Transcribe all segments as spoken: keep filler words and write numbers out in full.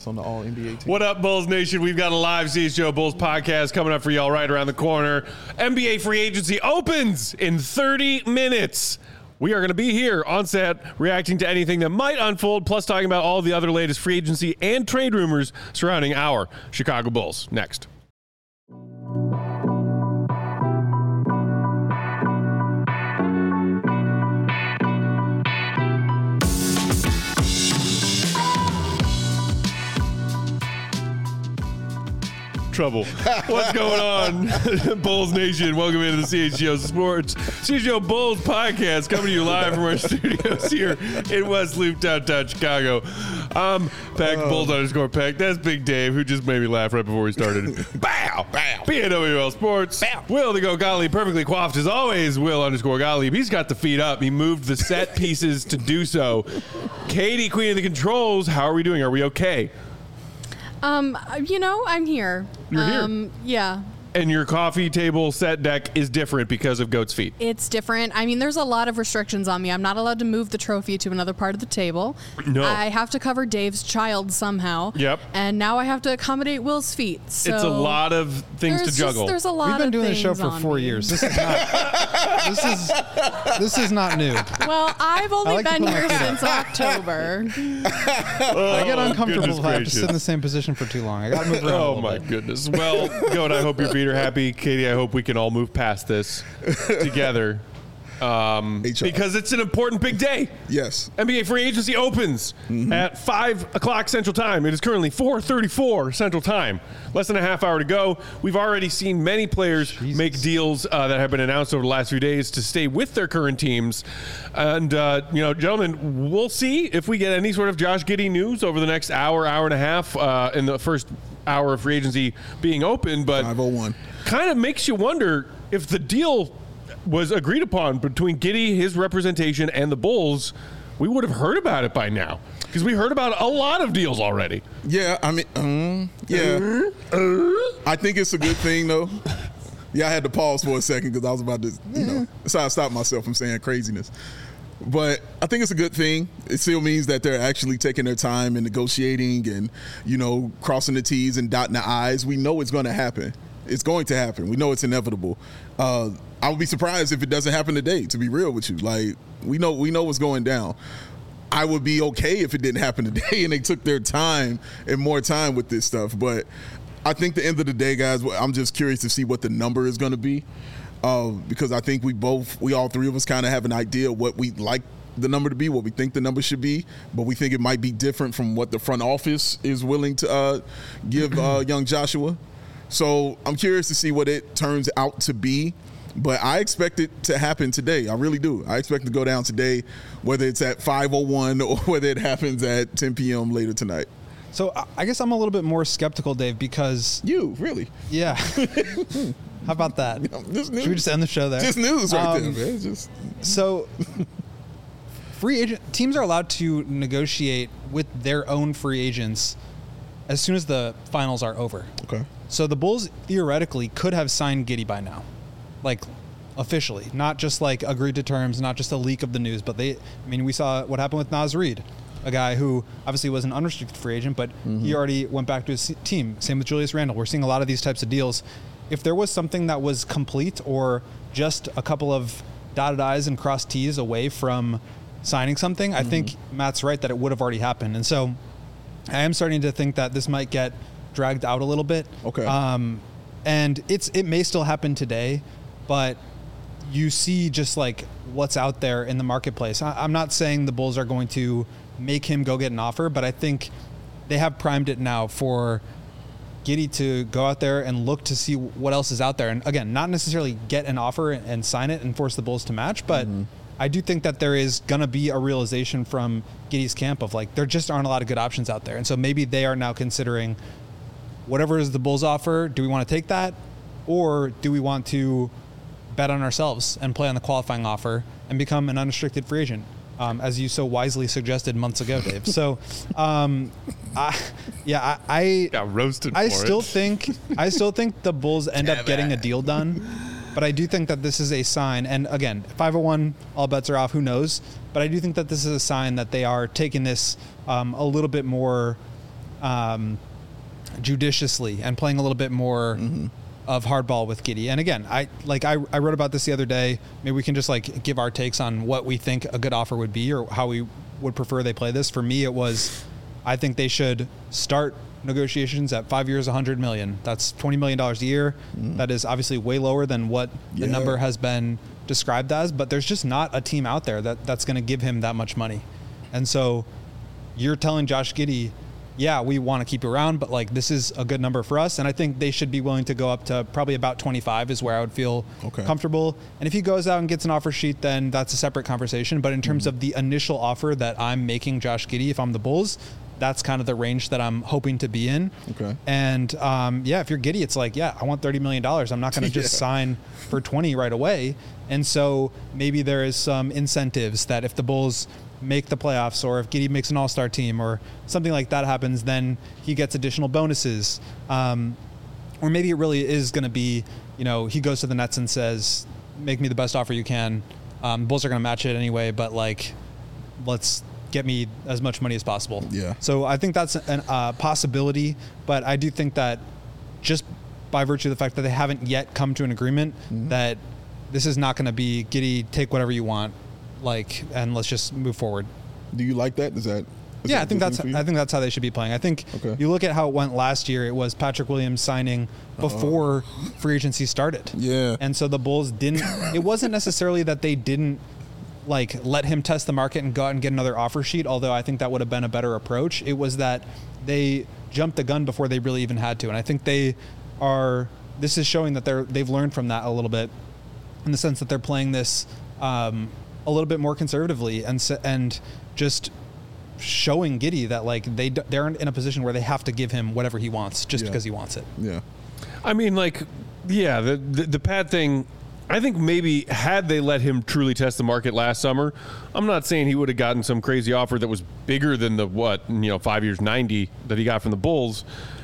on the All N B A team. What up, Bulls Nation? We've got a live C H G O Bulls podcast coming up for y'all right around the corner. N B A free agency opens in thirty minutes. We are going to be here on set reacting to anything that might unfold, plus talking about all the other latest free agency and trade rumors surrounding our Chicago Bulls. Next. Trouble. What's going on, Bulls Nation? Welcome into the C H G O Sports C H G O Bulls podcast, coming to you live from our studios here in West Loop, downtown Chicago. Um, Peck, oh. Bulls underscore Peck. That's Big Dave, who just made me laugh right before we started. Bow, bow. B N W L Sports. Bow. Will the Go Gottlieb, perfectly coiffed as always. Will underscore Gottlieb. He's got the feet up. He moved the set pieces to do so. Katie, Queen of the Controls. How are we doing? Are we okay? Um, you know, I'm here. You're um, here? Yeah. And your coffee table set deck is different because of Goat's feet. It's different. I mean, there's a lot of restrictions on me. I'm not allowed to move the trophy to another part of the table. No. I have to cover Dave's child somehow. Yep. And now I have to accommodate Will's feet. So it's a lot of things to juggle. Just, there's a lot We've been of doing this show things for on four me. years. This is not. this is this is not new. Well, I've only like to been put my here feet since October. Oh, I get uncomfortable if I have to gracious. sit in the same position for too long. I got to move around. a Oh, little my bit. goodness. Well, Goat, I hope your feet are happy. Katie, I hope we can all move past this together. Um, because it's an important big day. Yes. N B A free agency opens mm-hmm. at five o'clock Central Time. It is currently four thirty-four Central Time. Less than a half hour to go. We've already seen many players Jesus. make deals uh, that have been announced over the last few days to stay with their current teams. And, uh, you know, gentlemen, we'll see if we get any sort of Josh Giddey news over the next hour, hour and a half uh, in the first hour of free agency being open. But five oh one kind of makes you wonder if the deal was agreed upon between Giddey, his representation, and the Bulls, we would have heard about it by now. Because we heard about a lot of deals already. Yeah, I mean, um, yeah. Uh, I think it's a good thing, though. Yeah, I had to pause for a second because I was about to, you know, so I stopped myself from saying craziness. But I think it's a good thing. It still means that they're actually taking their time and negotiating and, you know, crossing the T's and dotting the I's. We know it's going to happen. It's going to happen. We know it's inevitable. Uh, I would be surprised if it doesn't happen today, to be real with you. Like, we know we know what's going down. I would be okay if it didn't happen today and they took their time and more time with this stuff. But I think the end of the day, guys, I'm just curious to see what the number is going to be. Uh, because I think we both, we all three of us kind of have an idea of what we'd like the number to be, what we think the number should be, but we think it might be different from what the front office is willing to uh, give uh, young Joshua. So I'm curious to see what it turns out to be, but I expect it to happen today. I really do. I expect it to go down today, whether it's at five oh one or whether it happens at ten p.m. later tonight. So I guess I'm a little bit more skeptical, Dave, because You, really? yeah. How about that? Just news. Should we just end the show there? Just news right Um, there, man. Just So, free agent teams are allowed to negotiate with their own free agents as soon as the finals are over. okay. So the Bulls theoretically could have signed Giddey by now, like officially, not just like agreed to terms, not just a leak of the news, but they. I mean, we saw what happened with Naz Reid, a guy who obviously was an unrestricted free agent, but mm-hmm. he already went back to his team. Same with Julius Randle. We're seeing a lot of these types of deals. If there was something that was complete or just a couple of dotted I's and crossed T's away from signing something, mm-hmm. I think Matt's right that it would have already happened. And so I am starting to think that this might get dragged out a little bit. Okay. Um, and it's it may still happen today, but you see just like what's out there in the marketplace. I, I'm not saying the Bulls are going to make him go get an offer, but I think they have primed it now for Giddey to go out there and look to see what else is out there. And again, not necessarily get an offer and sign it and force the Bulls to match, but mm-hmm. I do think that there is going to be a realization from Giddey's camp of like, there just aren't a lot of good options out there. And so maybe they are now considering whatever is the Bulls offer, do we want to take that? Or do we want to bet on ourselves and play on the qualifying offer and become an unrestricted free agent? Um, as you so wisely suggested months ago, Dave. So, um, I, yeah, I, I got roasted. I for still it. think I still think the Bulls end up getting a deal done, but I do think that this is a sign. And again, five oh one, all bets are off. Who knows? But I do think that this is a sign that they are taking this um, a little bit more um, judiciously and playing a little bit more mm-hmm. of hardball with Giddey. And again, I like I, I wrote about this the other day. Maybe we can just like give our takes on what we think a good offer would be or how we would prefer they play this. For me, it was I think they should start negotiations at five years, one hundred million. That's twenty million dollars a year. Mm. That is obviously way lower than what the yeah. number has been described as, but there's just not a team out there that that's going to give him that much money. And so you're telling Josh Giddey, yeah, we want to keep you around, but like this is a good number for us. And I think they should be willing to go up to probably about twenty-five is where I would feel okay. comfortable. And if he goes out and gets an offer sheet, then that's a separate conversation. But in terms mm-hmm. of the initial offer that I'm making Josh Giddey, if I'm the Bulls, that's kind of the range that I'm hoping to be in. Okay. And um, yeah, if you're Giddey, it's like, yeah, I want thirty million dollars. I'm not going to just yeah. sign for twenty right away. And so maybe there is some incentives that if the Bulls make the playoffs or if Giddey makes an all-star team or something like that happens, then he gets additional bonuses. Um, or maybe it really is going to be, you know, he goes to the Nets and says, make me the best offer you can. Um, Bulls are going to match it anyway, but like, let's get me as much money as possible. Yeah. So I think that's a uh, possibility, but I do think that just by virtue of the fact that they haven't yet come to an agreement mm-hmm. that this is not going to be Giddey, take whatever you want, like, and let's just move forward. Do you like that? Is that? Is yeah, that I think that's. I think that's how they should be playing. I think okay. you look at how it went last year. It was Patrick Williams signing before uh-oh. free agency started. Yeah. And so the Bulls didn't. It wasn't necessarily that they didn't like let him test the market and go out and get another offer sheet. Although I think that would have been a better approach. It was that they jumped the gun before they really even had to. And I think they are. This is showing that they're they've learned from that a little bit, in the sense that they're playing this. Um, a little bit more conservatively and and just showing Giddey that like they they're in a position where they have to give him whatever he wants just yeah. because he wants it. Yeah. I mean, like, yeah, the, the the Pat thing, I think maybe had they let him truly test the market last summer, I'm not saying he would have gotten some crazy offer that was bigger than the, what, you know, five years, ninety that he got from the Bulls.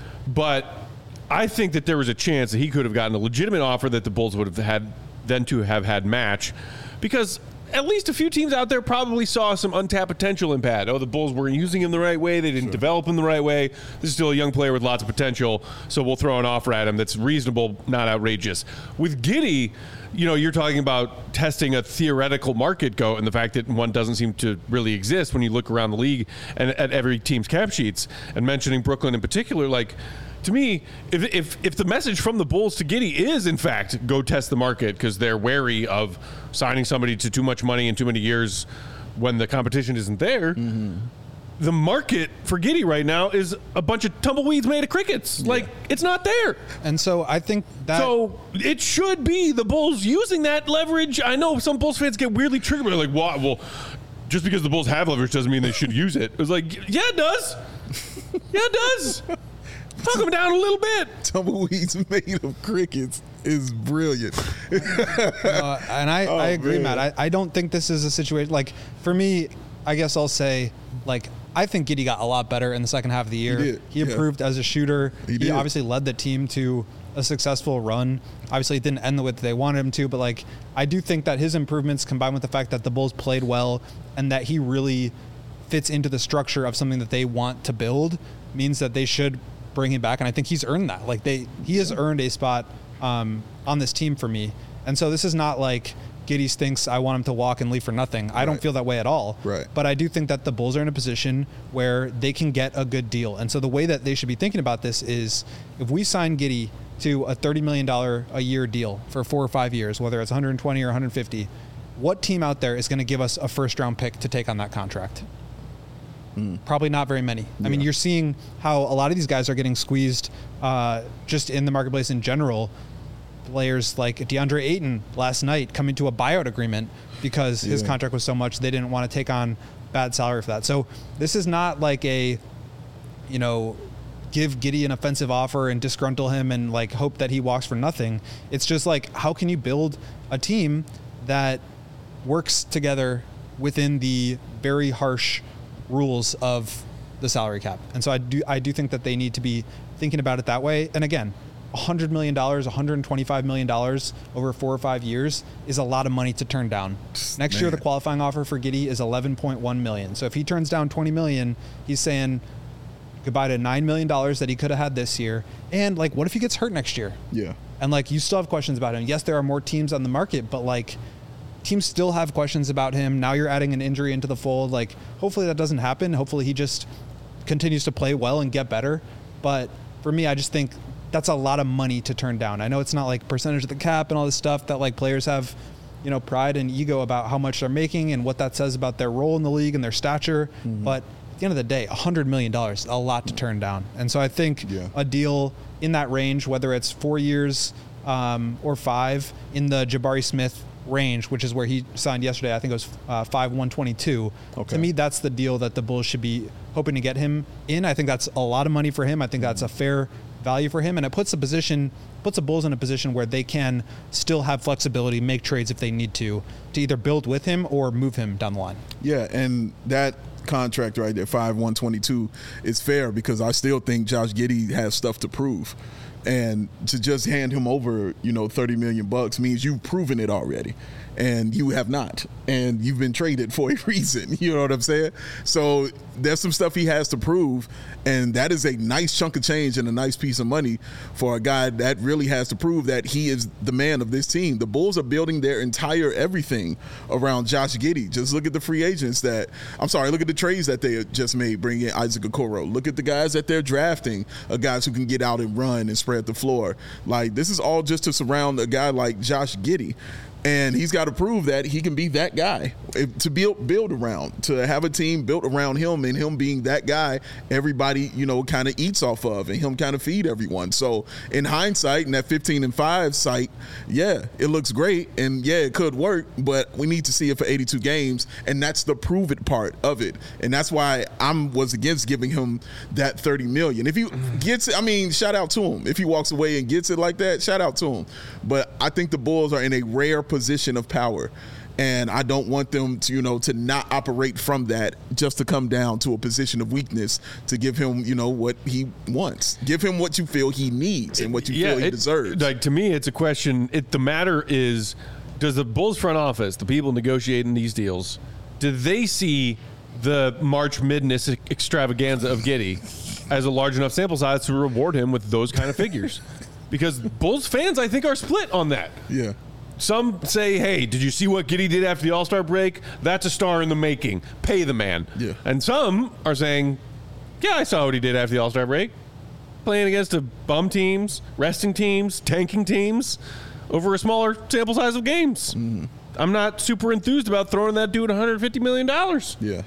But I think that there was a chance that he could have gotten a legitimate offer that the Bulls would have had then to have had match, because at least a few teams out there probably saw some untapped potential in Pat. Oh, the Bulls weren't using him the right way. They didn't sure. develop him the right way. This is still a young player with lots of potential, so we'll throw an offer at him that's reasonable, not outrageous. With Giddey, you know, you're talking about testing a theoretical market go and the fact that one doesn't seem to really exist when you look around the league and at every team's cap sheets, and mentioning Brooklyn in particular, like, to me, if, if if the message from the Bulls to Giddey is, in fact, go test the market because they're wary of signing somebody to too much money in too many years when the competition isn't there, mm-hmm. the market for Giddey right now is a bunch of tumbleweeds made of crickets. Yeah. Like, it's not there. And so I think that... So it should be the Bulls using that leverage. I know some Bulls fans get weirdly triggered. They're like, well, well, just because the Bulls have leverage doesn't mean they should use it. It was like, yeah, it does. Yeah, it does. Talk them down a little bit. Tumbleweeds made of crickets is brilliant. uh, and I, oh, I agree, man. Matt. I, I don't think this is a situation, like, for me, I guess I'll say, like, I think Giddey got a lot better in the second half of the year. He did. He improved yeah. as a shooter. He, he did. obviously led the team to a successful run. Obviously, it didn't end the way that they wanted him to, but, like, I do think that his improvements combined with the fact that the Bulls played well and that he really fits into the structure of something that they want to build means that they should bring him back, and I think he's earned that. Like they, he has earned a spot um, on this team for me. And so this is not like Giddey thinks I want him to walk and leave for nothing. I right. don't feel that way at all. Right. But I do think that the Bulls are in a position where they can get a good deal. And so the way that they should be thinking about this is, if we sign Giddey to a thirty million dollars a year deal for four or five years, whether it's one hundred twenty or one hundred fifty, what team out there is going to give us a first round pick to take on that contract? Mm. Probably not very many. Yeah. I mean, you're seeing how a lot of these guys are getting squeezed uh, just in the marketplace in general. Players like DeAndre Ayton last night coming to a buyout agreement because yeah. his contract was so much they didn't want to take on bad salary for that. So this is not like a, you know, give Giddey an offensive offer and disgruntle him and like hope that he walks for nothing. It's just like, how can you build a team that works together within the very harsh rules of the salary cap? And so I do I do think that they need to be thinking about it that way. And again, one hundred million dollars, one hundred twenty-five million dollars over four or five years is a lot of money to turn down. Next Man. year, the qualifying offer for Giddey is eleven point one million dollars. So if he turns down twenty million dollars, he's saying, goodbye to nine million dollars that he could have had this year. And like, what if he gets hurt next year? Yeah. And like, you still have questions about him. Yes, there are more teams on the market, but like, teams still have questions about him. Now you're adding an injury into the fold. Like, hopefully that doesn't happen. Hopefully he just continues to play well and get better. But for me, I just think that's a lot of money to turn down. I know it's not like percentage of the cap and all this stuff that like players have, you know, pride and ego about how much they're making and what that says about their role in the league and their stature. Mm-hmm. But at the end of the day, one hundred million dollars is a lot to turn down. And so I think yeah. a deal in that range, whether it's four years um, or five, in the Jabari Smith range, which is where he signed yesterday, I think it was uh, five one twenty-two. Okay. To me, that's the deal that the Bulls should be hoping to get him in. I think that's a lot of money for him. I think that's a fair value for him, and it puts the position puts the Bulls in a position where they can still have flexibility, make trades if they need to, to either build with him or move him down the line. Yeah, and that contract right there, five one twenty-two, is fair because I still think Josh Giddey has stuff to prove. And to just hand him over, you know, thirty million bucks means you've proven it already. And you have not. And you've been traded for a reason. You know what I'm saying? So there's some stuff he has to prove. And that is a nice chunk of change and a nice piece of money for a guy that really has to prove that he is the man of this team. The Bulls are building their entire everything around Josh Giddey. Just look at the free agents that, I'm sorry, look at the trades that they just made, bringing in Isaac Okoro. Look at the guys that they're drafting, uh, guys who can get out and run and spread the floor. Like, this is all just to surround a guy like Josh Giddey. And he's got to prove that he can be that guy to build build around, to have a team built around him and him being that guy everybody, you know, kind of eats off of and him kind of feed everyone. So in hindsight, in that fifteen and five site, yeah, it looks great. And yeah, it could work, but we need to see it for eighty-two games. And that's the prove it part of it. And that's why I'm was against giving him that thirty million. If he gets it, I mean, shout out to him. If he walks away and gets it like that, shout out to him. But I think the Bulls are in a rare position of power, and I don't want them to, you know, to not operate from that just to come down to a position of weakness to give him, you know, what he wants. Give him what you feel he needs and what you yeah, feel he it, deserves. Like, to me, it's a question. It, the matter is, does the Bulls front office, the people negotiating these deals, do they see the March Madness extravaganza of Giddey as a large enough sample size to reward him with those kind of figures? Because Bulls fans, I think, are split on that. Yeah. Some say, hey, did you see what Giddey did after the All-Star break? That's a star in the making. Pay the man. Yeah. And some are saying, yeah, I saw what he did after the All-Star break. Playing against a bum teams, resting teams, tanking teams over a smaller sample size of games. Mm. I'm not super enthused about throwing that dude one hundred fifty million dollars. Yeah.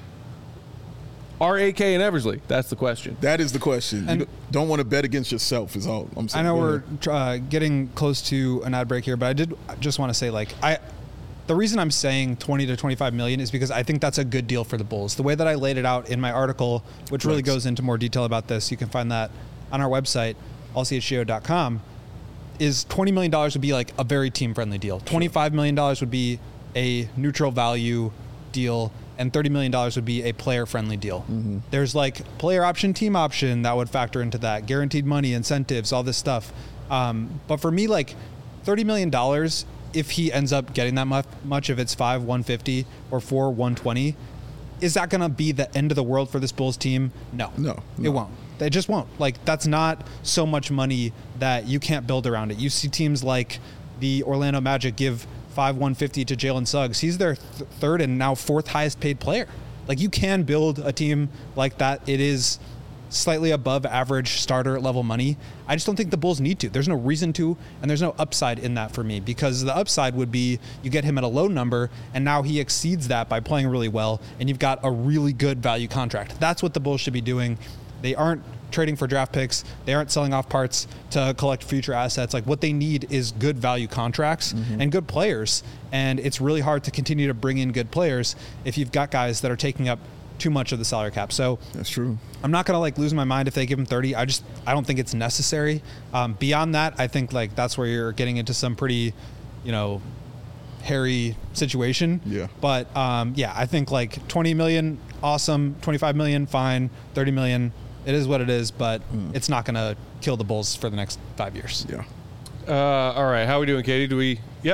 Are A K and Eversley? That's the question. That is the question. And you don't want to bet against yourself is all I'm saying. I know we're uh, getting close to an ad break here, but I did just want to say, like, I, the reason I'm saying twenty to twenty-five million is because I think that's a good deal for the Bulls. The way that I laid it out in my article, which really goes into more detail about this, you can find that on our website, all c h g o dot com, is twenty million dollars would be like a very team-friendly deal. twenty-five million dollars would be a neutral value deal, and thirty million dollars would be a player-friendly deal. Mm-hmm. There's like player option, team option that would factor into that, guaranteed money, incentives, all this stuff. Um, but for me, like thirty million dollars, if he ends up getting that much, much if it's five one fifty or four one twenty, is that going to be the end of the world for this Bulls team? No. No, no. It won't. They just won't. Like, that's not so much money that you can't build around it. You see teams like the Orlando Magic give five one fifty to Jalen Suggs. He's their th- third and now fourth highest paid player. Like, you can build a team like that. It is slightly above average starter level money. I just don't think the Bulls need to. There's no reason to, and there's no upside in that for me, because the upside would be you get him at a low number, and now he exceeds that by playing really well, and you've got a really good value contract. That's what the Bulls should be doing. They aren't trading for draft picks. They aren't selling off parts to collect future assets. Like, what they need is good value contracts mm-hmm. and good players. And it's really hard to continue to bring in good players if you've got guys that are taking up too much of the salary cap. So that's true. I'm not going to like lose my mind if they give him thirty. I just, I don't think it's necessary. Um, beyond that, I think like that's where you're getting into some pretty, you know, hairy situation. Yeah. But um, yeah, I think like twenty million, awesome. twenty-five million, fine. thirty million, it is what it is, but mm. it's not going to kill the Bulls for the next five years. Yeah. Uh, all right. How are we doing, Katie? Do we? Yep.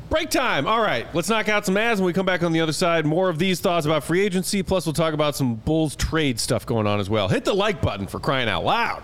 Break time. All right, let's knock out some ads when we come back on the other side. More of these thoughts about free agency, plus we'll talk about some Bulls trade stuff going on as well. Hit the like button for crying out loud.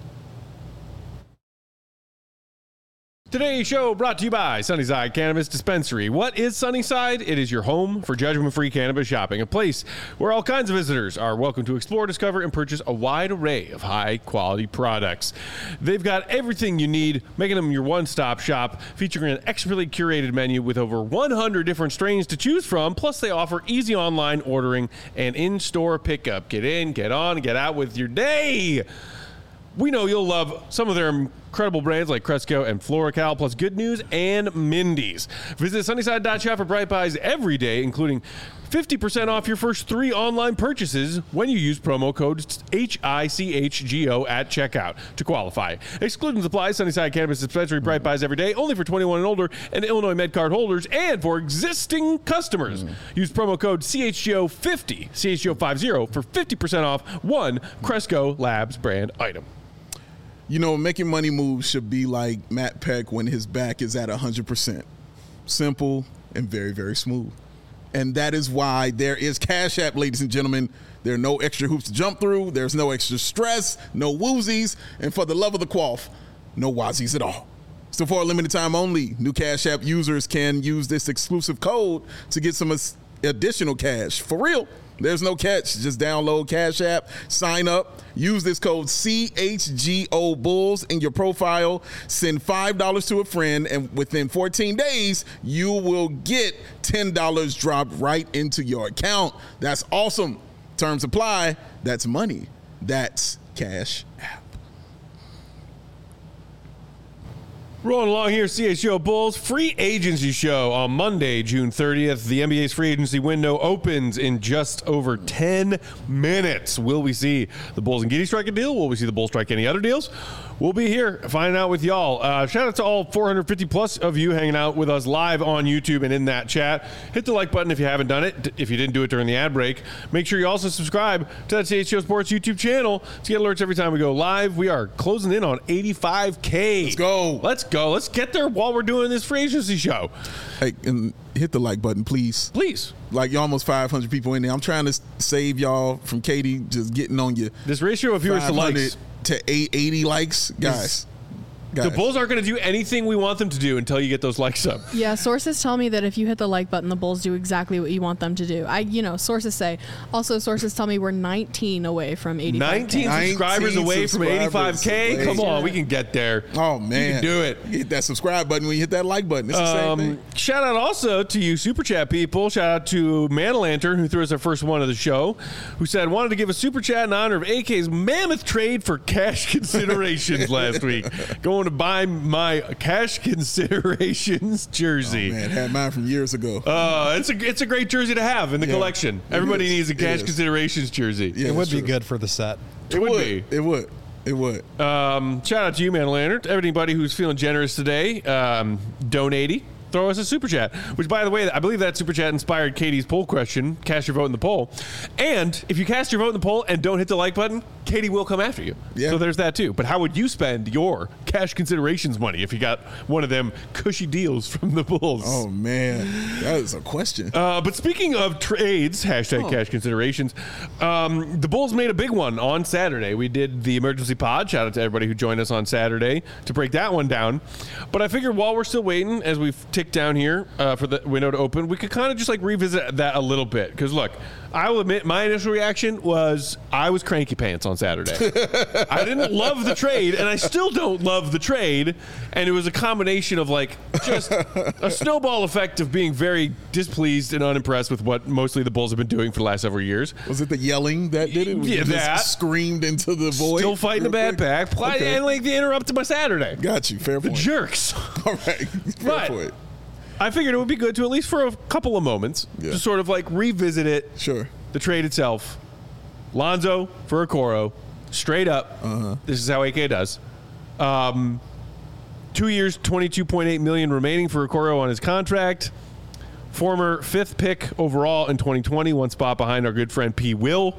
Today's show brought to you by Sunnyside Cannabis Dispensary. What is Sunnyside? It is your home for judgment-free cannabis shopping, a place where all kinds of visitors are welcome to explore, discover, and purchase a wide array of high-quality products. They've got everything you need, making them your one-stop shop, featuring an expertly curated menu with over one hundred different strains to choose from, plus they offer easy online ordering and in-store pickup. Get in, get on, get out with your day. We know you'll love some of their incredible brands like Cresco and FloraCal, plus Good News and Mindy's. Visit Sunnyside dot shop for Bright Buys every day, including fifty percent off your first three online purchases when you use promo code H I C H G O at checkout to qualify. Exclusions apply. Sunnyside Cannabis Dispensary, Bright Buys every day, only for twenty-one and older and Illinois MedCard holders, and for existing customers. Mm. Use promo code C H G O fifty, C H G O fifty, for fifty percent off one Cresco Labs brand item. You know, making money moves should be like Matt Peck when his back is at one hundred percent. Simple and very, very smooth. And that is why there is Cash App, ladies and gentlemen. There are no extra hoops to jump through. There's no extra stress, no woozies, and for the love of the quaff, no wazies at all. So for a limited time only, new Cash App users can use this exclusive code to get some additional cash. For real. There's no catch. Just download Cash App, sign up, use this code C H G O Bulls in your profile, send five dollars to a friend, and within fourteen days, you will get ten dollars dropped right into your account. That's awesome. Terms apply. That's money. That's Cash App. Rolling along here, C H G O Bulls free agency show on Monday, June thirtieth. The N B A's free agency window opens in just over ten minutes. Will we see the Bulls and Giddey strike a deal? Will we see the Bulls strike any other deals? We'll be here finding out with y'all. Uh, shout out to all four hundred fifty plus of you hanging out with us live on YouTube and in that chat. Hit the like button if you haven't done it. If you didn't do it during the ad break, make sure you also subscribe to that C H G O Sports YouTube channel to get alerts every time we go live. We are closing in on eighty-five K. Let's go. Let's go. Let's get there while we're doing this free agency show. Hey, and hit the like button, please. Please. Like, you're almost five hundred people in there. I'm trying to save y'all from Katie just getting on you. This ratio of viewers to likes to eighty likes, guys. Guys. The Bulls aren't going to do anything we want them to do until you get those likes up. Yeah, sources tell me that if you hit the like button, the Bulls do exactly what you want them to do. I, you know, sources say. Also, sources tell me we're nineteen away from eighty-five K. nineteen subscribers away from eighty-five K? Come on, we can get there. Oh, man. You can do it. You hit that subscribe button when you hit that like button. It's the um, same thing. Shout out also to you Super Chat people. Shout out to Man Lantern, who threw us our first one of the show, who said, wanted to give a Super Chat in honor of A K's mammoth trade for cash considerations last week. Going to buy my My cash considerations jersey. Oh, man, had mine from years ago. Uh, it's a it's a great jersey to have in the yeah, collection. Everybody needs a cash considerations jersey. Yeah, it would true. be good for the set. It, it would, would be. It would. It would. Um, shout out to you, Man Lantern. Everybody who's feeling generous today, um, donating. Throw us a super chat, which, by the way, I believe that super chat inspired Katie's poll question. Cast your vote in the poll. And if you cast your vote in the poll and don't hit the like button, Katie will come after you. Yeah. So there's that, too. But how would you spend your cash considerations money if you got one of them cushy deals from the Bulls? Oh, man. That is a question. Uh, but speaking of trades, hashtag oh. cash considerations, um, the Bulls made a big one on Saturday. We did the emergency pod. Shout out to everybody who joined us on Saturday to break that one down. But I figured while we're still waiting, as we tick down here uh, for the window to open, we could kind of just like revisit that a little bit. Because look, I will admit my initial reaction was I was cranky pants on Saturday. I didn't love the trade, and I still don't love the trade. And it was a combination of like just a snowball effect of being very displeased and unimpressed with what mostly the Bulls have been doing for the last several years. Was it the yelling that did it? Was Yeah, it just that. Screamed into the void. Still fighting a bad quick? back. Okay. And like they interrupted my Saturday. Got you. Fair The point. jerks. All right. Fair Right. point. I figured it would be good to at least for a couple of moments Yeah. to sort of like revisit it. Sure. The trade itself. Lonzo for Okoro. Straight up. Uh-huh. This is how A K does. Um, two years, twenty-two point eight million dollars remaining for Okoro on his contract. Former fifth pick overall in twenty twenty, one spot behind our good friend P. Will.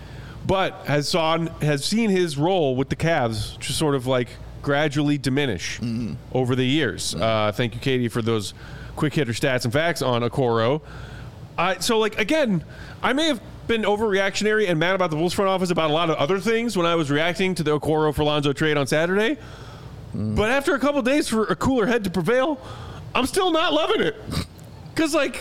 But has saw has seen his role with the Cavs just sort of like gradually diminish mm-hmm. over the years. Uh, thank you, Katie, for those quick hitter stats and facts on Okoro. Uh, so, like, again, I may have been overreactionary and mad about the Bulls front office about a lot of other things when I was reacting to the Okoro for Lonzo trade on Saturday. Mm. But after a couple days for a cooler head to prevail, I'm still not loving it. Because, like,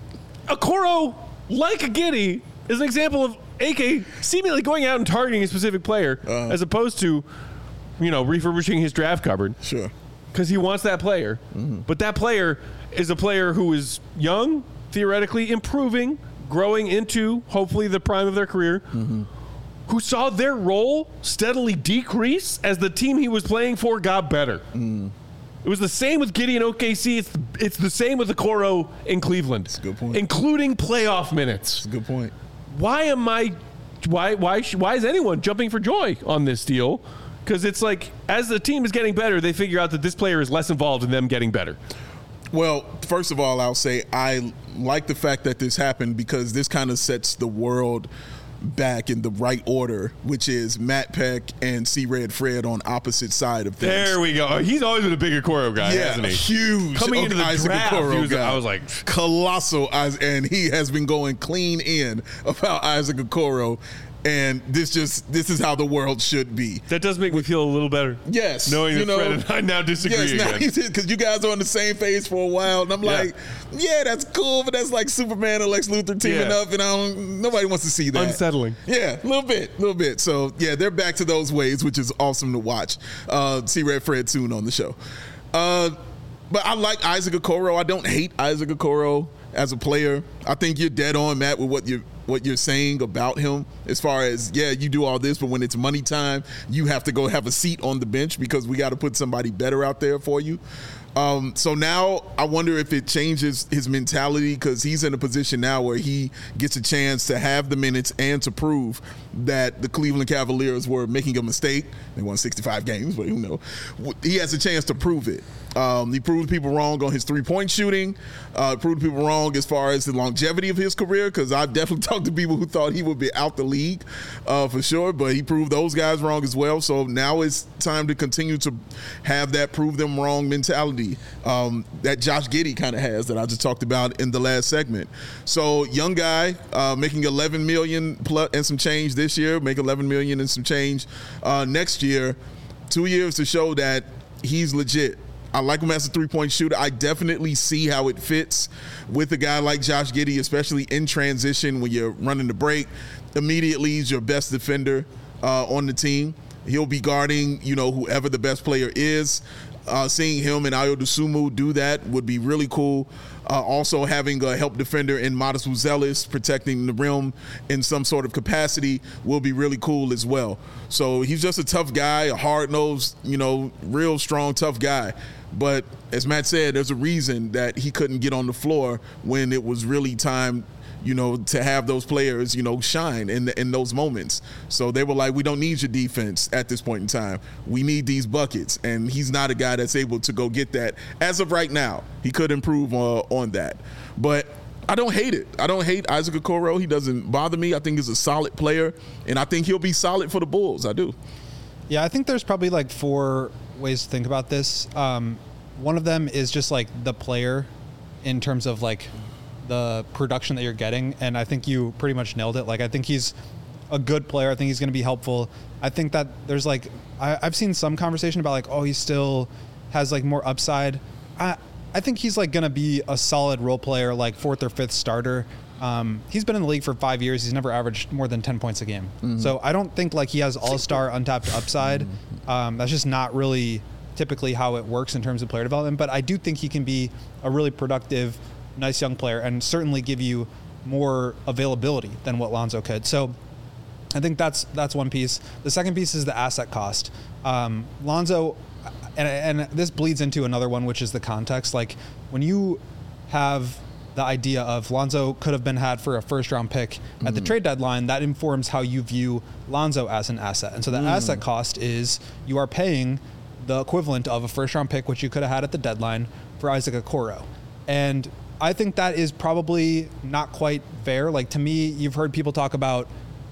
Okoro, like a Giddey, is an example of A K seemingly going out and targeting a specific player uh, as opposed to, you know, refurbishing his draft cupboard. Sure. Because he wants that player. Mm-hmm. But that player is a player who is young, theoretically improving, growing into, hopefully, the prime of their career, mm-hmm. who saw their role steadily decrease as the team he was playing for got better. Mm. It was the same with Giddey and O K C. It's the, it's the same with Okoro in Cleveland. That's a good point. Including playoff minutes. That's a good point. Why am I, why, why, why is anyone jumping for joy on this deal? Because it's like, as the team is getting better, they figure out that this player is less involved in them getting better. Well, first of all, I'll say I like the fact that this happened because this kind of sets the world back in the right order, which is Matt Peck and C-Red Fred on opposite side of things. There we go. He's always been a big Okoro guy, yeah, hasn't he? Huge. Coming into the Isaac draft, Okoro was, guy. I was like, colossal, and he has been going clean in about Isaac Okoro. And this just this is how the world should be. That does make me feel a little better. Yes, knowing you that know, Fred and I now disagree yes, again. Now because you guys are on the same page for a while, and I'm yeah. like, yeah, that's cool, but that's like Superman and Lex Luthor teaming yeah. up, and I don't. Nobody wants to see that. Unsettling. Yeah, a little bit, a little bit. So yeah, they're back to those ways, which is awesome to watch. Uh, see Red Fred soon on the show. Uh, but I like Isaac Okoro. I don't hate Isaac Okoro as a player. I think you're dead on, Matt, with what you what you're saying about him as far as, yeah, you do all this, but when it's money time, you have to go have a seat on the bench because we got to put somebody better out there for you. Um, so now I wonder if it changes his mentality because he's in a position now where he gets a chance to have the minutes and to prove that the Cleveland Cavaliers were making a mistake. They won sixty-five games, but who knows? He has a chance to prove it. Um, he proved people wrong on his three-point shooting, uh, proved people wrong as far as the longevity of his career, because I've definitely talked to people who thought he would be out the league uh, for sure, but he proved those guys wrong as well. So now it's time to continue to have that prove them wrong mentality um, that Josh Giddey kind of has that I just talked about in the last segment. So young guy uh, making eleven million dollars plus and some change this year, make eleven million dollars and some change uh, next year. Two years to show that he's legit. I like him as a three-point shooter. I definitely see how it fits with a guy like Josh Giddey, especially in transition when you're running the break. Immediately, he's your best defender uh, on the team. He'll be guarding, you know, whoever the best player is. Uh, seeing him and Ayo Dosunmu do that would be really cool. Uh, also having a help defender in Modest Buzelis protecting the rim in some sort of capacity will be really cool as well. So he's just a tough guy, a hard-nosed, you know, real strong, tough guy. But as Matt said, there's a reason that he couldn't get on the floor when it was really time, you know, to have those players, you know, shine in the, in those moments. So they were like, we don't need your defense at this point in time. We need these buckets. And he's not a guy that's able to go get that. As of right now, he could improve uh, on that. But I don't hate it. I don't hate Isaac Okoro. He doesn't bother me. I think he's a solid player. And I think he'll be solid for the Bulls. I do. Yeah, I think there's probably like four ways to think about this. Um, one of them is just like the player in terms of like the production that you're getting, and I think you pretty much nailed it. Like, I think he's a good player. I think he's going to be helpful. I think that there's like I, I've seen some conversation about like, oh, he still has like more upside. I I think he's like going to be a solid role player, like fourth or fifth starter. Um, he's been in the league for five years. He's never averaged more than ten points a game. Mm-hmm. So I don't think like he has all-star untapped upside. Mm-hmm. Um, that's just not really typically how it works in terms of player development. But I do think he can be a really productive, nice young player and certainly give you more availability than what Lonzo could. So I think that's that's one piece. The second piece is the asset cost. Um, Lonzo, and, and this bleeds into another one, which is the context. Like when you have the idea of Lonzo could have been had for a first round pick mm-hmm. at the trade deadline, that informs how you view Lonzo as an asset. And so the mm. asset cost is you are paying the equivalent of a first round pick, which you could have had at the deadline, for Isaac Okoro. And I think that is probably not quite fair. Like, to me, you've heard people talk about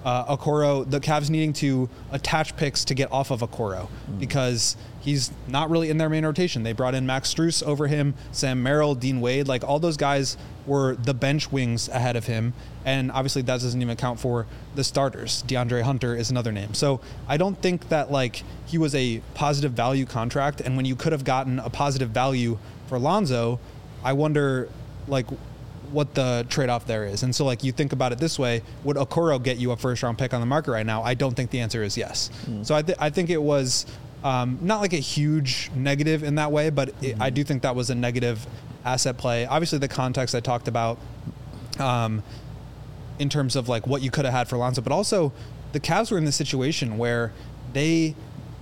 uh, Okoro, the Cavs needing to attach picks to get off of Okoro mm. because he's not really in their main rotation. They brought in Max Strus over him, Sam Merrill, Dean Wade. Like, all those guys were the bench wings ahead of him. And obviously that doesn't even account for the starters. DeAndre Hunter is another name. So I don't think that, like, he was a positive value contract. And when you could have gotten a positive value for Lonzo, I wonder, like, what the trade-off there is. And so, like, you think about it this way, would Okoro get you a first-round pick on the market right now? I don't think the answer is yes. Mm. So I, th- I think it was um, not like a huge negative in that way, but it, mm-hmm. I do think that was a negative asset play. Obviously, the context I talked about um, in terms of, like, what you could have had for Lonzo, but also the Cavs were in this situation where they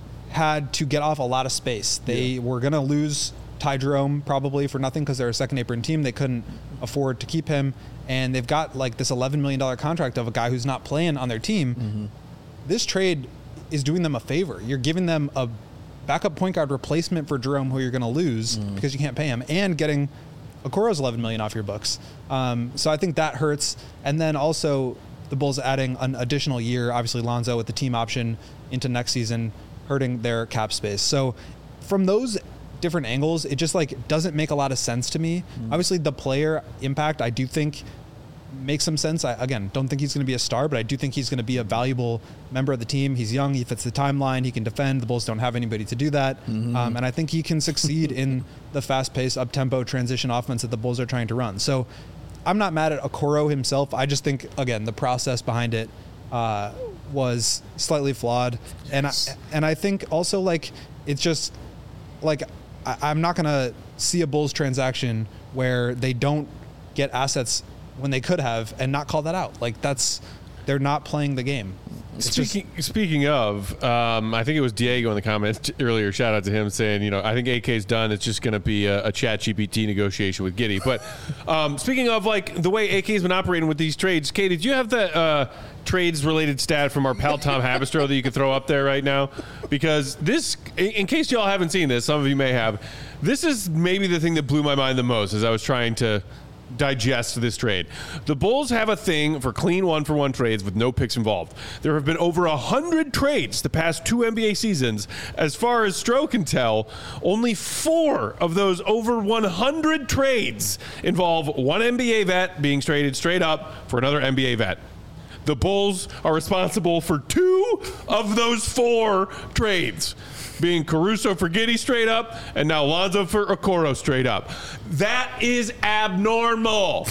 had to get off a lot of space. They yeah. were going to lose Ty Jerome probably for nothing because they're a second apron team. They couldn't afford to keep him, and they've got like this eleven million dollars contract of a guy who's not playing on their team. Mm-hmm. This trade is doing them a favor. You're giving them a backup point guard replacement for Jerome, who you're going to lose mm. because you can't pay him, and getting Okoro's eleven million dollars off your books. Um, so I think that hurts. And then also the Bulls adding an additional year, obviously Lonzo with the team option into next season, hurting their cap space. So from those different angles, it just like doesn't make a lot of sense to me. Mm. Obviously the player impact I do think makes some sense. I again don't think he's going to be a star, but I do think he's going to be a valuable member of the team. He's young, he fits the timeline, he can defend. The Bulls don't have anybody to do that. Mm-hmm. Um, and I think he can succeed in the fast-paced up-tempo transition offense that the Bulls are trying to run. So I'm not mad at Okoro himself. I just think, again, the process behind it uh, was slightly flawed. Yes. And I, and I think also, like, it's just like I, I'm not going to see a Bulls transaction where they don't get assets when they could have and not call that out. Like, that's, they're not playing the game. It's speaking just, speaking of, um, I think it was Diego in the comments earlier. Shout out to him saying, you know, I think A K's done. It's just going to be a, a Chat G P T negotiation with Giddey. But um, speaking of like the way A K's been operating with these trades, Kay, did you have the uh, trades related stat from our pal Tom Habistro that you could throw up there right now? Because this, in case y'all haven't seen this, some of you may have. This is maybe the thing that blew my mind the most as I was trying to digest this trade. The Bulls have a thing for clean one-for-one trades with no picks involved. There have been over one hundred trades the past two N B A seasons. As far as Stroh can tell, only four of those over one hundred trades involve one N B A vet being traded straight up for another N B A vet. The Bulls are responsible for two of those four trades, being Caruso for Giddey straight up, and now Lonzo for Okoro straight up. That is abnormal.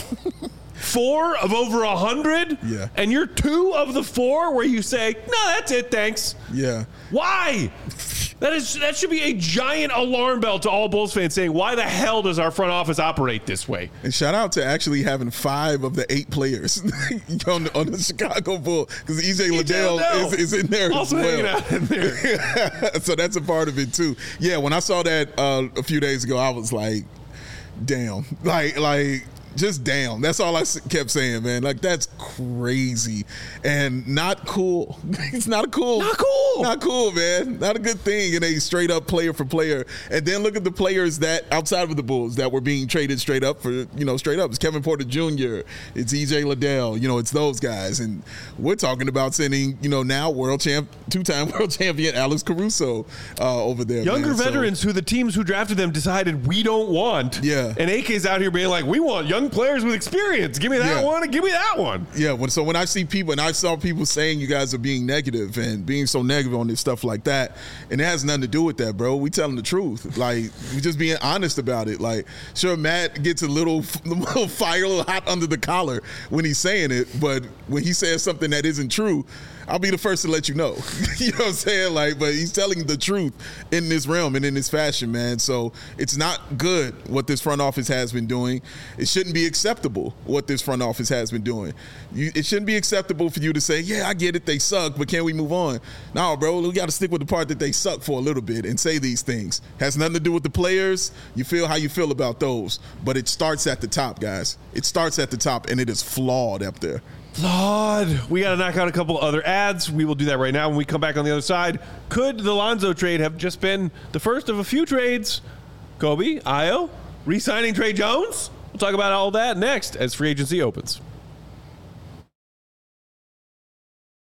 Four of over a hundred? Yeah. And you're two of the four where you say, no, that's it, thanks. Yeah. Why? That is that should be a giant alarm bell to all Bulls fans saying, why the hell does our front office operate this way? And shout out to actually having five of the eight players on, the, on the Chicago Bulls, because E J Liddell is, is in there also as well. Hanging out in there. So that's a part of it too. Yeah, when I saw that uh, a few days ago, I was like, damn. Like, like, just damn. That's all I kept saying, man. Like, that's crazy and not cool. It's not cool. Not cool. Not cool, man. Not a good thing in a straight up player for player. And then look at the players that outside of the Bulls that were being traded straight up for, you know, straight up. It's Kevin Porter Junior It's E J Liddell. You know, it's those guys. And we're talking about sending, you know, now world champ, two-time world champion Alex Caruso uh, over there. Younger man. veterans so, who the teams who drafted them decided we don't want. Yeah. And A K's out here being like, we want young players with experience. Give me that yeah. one and give me that one. Yeah. When, so when I see people, and I saw people saying you guys are being negative and being so negative on this stuff like that, and it has nothing to do with that, bro. We telling the truth. Like, we just being honest about it. Like, sure, Matt gets a little, a little fire, a little hot under the collar when he's saying it, but when he says something that isn't true, I'll be the first to let you know. You know what I'm saying? Like, but he's telling the truth in this realm and in this fashion, man. So it's not good what this front office has been doing. It shouldn't be acceptable what this front office has been doing. You, it shouldn't be acceptable for you to say, yeah, I get it, they suck, but can we move on? No, bro, we got to stick with the part that they suck for a little bit and say these things. Has nothing to do with the players. You feel how you feel about those. But it starts at the top, guys. It starts at the top, and it is flawed up there. Flawed. We got to knock out a couple other ads. We will do that right now when we come back on the other side. Could the Lonzo trade have just been the first of a few trades? Kobe, Ayo, re-signing Trey Jones? We'll talk about all that next as free agency opens.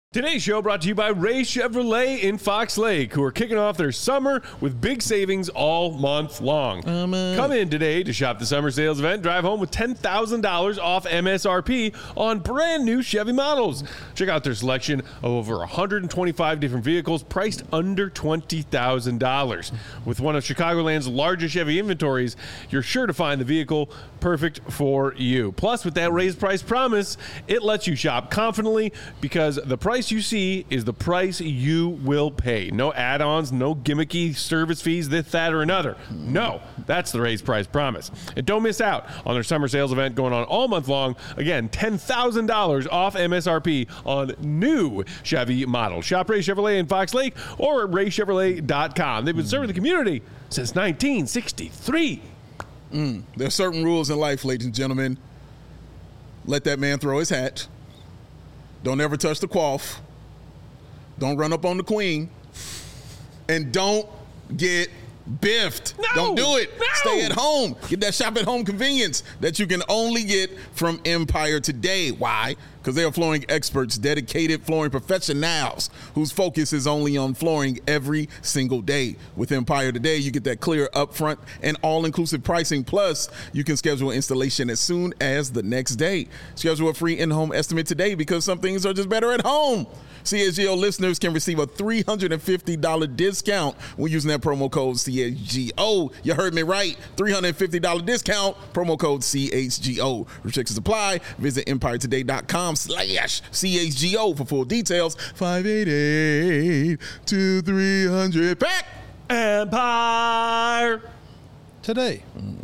Today's show brought to you by Ray Chevrolet in Fox Lake, who are kicking off their summer with big savings all month long. Um, uh, Come in today to shop the summer sales event. Drive home with ten thousand dollars off M S R P on brand new Chevy models. Check out their selection of over one hundred twenty-five different vehicles priced under twenty thousand dollars. With one of Chicagoland's largest Chevy inventories, you're sure to find the vehicle perfect for you. Plus, with that raised price promise, it lets you shop confidently because the price you see is the price you will pay. No add-ons, no gimmicky service fees, this, that, or another. No, that's the raised price promise. And don't miss out on their summer sales event going on all month long. Again, ten thousand dollars off M S R P on new Chevy models. Shop Ray Chevrolet in Fox Lake or at ray chevrolet dot com. They've been serving the community since nineteen sixty-three. Mm, there are certain rules in life, ladies and gentlemen. Let that man throw his hat. Don't ever touch the quaff. Don't run up on the queen. And don't get biffed. No, don't do it. No. Stay at home. Get that shop at home convenience that you can only get from Empire Today. Why? Because they are flooring experts, dedicated flooring professionals whose focus is only on flooring every single day. With Empire Today, you get that clear upfront and all-inclusive pricing. Plus, you can schedule installation as soon as the next day. Schedule a free in-home estimate today because some things are just better at home. C H G O listeners can receive a three hundred fifty dollars discount when using that promo code C H G O. You heard me right. three hundred fifty dollars discount, promo code C H G O. Restrictions apply. Visit empire today dot com slash C H G O for full details. five eight eight, two three hundred. Back Empire Today.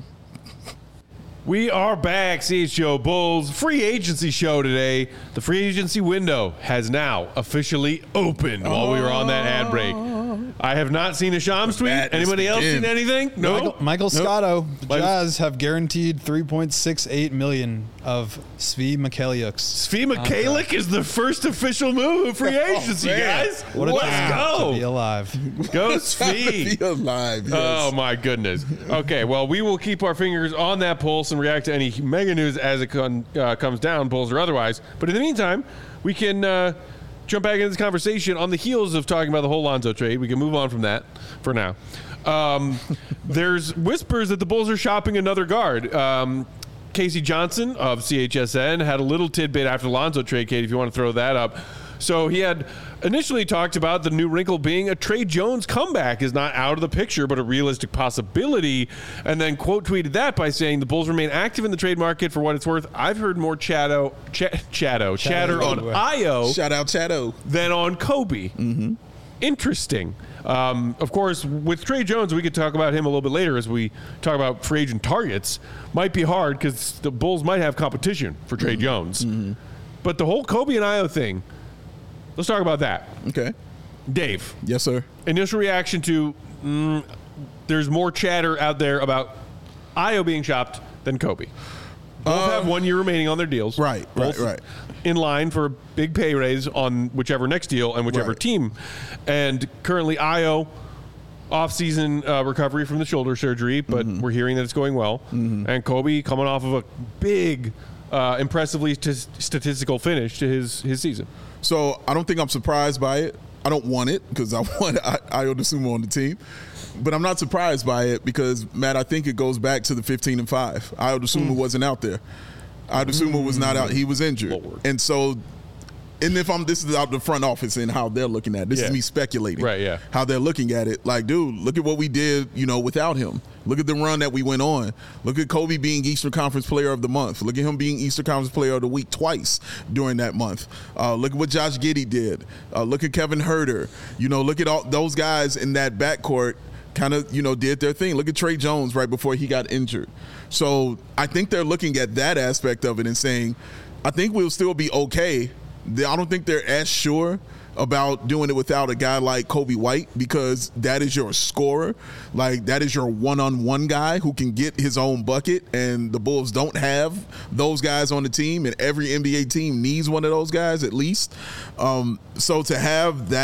We are back, C H G O Bulls free agency show today. The free agency window has now officially opened while we were on that ad break. I have not seen a Shams tweet. Anybody else seen anything? No. Michael, Michael Scotto, the Jazz have guaranteed three point six eight million dollars of Svi Mikhailiuk's. Svi Mikhailiuk is the first official move of free agency, oh, guys. What a Let's time go. to be alive. Go Svi. Be alive, yes. Oh, my goodness. Okay, well, we will keep our fingers on that pulse and react to any mega news as it con, uh, comes down, Bulls or otherwise. But in the meantime, we can uh, jump back into this conversation on the heels of talking about the whole Lonzo trade. We can move on from that for now. Um, there's whispers that the Bulls are shopping another guard. Um, Casey Johnson of C H S N had a little tidbit after the Lonzo trade, Kate, if you want to throw that up. So he had initially talked about the new wrinkle being a Trey Jones comeback is not out of the picture, but a realistic possibility. And then quote tweeted that by saying the Bulls remain active in the trade market for what it's worth. I've heard more chatto, ch- chatto, chatter on I O Shout out Chato. than on Kobe. Mm-hmm. Interesting. Um, of course, with Trey Jones, we could talk about him a little bit later as we talk about free agent targets. Might be hard because the Bulls might have competition for Trey mm-hmm. Jones. Mm-hmm. But the whole Kobe and I O thing, let's talk about that. Okay. Dave. Yes, sir. Initial reaction to mm, there's more chatter out there about I O being shopped than Kobe. Both uh, have one year remaining on their deals. Right, Both right, right. in line for a big pay raise on whichever next deal and whichever right. team. And currently I O off-season uh, recovery from the shoulder surgery, but mm-hmm. we're hearing that it's going well. Mm-hmm. And Kobe coming off of a big, uh, impressively t- statistical finish to his, his season. So I don't think I'm surprised by it. I don't want it because I want Ayo Dosunmu on the team. But I'm not surprised by it because, Matt, I think it goes back to the fifteen and five. Ayo Dosunmu mm. wasn't out there. Ayo Dosunmu was not out. He was injured. Lord. And so, and if I'm, this is out the front office and how they're looking at it. This yeah. is me speculating. Right, yeah. How they're looking at it. Like, dude, look at what we did, you know, without him. Look at the run that we went on. Look at Kobe being Eastern Conference Player of the Month. Look at him being Eastern Conference Player of the Week twice during that month. Uh, look at what Josh Giddey did. Uh, look at Kevin Huerter. You know, look at all those guys in that backcourt kind of, you know, did their thing. Look at Trey Jones right before he got injured. So I think they're looking at that aspect of it and saying, I think we'll still be okay. I don't think they're as sure about doing it without a guy like Kobe White because that is your scorer. Like, that is your one-on-one guy who can get his own bucket, and the Bulls don't have those guys on the team, and every N B A team needs one of those guys at least. Um, so to have that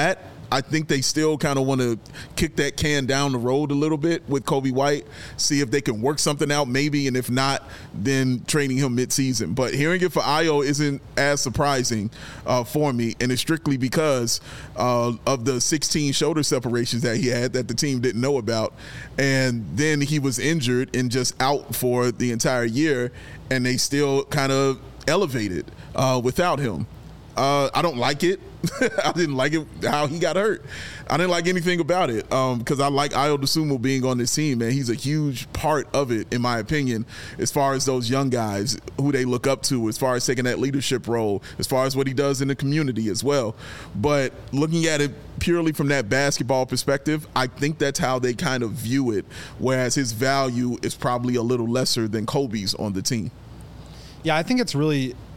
I think they still kind of want to kick that can down the road a little bit with Coby White, see if they can work something out maybe, and if not, then trading him midseason. But hearing it for Ayo isn't as surprising uh, for me, and it's strictly because uh, of the sixteen shoulder separations that he had that the team didn't know about. And then he was injured and just out for the entire year, and they still kind of elevated uh, without him. Uh, I don't like it. I didn't like it how he got hurt. I didn't like anything about it because um, I like Ayo Dosunmu being on this team, man. He's a huge part of it, in my opinion, as far as those young guys who they look up to, as far as taking that leadership role, as far as what he does in the community as well. But looking at it purely from that basketball perspective, I think that's how they kind of view it, whereas his value is probably a little lesser than Kobe's on the team. Yeah, I think it's really –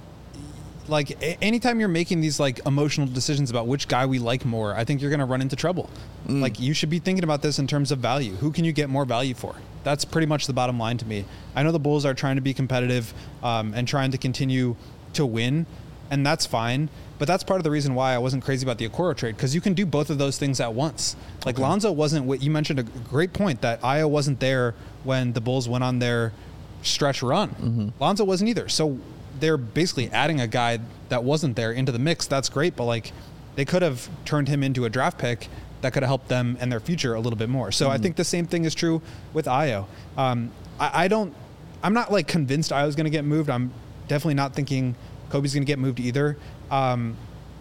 like anytime you're making these like emotional decisions about which guy we like more, I think you're going to run into trouble. Mm. Like you should be thinking about this in terms of value. Who can you get more value for? That's pretty much the bottom line to me. I know the Bulls are trying to be competitive um, and trying to continue to win, and that's fine. But that's part of the reason why I wasn't crazy about the Okoro trade, because you can do both of those things at once. Like okay. Lonzo wasn't what you mentioned, a great point that Ayo wasn't there when the Bulls went on their stretch run. Mm-hmm. Lonzo wasn't either. So they're basically adding a guy that wasn't there into the mix. That's great, but like they could have turned him into a draft pick that could have helped them and their future a little bit more. So mm-hmm. I think the same thing is true with Ayo. Um, I, I don't, I'm not like convinced Ayo's going to get moved. I'm definitely not thinking Kobe's going to get moved either. Um,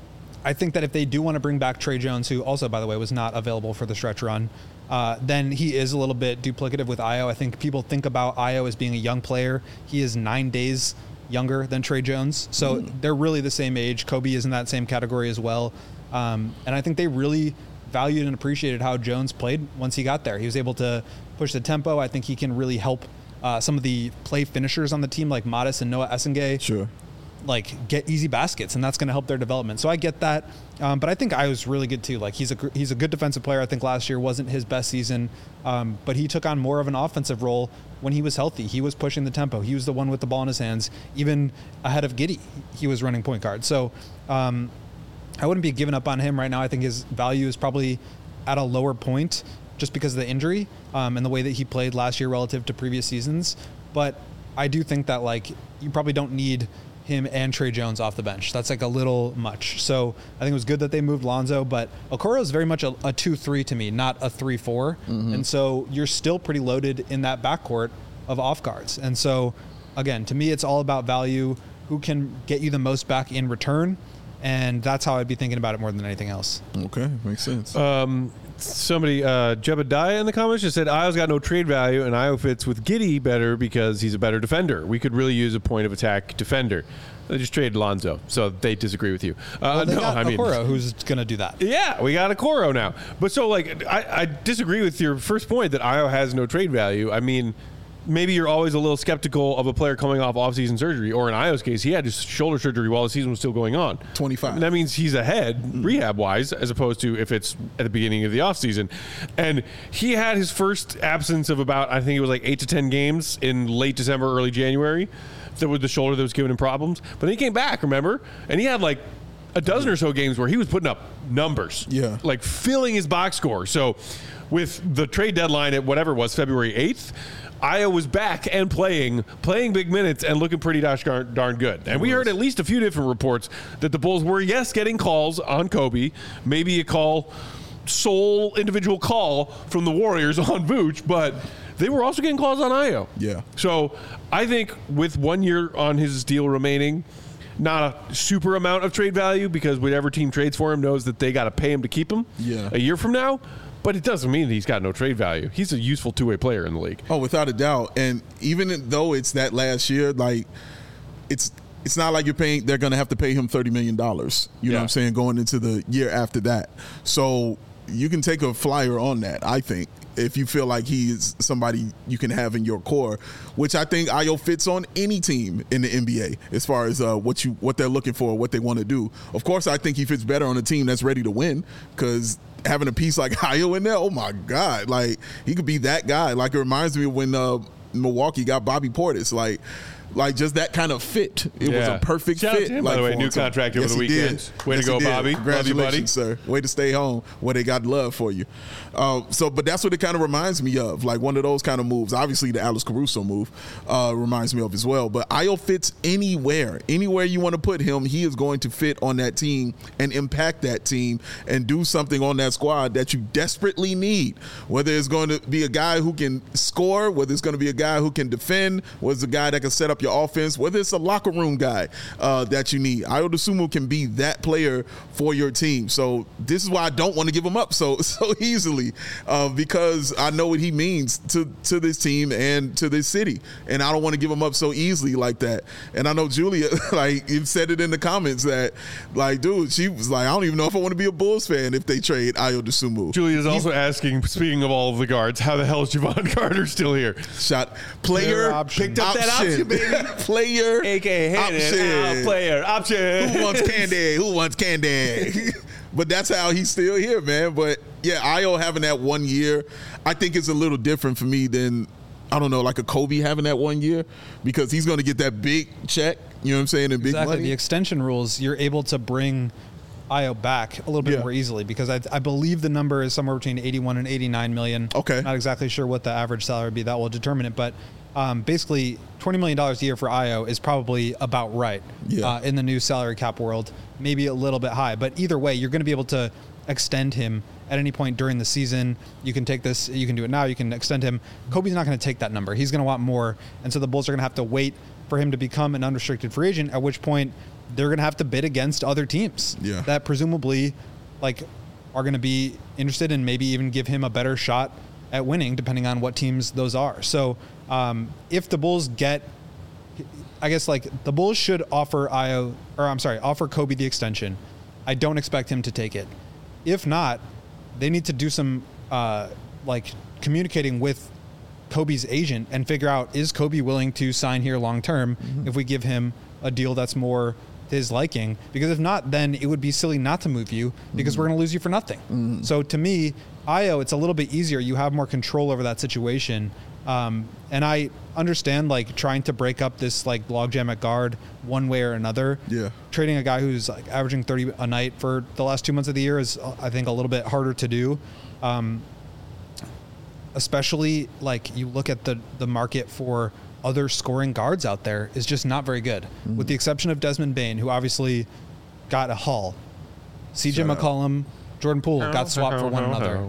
I think that if they do want to bring back Trey Jones, who also, by the way, was not available for the stretch run, uh, then he is a little bit duplicative with Ayo. I think people think about Ayo as being a young player. He is nine days younger than Trey Jones. So mm. they're really the same age. Kobe is in that same category as well. Um, and I think they really valued and appreciated how Jones played once he got there. He was able to push the tempo. I think he can really help uh, some of the play finishers on the team like Modest and Noah Essengay. Sure. Like get easy baskets, and that's going to help their development. So I get that, um, but I think I was really good too. Like he's a he's a good defensive player. I think last year wasn't his best season, um, but he took on more of an offensive role when he was healthy. He was pushing the tempo. He was the one with the ball in his hands, even ahead of Giddey. He was running point guard. So um, I wouldn't be giving up on him right now. I think his value is probably at a lower point just because of the injury um, and the way that he played last year relative to previous seasons. But I do think that like you probably don't need him and Trey Jones off the bench. That's like a little much. So I think it was good that they moved Lonzo, but Okoro is very much a, a two three to me, not a three four. Mm-hmm. And so you're still pretty loaded in that backcourt of off guards. And so, again, to me, it's all about value. Who can get you the most back in return? And that's how I'd be thinking about it more than anything else. Okay, makes sense. Um, somebody, uh, Jebediah in the comments just said, Ayo's got no trade value, and Ayo fits with Giddey better because he's a better defender. We could really use a point of attack defender. They just traded Lonzo, so they disagree with you. Uh, well, they no, got I mean, Okoro, who's going to do that. Yeah, we got Okoro now. But so, like, I, I disagree with your first point that Ayo has no trade value. I mean, maybe you're always a little skeptical of a player coming off off-season surgery, or in Ayo's case, he had his shoulder surgery while the season was still going on. twenty-five. And that means he's ahead mm. rehab-wise, as opposed to if it's at the beginning of the offseason. And he had his first absence of about, I think it was like eight to ten games in late December, early January. That was the shoulder that was giving him problems. But then he came back, remember? And he had like a dozen or so games where he was putting up numbers. Yeah. Like filling his box score. So with the trade deadline at whatever it was, February eighth, Ayo was back and playing, playing big minutes and looking pretty gosh darn, darn good. And we heard at least a few different reports that the Bulls were, yes, getting calls on Kobe, maybe a call, sole individual call from the Warriors on Vooch, but they were also getting calls on Ayo. Yeah. So I think with one year on his deal remaining, not a super amount of trade value because whatever team trades for him knows that they got to pay him to keep him yeah. a year from now. But it doesn't mean that he's got no trade value. He's a useful two-way player in the league. Oh, without a doubt. And even though it's that last year, like it's it's not like you're paying. They're going to have to pay him thirty million dollars. You yeah. know what I'm saying? Going into the year after that, so you can take a flyer on that. I think if you feel like he is somebody you can have in your core, which I think Ayo fits on any team in the N B A as far as uh, what you what they're looking for, what they want to do. Of course, I think he fits better on a team that's ready to win because having a piece like Ayo in there, oh my God, like he could be that guy. Like it reminds me of when uh, Milwaukee got Bobby Portis. Like like just that kind of fit. It was Yeah. a perfect Shout out fit. to him, like by the way. for New him. So- contract over yes, the he did. weekend. Way to Yes, go, he did. Bobby. Love you, Congratulations, buddy. sir. Way to stay home where they got love for you. Uh, so, but that's what it kind of reminds me of, like one of those kind of moves. Obviously, the Alex Caruso move uh, reminds me of as well. But Ayo fits anywhere, anywhere you want to put him. He is going to fit on that team and impact that team and do something on that squad that you desperately need. Whether it's going to be a guy who can score, whether it's going to be a guy who can defend, whether it's a guy that can set up your offense, whether it's a locker room guy uh, that you need. Ayo Dosunmu can be that player for your team. So this is why I don't want to give him up so so easily uh, because I know what he means to to this team and to this city, and I don't want to give him up so easily like that. And I know Julia, like, you said it in the comments that, like, dude, she was like, I don't even know if I want to be a Bulls fan if they trade Ayo Dosunmu. Julia's also asking, speaking of all of the guards, how the hell is Javon Carter still here? Shot player Player option. picked up that option, baby. Player A K A option. player option. Who wants candy? Who wants candy? But that's how he's still here, man. But yeah, Ayo having that one year, I think it's a little different for me than, I don't know, like a Kobe having that one year, because he's going to get that big check, you know what I'm saying, and big Exactly. money. The extension rules, you're able to bring Ayo back a little bit Yeah. more easily because I, I believe the number is somewhere between eighty-one and eighty-nine million. Okay. Not exactly sure what the average salary would be. That will determine it. But um, basically, twenty million dollars a year for Ayo is probably about right Yeah. uh, in the new salary cap world. Maybe a little bit high. But either way, you're going to be able to extend him at any point during the season. You can take this, you can do it now, you can extend him. Kobe's not going to take that number. He's going to want more. And so the Bulls are going to have to wait for him to become an unrestricted free agent, at which point they're going to have to bid against other teams Yeah. that presumably like are going to be interested and maybe even give him a better shot at winning, depending on what teams those are. So um, if the Bulls get, I guess like the Bulls should offer Ayo, or I'm sorry, offer Kobe the extension. I don't expect him to take it. If not, they need to do some uh, like communicating with Kobe's agent and figure out, is Kobe willing to sign here long term Mm-hmm. if we give him a deal that's more his liking? Because if not, then it would be silly not to move you because Mm-hmm. we're going to lose you for nothing. So to me, Ayo, it's a little bit easier. You have more control over that situation. Um, and I understand like trying to break up this like logjam at guard one way or another. Yeah. Trading a guy who's like averaging thirty a night for the last two months of the year is, uh, I think, a little bit harder to do. Um, especially like you look at the, the market for other scoring guards out there is just not very good, Mm-hmm. with the exception of Desmond Bane, who obviously got a haul. C J Shout out. McCollum, Jordan Poole got swapped for one another.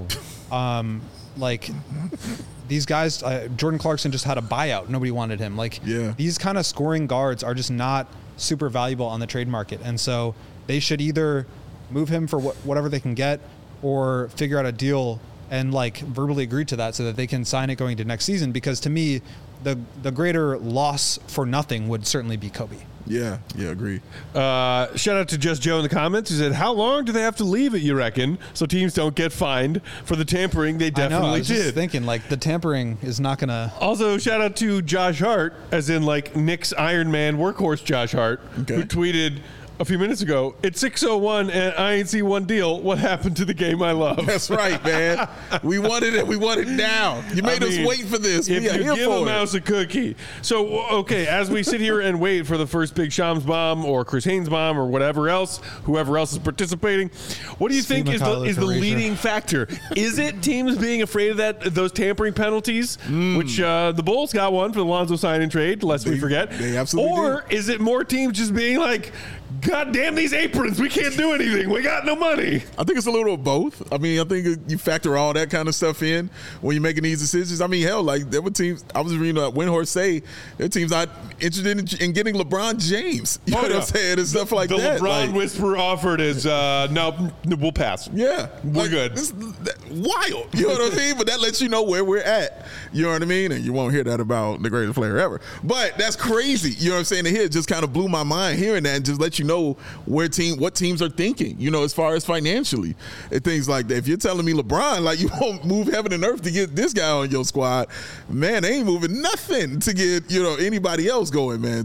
Um, like these guys, uh, Jordan Clarkson just had a buyout. Nobody wanted him. Like Yeah. these kind of scoring guards are just not super valuable on the trade market. And so they should either move him for wh- whatever they can get or figure out a deal and like verbally agree to that so that they can sign it going to next season. Because to me, the the greater loss for nothing would certainly be Kobe. Yeah, yeah, agree. Uh, shout out to Just Joe in the comments. He said, how long do they have to leave it, you reckon, so teams don't get fined for the tampering they I know. I definitely was just did? thinking like the tampering is not going to. Also, shout out to Josh Hart, as in like Knicks Iron Man workhorse Josh Hart, Okay. who tweeted a few minutes ago, it's six oh one and I ain't see one deal. What happened to the game I love? That's right, man. We wanted it. We want it now. You made I us mean, wait for this. If We are you here give a for it. mouse a cookie. So, okay, as we sit here and wait for the first Big Shams bomb or Chris Haynes bomb or whatever else, whoever else is participating, what do you Steve think is the, McCullough is the for Razor. leading factor? Is it teams being afraid of that those tampering penalties, Mm. which uh, the Bulls got one for the Lonzo sign and trade, lest we They- forget? they absolutely Or is it more teams just being like, God damn these aprons, we can't do anything, we got no money? I think it's a little of both. I mean, I think you factor all that kind of stuff in when you're making these decisions. I mean, hell, like there were teams. I was reading uh, Windhorst say there are teams not interested in, in getting LeBron James. You Oh, know what yeah. I'm saying? And stuff like the that. LeBron Like, whisperer offered is, uh, no, we'll pass. yeah, We're like, good. This, that, wild. You know what I mean? But that lets you know where we're at. You know what I mean? And you won't hear that about the greatest player ever. But that's crazy. You know what I'm saying? And here it just kind of blew my mind hearing that and just let you know where team, what teams are thinking. You know, as far as financially and things like that. If you're telling me LeBron, like you won't move heaven and earth to get this guy on your squad, man, they ain't moving nothing to get you know anybody else going, man. So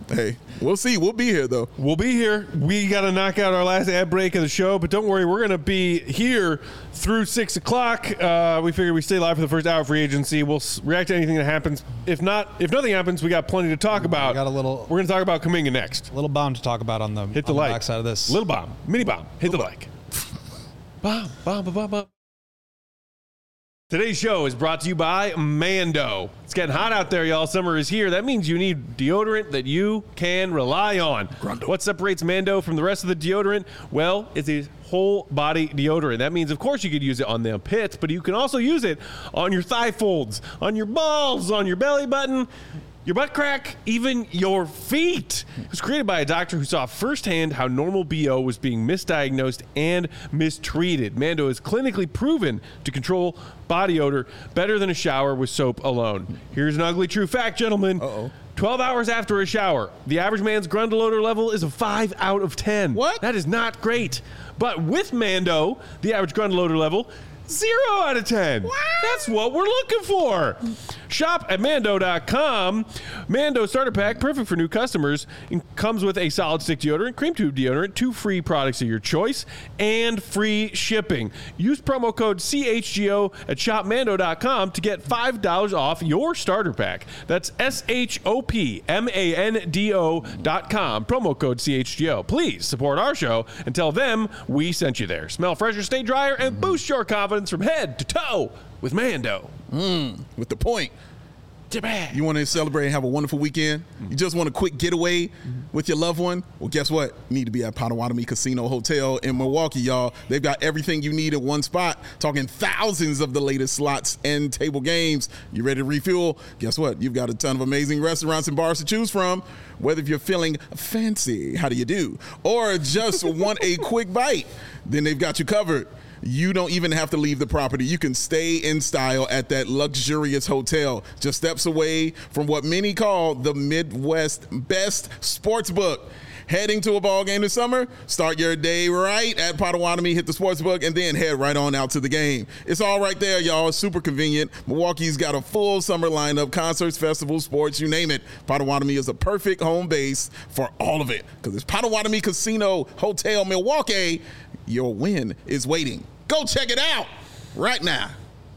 Hey, we'll see. We'll be here, though. We'll be here. We got to knock out our last ad break of the show, but don't worry, we're going to be here through six o'clock. Uh, we figure we stay live for the first hour of free agency. We'll s- react to anything that happens. If not, if nothing happens, we got plenty to talk about. We got a little. We're going to talk about Kuminga next. Little bomb to talk about on the Hit the on like. the backside of this. Little bomb, mini bomb. Hit the like. Bomb, bomb, bomb, bomb. Today's show is brought to you by Mando. It's getting hot out there, y'all. Summer is here. That means you need deodorant that you can rely on. Grundle. What separates Mando from the rest of the deodorant? Well, it's a whole body deodorant. That means, of course, you could use it on the pits, but you can also use it on your thigh folds, on your balls, on your belly button, your butt crack, even your feet. It was created by a doctor who saw firsthand how normal B O was being misdiagnosed and mistreated. Mando is clinically proven to control body odor better than a shower with soap alone. Here's an ugly true fact, gentlemen. Uh-oh. twelve hours after a shower, the average man's Grundle odor level is a five out of ten. What? That is not great. But with Mando, the average Grundle odor level, zero out of ten. What? That's what we're looking for. Shop at Mando dot com. Mando Starter Pack, perfect for new customers. It comes with a solid stick deodorant, cream tube deodorant, two free products of your choice, and free shipping. Use promo code C H G O at shop Mando dot com to get five dollars off your starter pack. That's S H O P M A N D O dot com. Promo code C H G O. Please support our show and tell them we sent you there. Smell fresher, stay drier, and boost your confidence from head to toe with Mando. Mm, with the point. You want to celebrate and have a wonderful weekend? You just want a quick getaway with your loved one? Well, guess what? You need to be at Potawatomi Casino Hotel in Milwaukee, y'all. They've got everything you need in one spot. Talking thousands of the latest slots and table games. You ready to refuel? Guess what? You've got a ton of amazing restaurants and bars to choose from. Whether if you're feeling fancy, how do you do? Or just want a quick bite, then they've got you covered. You don't even have to leave the property. You can stay in style at that luxurious hotel, just steps away from what many call the Midwest best sports book. Heading to a ball game this summer? Start your day right at Potawatomi, hit the sports book, and then head right on out to the game. It's all right there, y'all. It's super convenient. Milwaukee's got a full summer lineup, concerts, festivals, sports, you name it. Potawatomi is a perfect home base for all of it because it's Potawatomi Casino Hotel Milwaukee. Your win is waiting. Go check it out right now.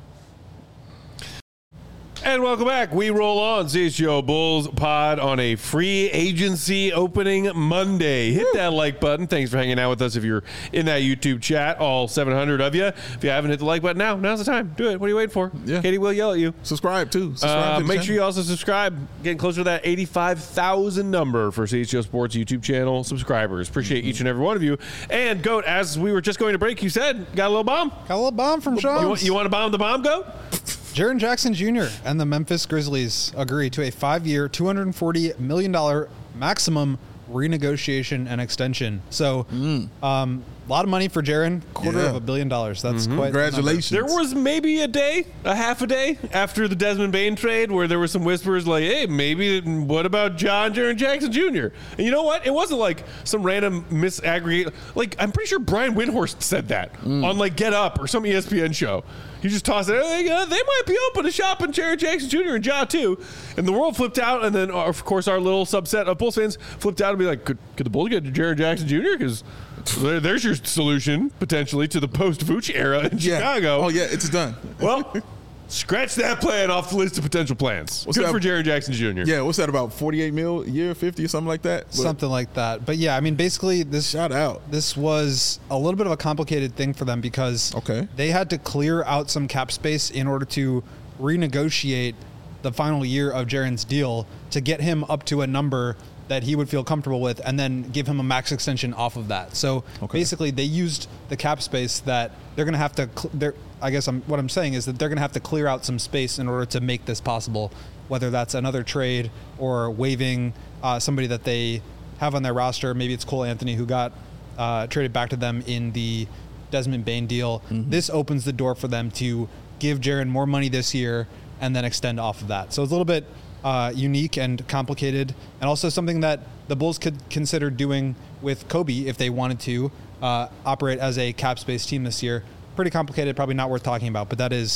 And welcome back. We roll on C H G O Bulls pod on a free agency opening Monday. Hit that like button. Thanks for hanging out with us if you're in that YouTube chat, all seven hundred of you. If you haven't hit the like button now, now's the time. Do it. What are you waiting for? Yeah. Katie will yell at you. Subscribe, too. Subscribe Uh, to the make channel. sure you also subscribe. Getting closer to that eighty-five thousand number for C H G O Sports YouTube channel subscribers. Appreciate Mm-hmm. each and every one of you. And, Goat, as we were just going to break, you said, got a little bomb? Got a little bomb from Sean. You want, you want to bomb the bomb, Goat? Jaren Jackson Junior and the Memphis Grizzlies agree to a five-year, two hundred forty million dollars maximum renegotiation and extension. So, Mm. um, a lot of money for Jaren, quarter Yeah. of a billion dollars. That's quite the number. Congratulations. There was maybe a day, a half a day after the Desmond Bain trade where there were some whispers like, hey, maybe what about John Jaren Jackson Junior? And you know what? It wasn't like some random misaggregate. Like, I'm pretty sure Brian Windhorst said that on like Get Up or some E S P N show. He just tossed it. Hey, uh, they might be open to shopping Jaren Jackson Junior and Ja too. And the world flipped out. And then, of course, our little subset of Bulls fans flipped out and be like, could, could the Bulls get Jaren Jackson Junior? Because there, there's your solution, potentially, to the post-Vooch era in Yeah. Chicago. Oh, yeah, it's done. Well, scratch that plan off the list of potential plans. What's Good that? for Jaren Jackson Junior Yeah, what's that, about forty-eight mil a year, fifty or something like that? But Something like that. But yeah, I mean, basically, this shout out. this was a little bit of a complicated thing for them because Okay. they had to clear out some cap space in order to renegotiate the final year of Jaren's deal to get him up to a number that he would feel comfortable with and then give him a max extension off of that. So Okay. basically they used the cap space that they're going to have to, cl- they're, I guess I'm, what I'm saying is that they're going to have to clear out some space in order to make this possible, whether that's another trade or waiving uh, somebody that they have on their roster. Maybe it's Cole Anthony who got uh, traded back to them in the Desmond Bain deal. Mm-hmm. This opens the door for them to give Jaren more money this year and then extend off of that. So it's a little bit uh, unique and complicated, and also something that the Bulls could consider doing with Kobe if they wanted to uh, operate as a cap space team this year. Pretty complicated, probably not worth talking about, but that is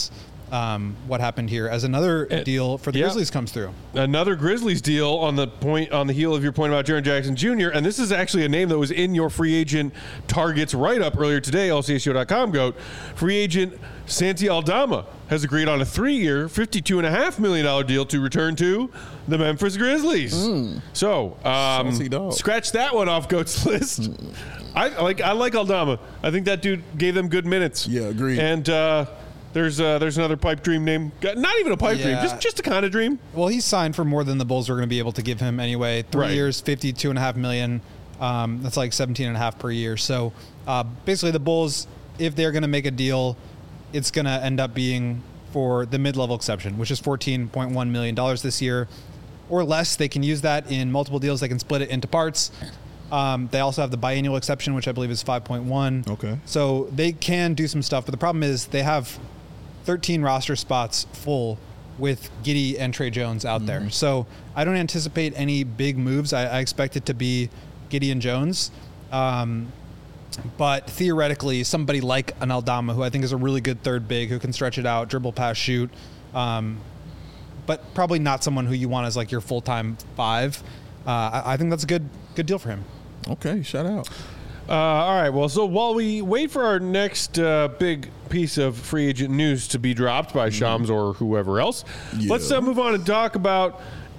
um, what happened here as another Uh, deal for the yeah. Grizzlies comes through. Another Grizzlies deal on the point on the heel of your point about Jaren Jackson Junior And this is actually a name that was in your free agent targets write-up earlier today, L C S U dot com goat. Free agent Santi Aldama has agreed on a three-year, fifty-two point five million dollars deal to return to the Memphis Grizzlies. Mm. So, um, scratch that one off Goat's list. Mm. I like I like Aldama. I think that dude gave them good minutes. Yeah, agreed. And uh, there's uh, there's another pipe dream name. Not even a pipe Yeah. dream, just just a kind of dream. Well, he's signed for more than the Bulls were going to be able to give him anyway. Three Right. years, fifty-two and a half million. Um, that's like seventeen and a half per year. So uh, basically, the Bulls, if they're going to make a deal, it's going to end up being for the mid-level exception, which is fourteen point one million dollars this year or less. They can use that in multiple deals. They can split it into parts. Um, they also have the biannual exception, which I believe is five point one. Okay. So they can do some stuff, but the problem is they have thirteen roster spots full with Giddey and Trey Jones out mm-hmm. there. So I don't anticipate any big moves. I, I expect it to be Giddey and Jones. Um, but theoretically, somebody like an Aldama, who I think is a really good third big, who can stretch it out, dribble, pass, shoot, um, but probably not someone who you want as like your full-time five. Uh, I, I think that's a good good deal for him. Okay, shout out. Uh, all right, well, so while we wait for our next uh, big piece of free agent news to be dropped by Shams or whoever else, Yeah. let's uh, move on and talk about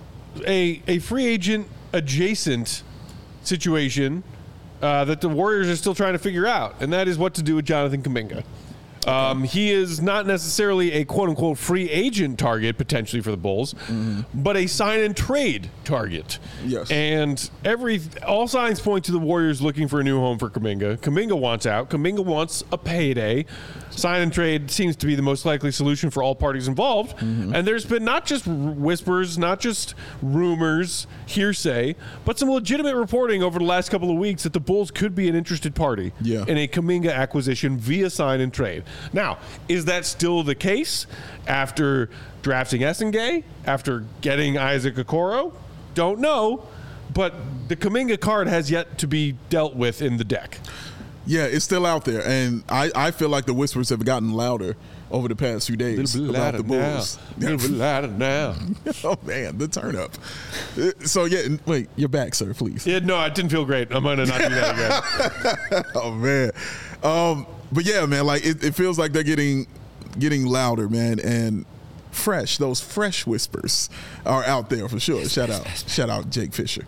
a, a free agent adjacent situation uh, that the Warriors are still trying to figure out, and that is what to do with Jonathan Kuminga. Um, he is not necessarily a quote-unquote free agent target potentially for the Bulls, mm-hmm. but a sign and trade target. Yes. And every all signs point to the Warriors looking for a new home for Kuminga. Kuminga wants out. Kuminga wants a payday. Sign and trade seems to be the most likely solution for all parties involved. Mm-hmm. And there's been not just whispers, not just rumors, hearsay, but some legitimate reporting over the last couple of weeks that the Bulls could be an interested party yeah. in a Kuminga acquisition via sign and trade. Now, is that still the case after drafting Essengay, after getting Isaac Okoro? Don't know, but the Kuminga card has yet to be dealt with in the deck. Yeah, it's still out there, and I, I feel like the whispers have gotten louder over the past few days about the Bulls. A little bit louder now. Oh, man, the turn up. So, yeah, wait, you're back, sir, please. Yeah, no, it didn't feel great. I'm going to not do that again. Oh, man. Um, but, yeah, man, like, it, it feels like they're getting getting louder, man, and fresh. Those fresh whispers are out there for sure. Shout out. Shout out Jake Fisher.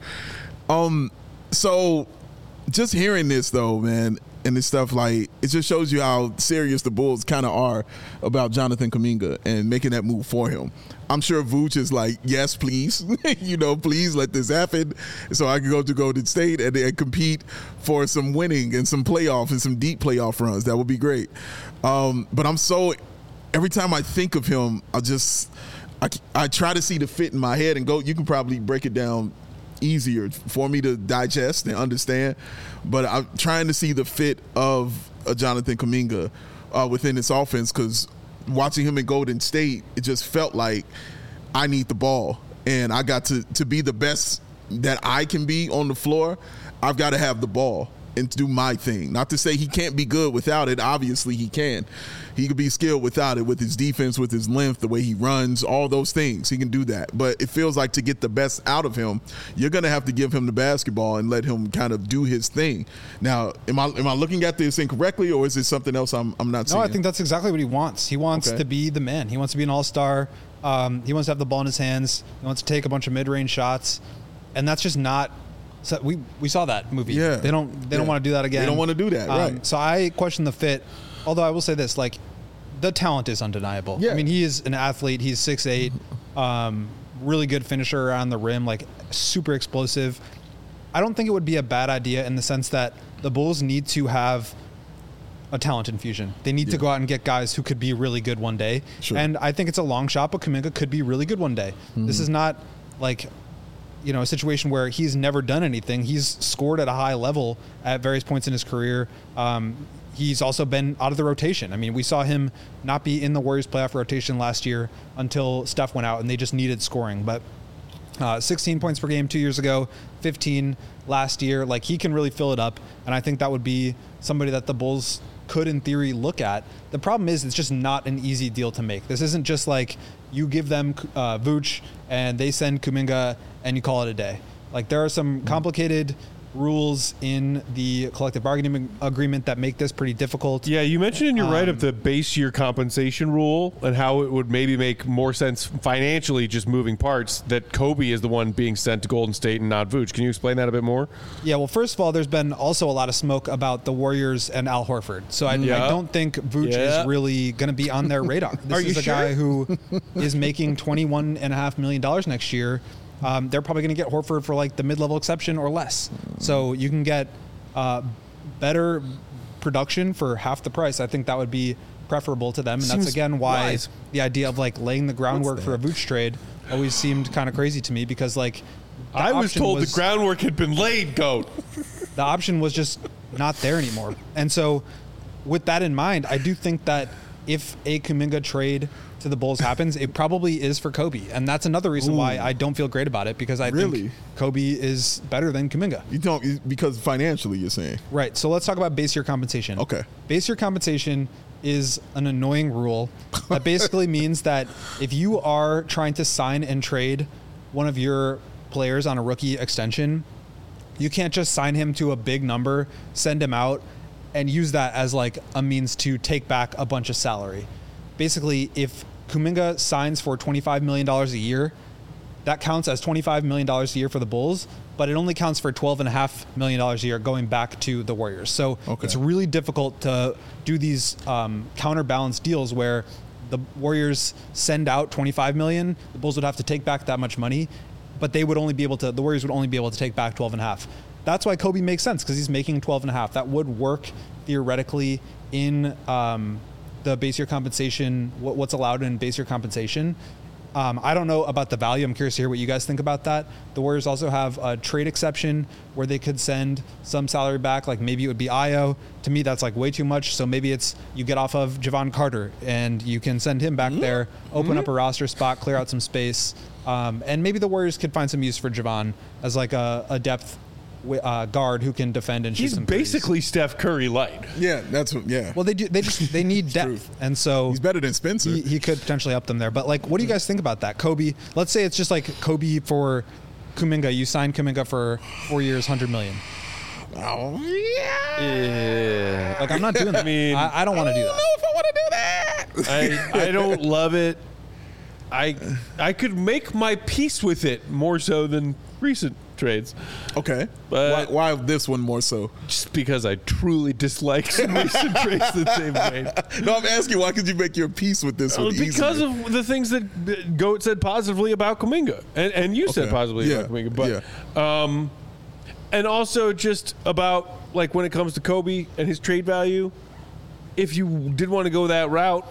Um, so... Just hearing this, though, man, and this stuff, like, it just shows you how serious the Bulls kind of are about Jonathan Kuminga and making that move for him. I'm sure Vooch is like, yes, please, you know, please let this happen so I can go to Golden State and, and compete for some winning and some playoff and some deep playoff runs. That would be great. Um, but I'm so, every time I think of him, I just, I, I try to see the fit in my head and go, you can probably break it down easier for me to digest and understand, but I'm trying to see the fit of a Jonathan Kuminga uh, within this offense, because watching him in Golden State, it just felt like I need the ball, and I got to to be the best that I can be on the floor. I've got to have the ball and do my thing. Not to say he can't be good without it. Obviously he can. He could be skilled without it, with his defense, with his length, the way he runs, all those things. He can do that. But it feels like to get the best out of him, you're going to have to give him the basketball and let him kind of do his thing. Now, am I am I looking at this incorrectly, or is it something else I'm, I'm not seeing? No, I think that's exactly what he wants. He wants Okay. to be the man. He wants to be an all-star. Um, he wants to have the ball in his hands. He wants to take a bunch of mid-range shots. And that's just not... So we we saw that movie. Yeah. They don't they Yeah. don't want to do that again. They don't want to do that, Um, right. So I question the fit. Although I will say this, like, the talent is undeniable. Yeah. I mean, he is an athlete. He's six eight, um, really good finisher around the rim, like super explosive. I don't think it would be a bad idea in the sense that the Bulls need to have a talent infusion. They need to Yeah. go out and get guys who could be really good one day. Sure. And I think it's a long shot, but Kuminga could be really good one day. Mm-hmm. This is not like, you know, a situation where he's never done anything. He's scored at a high level at various points in his career. Um, he's also been out of the rotation. I mean, we saw him not be in the Warriors playoff rotation last year until Steph went out and they just needed scoring. But uh, sixteen points per game two years ago, fifteen last year. Like, he can really fill it up. And I think that would be somebody that the Bulls could in theory look at. The problem is it's just not an easy deal to make. This isn't just like you give them uh, Vooch and they send Kuminga and you call it a day. Like there are some complicated rules in the collective bargaining agreement that make this pretty difficult. Yeah, you mentioned in your um, right of the base year compensation rule and how it would maybe make more sense financially, just moving parts, that Kobe is the one being sent to Golden State and not Vooch. Can you explain that a bit more? Yeah, well, first of all, there's been also a lot of smoke about the Warriors and Al Horford. So I, yeah. I don't think Vooch yeah. is really going to be on their radar. This Are is you a sure? guy who is making twenty-one point five million dollars next year. Um, they're probably going to get Horford for like the mid-level exception or less. So you can get uh, better production for half the price. I think that would be preferable to them. And Seems that's, again, why wise. the idea of like laying the groundwork for a Vooch trade always seemed kind of crazy to me because like I was told was, the groundwork had been laid, Goat. The option was just not there anymore. And so with that in mind, I do think that if a Kuminga trade to the Bulls happens, it probably is for Kobe. And that's another reason Ooh. why I don't feel great about it, because I really? think Kobe is better than Kuminga. You don't, because financially you're saying. Right. So let's talk about base year compensation. Okay. Base year compensation is an annoying rule that basically means that if you are trying to sign and trade one of your players on a rookie extension, you can't just sign him to a big number, send him out, and use that as like a means to take back a bunch of salary. Basically, if Kuminga signs for twenty-five million dollars a year, that counts as twenty-five million dollars a year for the Bulls, but it only counts for twelve point five million dollars a year going back to the Warriors. So okay. it's really difficult to do these um, counterbalance deals where the Warriors send out twenty-five million dollars, the Bulls would have to take back that much money, but they would only be able to, the Warriors would only be able to take back twelve and a half. That's why Kobe makes sense, because he's making twelve and a half. That would work theoretically in um, the base year compensation, what, what's allowed in base year compensation. Um, I don't know about the value. I'm curious to hear what you guys think about that. The Warriors also have a trade exception where they could send some salary back, like maybe it would be Ayo. To me, that's like way too much. So maybe it's you get off of Javon Carter and you can send him back mm-hmm. there, open mm-hmm. up a roster spot, clear out some space. Um, and maybe the Warriors could find some use for Javon as like a, a depth Uh, guard who can defend and shoot He's some basically threes. Steph Curry light. Yeah, that's what. Yeah. Well, they do. They just they need depth, and so he's better than Spencer. He, he could potentially up them there. But like, what do you guys think about that, Kobe? Let's say it's just like Kobe for Kuminga. You signed Kuminga for four years, hundred million. Oh yeah. yeah. Like I'm not doing that. I mean, I, I don't want to do that. I don't know if I want to do that. I I don't love it. I I could make my peace with it more so than recent trades. Okay. But why, why this one more so? Just because I truly dislike some recent trades that they've made. No, I'm asking why could you make your peace with this one? Because easier? of the things that Goat said positively about Kuminga. And, and you okay. said positively yeah. about Kuminga. But, yeah. um, and also just about, like, when it comes to Kobe and his trade value, if you did want to go that route,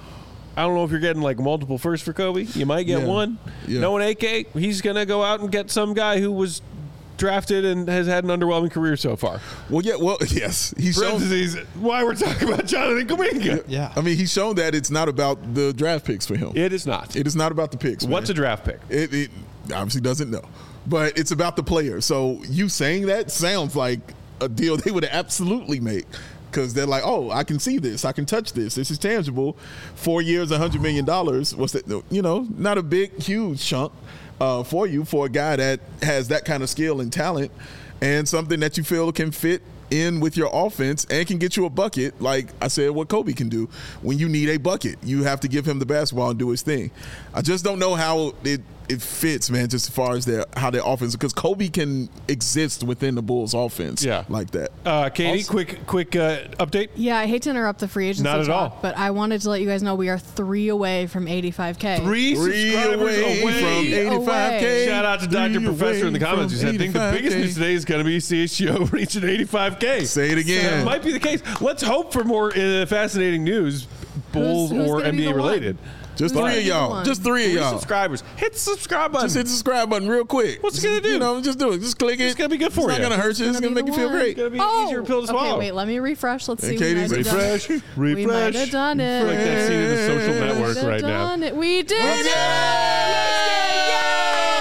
I don't know if you're getting like multiple firsts for Kobe. You might get yeah. one. Yeah. Knowing A K, he's going to go out and get some guy who was drafted and has had an underwhelming career so far. Well, yeah, well, yes. He's shown why we're talking about Jonathan Kuminga. Yeah. I mean, he's shown that it's not about the draft picks for him. It is not. It is not about the picks. What's man. a draft pick? It, it obviously doesn't know. But it's about the player. So you saying that sounds like a deal they would absolutely make. Because they're like, oh, I can see this. I can touch this. This is tangible. Four years, one hundred million dollars. What's that? You know, not a big, huge chunk uh, for you for a guy that has that kind of skill and talent and something that you feel can fit in with your offense and can get you a bucket. Like I said, what Kobe can do. When you need a bucket, you have to give him the basketball and do his thing. I just don't know how it it fits, man, just as far as their how their offense, because Kobe can exist within the Bulls offense yeah. like that. Uh, Katie, also, quick quick uh, update. Yeah, I hate to interrupt the free agency Not at talk, all. but I wanted to let you guys know we are three away from eighty-five K. Three, Three subscribers away, away. from eighty-five K. Shout out to Doctor Three Professor in the away comments who said, I think the biggest news today is going to be C H G O reaching eighty-five K. Say it again. That might be the case. Let's hope for more uh, fascinating news, Bulls Who's- who's or gonna N be B A the one? related. Just Who's three gonna of be the y'all. one? Just three of Three y'all. subscribers. Hit the subscribe button. Just hit the subscribe button real quick. What's it Just, gonna do? You know, just do it. Just click it. It's gonna be good for It's you. not gonna hurt you. It's Gonna gonna be make the you feel one. great. It's gonna be Oh, easier pill to swallow. okay, wait, let me refresh. Let's see. And We might Katie's have done it. Refresh. We Refresh. might have done it. I feel like that scene in the Social We Network might have right now. done it. We did it!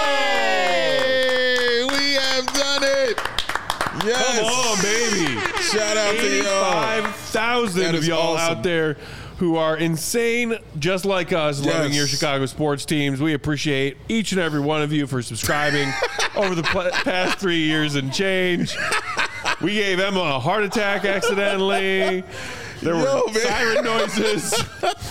Yay! We have done it. Yes. Come on, baby. Shout out to y'all. eighty-five thousand That of is y'all awesome. out there who are insane, just like us, Yes. loving your Chicago sports teams. We appreciate each and every one of you for subscribing over the pl- past three years and change. We gave Emma a heart attack accidentally. There were Yo, man. siren noises.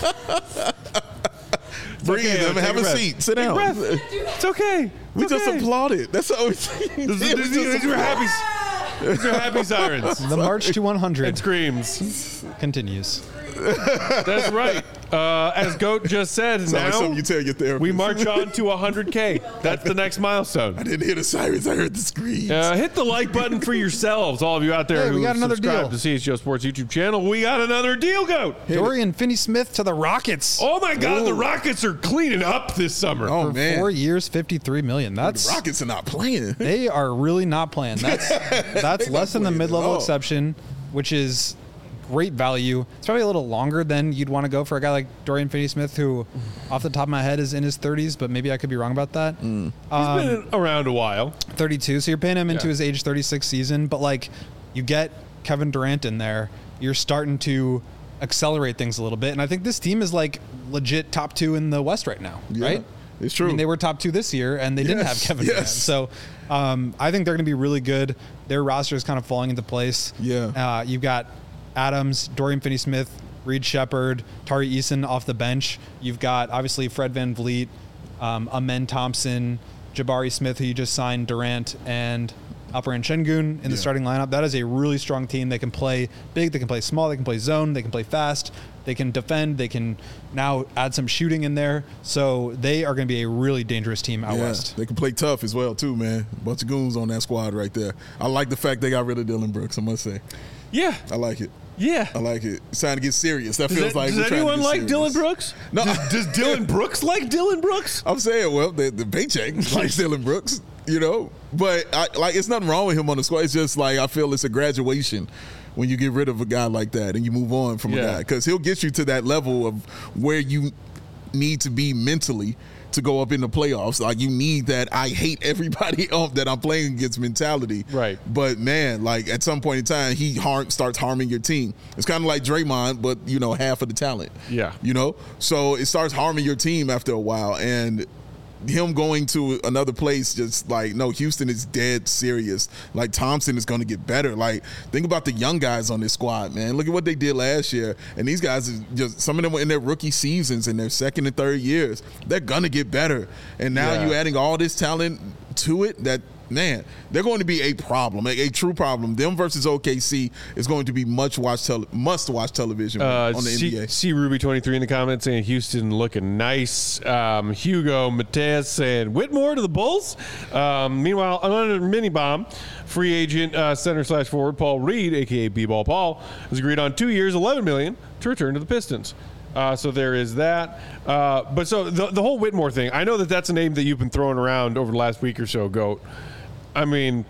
Breathe. okay, Emma, take have a a breath. seat. Sit Take a down. breath. It's okay. We It's just okay. applauded. That's all we This is- this is- These are happy. These are happy sirens The march to one and hundred screams. continues. That's right. Uh, as Goat just said, Sound like now something you tell your therapist. we march on to one hundred K. That's the next I milestone. didn't hear the sirens. I heard the screams. Uh, hit the like button for yourselves, all of you out there Hey, who we got another subscribe deal. to C H G O Sports YouTube channel. We got another deal, Goat. Dorian Finney-Smith to the Rockets. Oh my God, Ooh. the Rockets are cleaning up this summer. Oh, for man. four years, fifty-three million. That's The Rockets are not playing. they are really not playing. That's that's They less not than the playing at mid-level all. exception, which is great value. It's probably a little longer than you'd want to go for a guy like Dorian Finney-Smith, who, off the top of my head, is in his thirties, but maybe I could be wrong about that. Mm. He's been around a while. thirty-two, so you're paying him into Yeah. his age thirty-six season, but like you get Kevin Durant in there, you're starting to accelerate things a little bit, and I think this team is like legit top two in the West right now, Yeah, right? it's true. I mean, they were top two this year, and they didn't have Yes, Kevin yes. Durant, so um, I think they're going to be really good. Their roster is kind of falling into place. Yeah. uh, you've got Adams, Dorian Finney-Smith, Reed Shepard, Tari Eason off the bench. You've got obviously Fred VanVleet, um, Amen Thompson, Jabari Smith, who you just signed, Durant, and Alperen Şengün in the Yeah. starting lineup. That is a really strong team. They can play big, they can play small, they can play zone, they can play fast, they can defend, they can now add some shooting in there. So they are going to be a really dangerous team out Yeah, west. they can play tough as well too, man. Bunch of goons on that squad right there. I like the fact they got rid of Dylan Brooks. I must say, Yeah, I like it. yeah. I like it. It's time to get serious. That Does, feels that- like does we're trying to anyone get like serious. Dylan Brooks? No. Does, does Dylan Brooks like Dylan Brooks? I'm saying, well, the, the paycheck like Dylan Brooks, you know, but I, like it's nothing wrong with him on the squad. It's just like I feel it's a graduation when you get rid of a guy like that and you move on from a Yeah. guy because he'll get you to that level of where you need to be mentally to go up in the playoffs. Like you need that I hate everybody else that I'm playing against mentality. Right. But man, like at some point in time, he harm, starts harming your team. It's kind of like Draymond, but you know, half of the talent. Yeah. You know, so it starts harming your team after a while, and him going to another place just like no, Houston is dead serious. Like Thompson is going to get better. Like think about the young guys on this squad, man. Look at what they did last year, and these guys are just some of them were in their rookie seasons in their second and third years. They're gonna get better, and now Yeah. you adding all this talent to it that. Man, they're going to be a problem, a, a true problem. Them versus O K C is going to be much watch tele- must watch television Uh, on the C, N B A. C Ruby twenty-three in the comments saying Houston looking nice. Um, Hugo Mateus saying Whitmore to the Bulls. Um, meanwhile, another mini bomb. Free agent uh, center slash forward Paul Reed, aka B-Ball Paul, has agreed on two years, eleven million to return to the Pistons. Uh, so there is that. Uh, but so the, the whole Whitmore thing, I know that that's a name that you've been throwing around over the last week or so, Goat. I mean,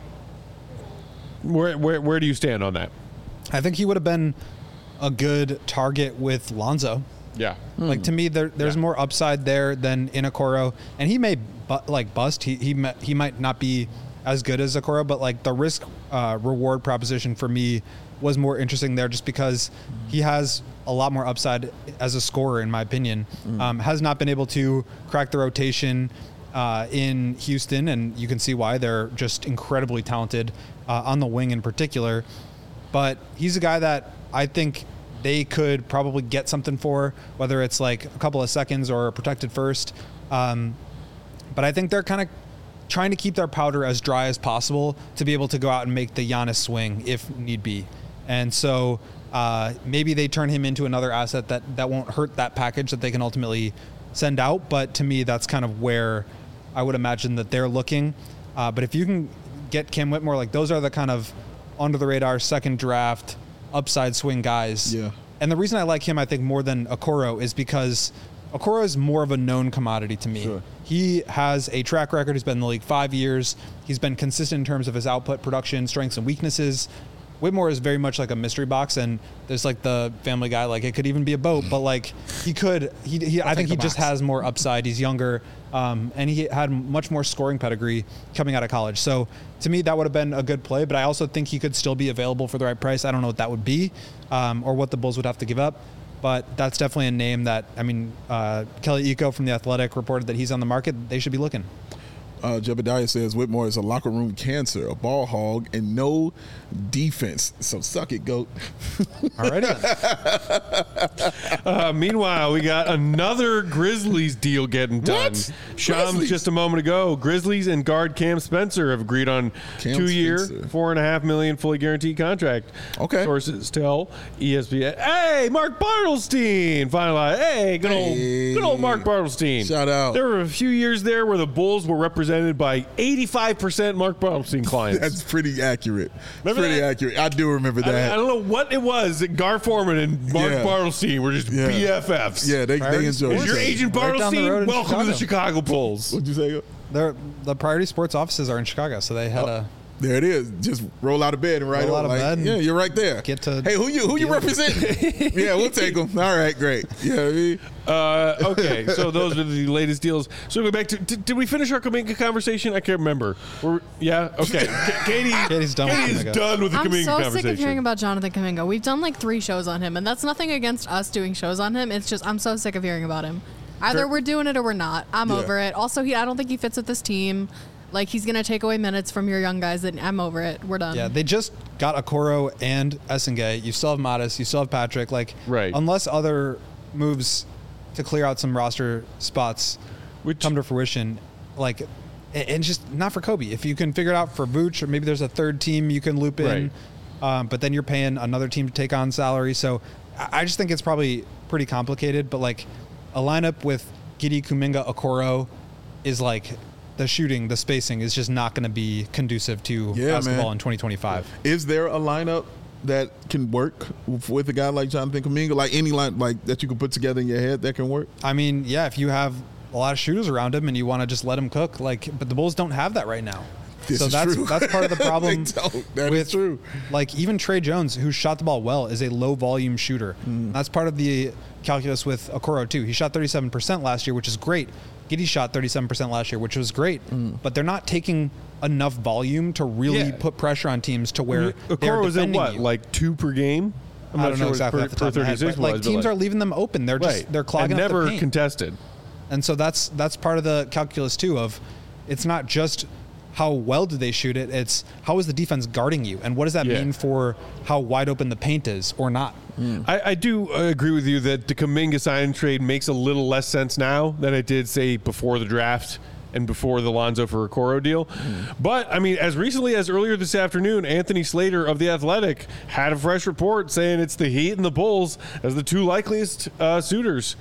where where where do you stand on that? I think he would have been a good target with Lonzo. Yeah. Like to me, there, there's Yeah. more upside there than in Okoro, and he may bu- like bust. He he ma- he might not be as good as Okoro, but like the risk uh, reward proposition for me was more interesting there, just because he has a lot more upside as a scorer, in my opinion. Um, has not been able to crack the rotation uh, in Houston, and you can see why. They're just incredibly talented uh, on the wing in particular. But he's a guy that I think they could probably get something for, whether it's like a couple of seconds or a protected first. Um, but I think they're kind of trying to keep their powder as dry as possible to be able to go out and make the Giannis swing if need be. And so uh, maybe they turn him into another asset that, that won't hurt that package that they can ultimately send out. But to me, that's kind of where I would imagine that they're looking. Uh, but if you can get Cam Whitmore, like those are the kind of under the radar second draft upside swing guys. Yeah. And the reason I like him, I think, more than Okoro is because Okoro is more of a known commodity to me. Sure. He has a track record. He's been in the league five years. He's been consistent in terms of his output, production, strengths, and weaknesses. Whitmore is very much like a mystery box, and there's like the Family Guy, like it could even be a boat, but like he could, he, he I think he just has more upside. He's younger, um, and he had much more scoring pedigree coming out of college. So to me, that would have been a good play, but I also think he could still be available for the right price. I don't know what that would be, um, or what the Bulls would have to give up. But that's definitely a name that, I mean, uh, Kelly Iko from The Athletic reported that he's on the market. They should be looking. Uh, Jebediah says Whitmore is a locker room cancer, a ball hog, and no defense. So suck it, GOAT. Alrighty. uh, meanwhile, we got another Grizzlies deal getting done. What? Shams Grizzlies? just a moment ago. Grizzlies and guard Cam Spencer have agreed on Cam two-year, Spencer. four and a half million fully guaranteed contract. Okay. Sources tell E S P N. Hey, Mark Bartelstein finalized. Hey, good old, Hey. good old Mark Bartelstein. Shout out. There were a few years there where the Bulls were represented by eighty-five percent Mark Bartelstein clients. That's pretty accurate. Remember pretty that? accurate. I do remember I, that. I don't know what it was. Gar Foreman and Mark Yeah. Bartelstein were just Yeah. B F Fs. yeah, they, they Priority enjoy Is Sports. your it. agent Right down the road Bartelstein? in Welcome to the Chicago. Chicago Bulls. What'd you say? They're, the Priority Sports offices are in Chicago, so they had Oh. a There it is. Just roll out of bed and right Roll on. out of Like, bed and yeah, you're right there. get to Hey, who you who you deal. represent? Yeah, we'll take them. All right, great. Yeah, I mean, Uh, okay, so those are the latest deals. So go back to did, did we finish our Kuminga conversation? I can't remember. We're, yeah, okay. K- Katie, Katie's done with Katie's Kuminga. done with the I'm Kuminga so conversation. sick of hearing about Jonathan Kuminga. We've done like three shows on him, and that's nothing against us doing shows on him. It's just I'm so sick of hearing about him. Either Sure. we're doing it or we're not. I'm Yeah. over it. Also, he I don't think he fits with this team. Like he's gonna take away minutes from your young guys. And I'm over it. We're done. Yeah, they just got Okoro and Essengay. You still have Modest. You still have Patrick. Like, Right. unless other moves to clear out some roster spots Which- come to fruition, like, and and just not for Kobe. If you can figure it out for Vooch, or maybe there's a third team you can loop in, um, but then you're paying another team to take on salary. So I I just think it's probably pretty complicated. But like a lineup with Giddey, Kuminga, Okoro is like the shooting, the spacing is just not going to be conducive to Yeah, basketball man. in twenty twenty-five. is there a lineup that can work with a guy like Jonathan Kuminga? Like any line like that you could put together in your head that can work? I mean, yeah, if you have a lot of shooters around him and you want to just let him cook, like, but the Bulls don't have that right now. This so is that's true. that's part of the problem. They don't. That is with, true. Like even Trey Jones, who shot the ball well, is a low volume shooter. Mm. That's part of the calculus with Okoro too. He shot thirty-seven percent last year, which is great. Giddey shot thirty-seven percent last year, which was great. Mm. But they're not taking enough volume to really Yeah. put pressure on teams to where they're Okoro was in defending what, you. like two per game? I'm I not don't sure know what exactly per, off the per top of my head, thirty-six but, like was, but, teams like- are leaving them open. They're just right. they're clogging and up never the paint. contested. And so that's that's part of the calculus too of it's not just how well do they shoot it, it's how is the defense guarding you and what does that Yeah. mean for how wide open the paint is or not. I, I do uh, agree with you that the Kuminga sign trade makes a little less sense now than it did, say, before the draft and before the Lonzo for Okoro deal. But, I mean, as recently as earlier this afternoon, Anthony Slater of The Athletic had a fresh report saying it's the Heat and the Bulls as the two likeliest uh, suitors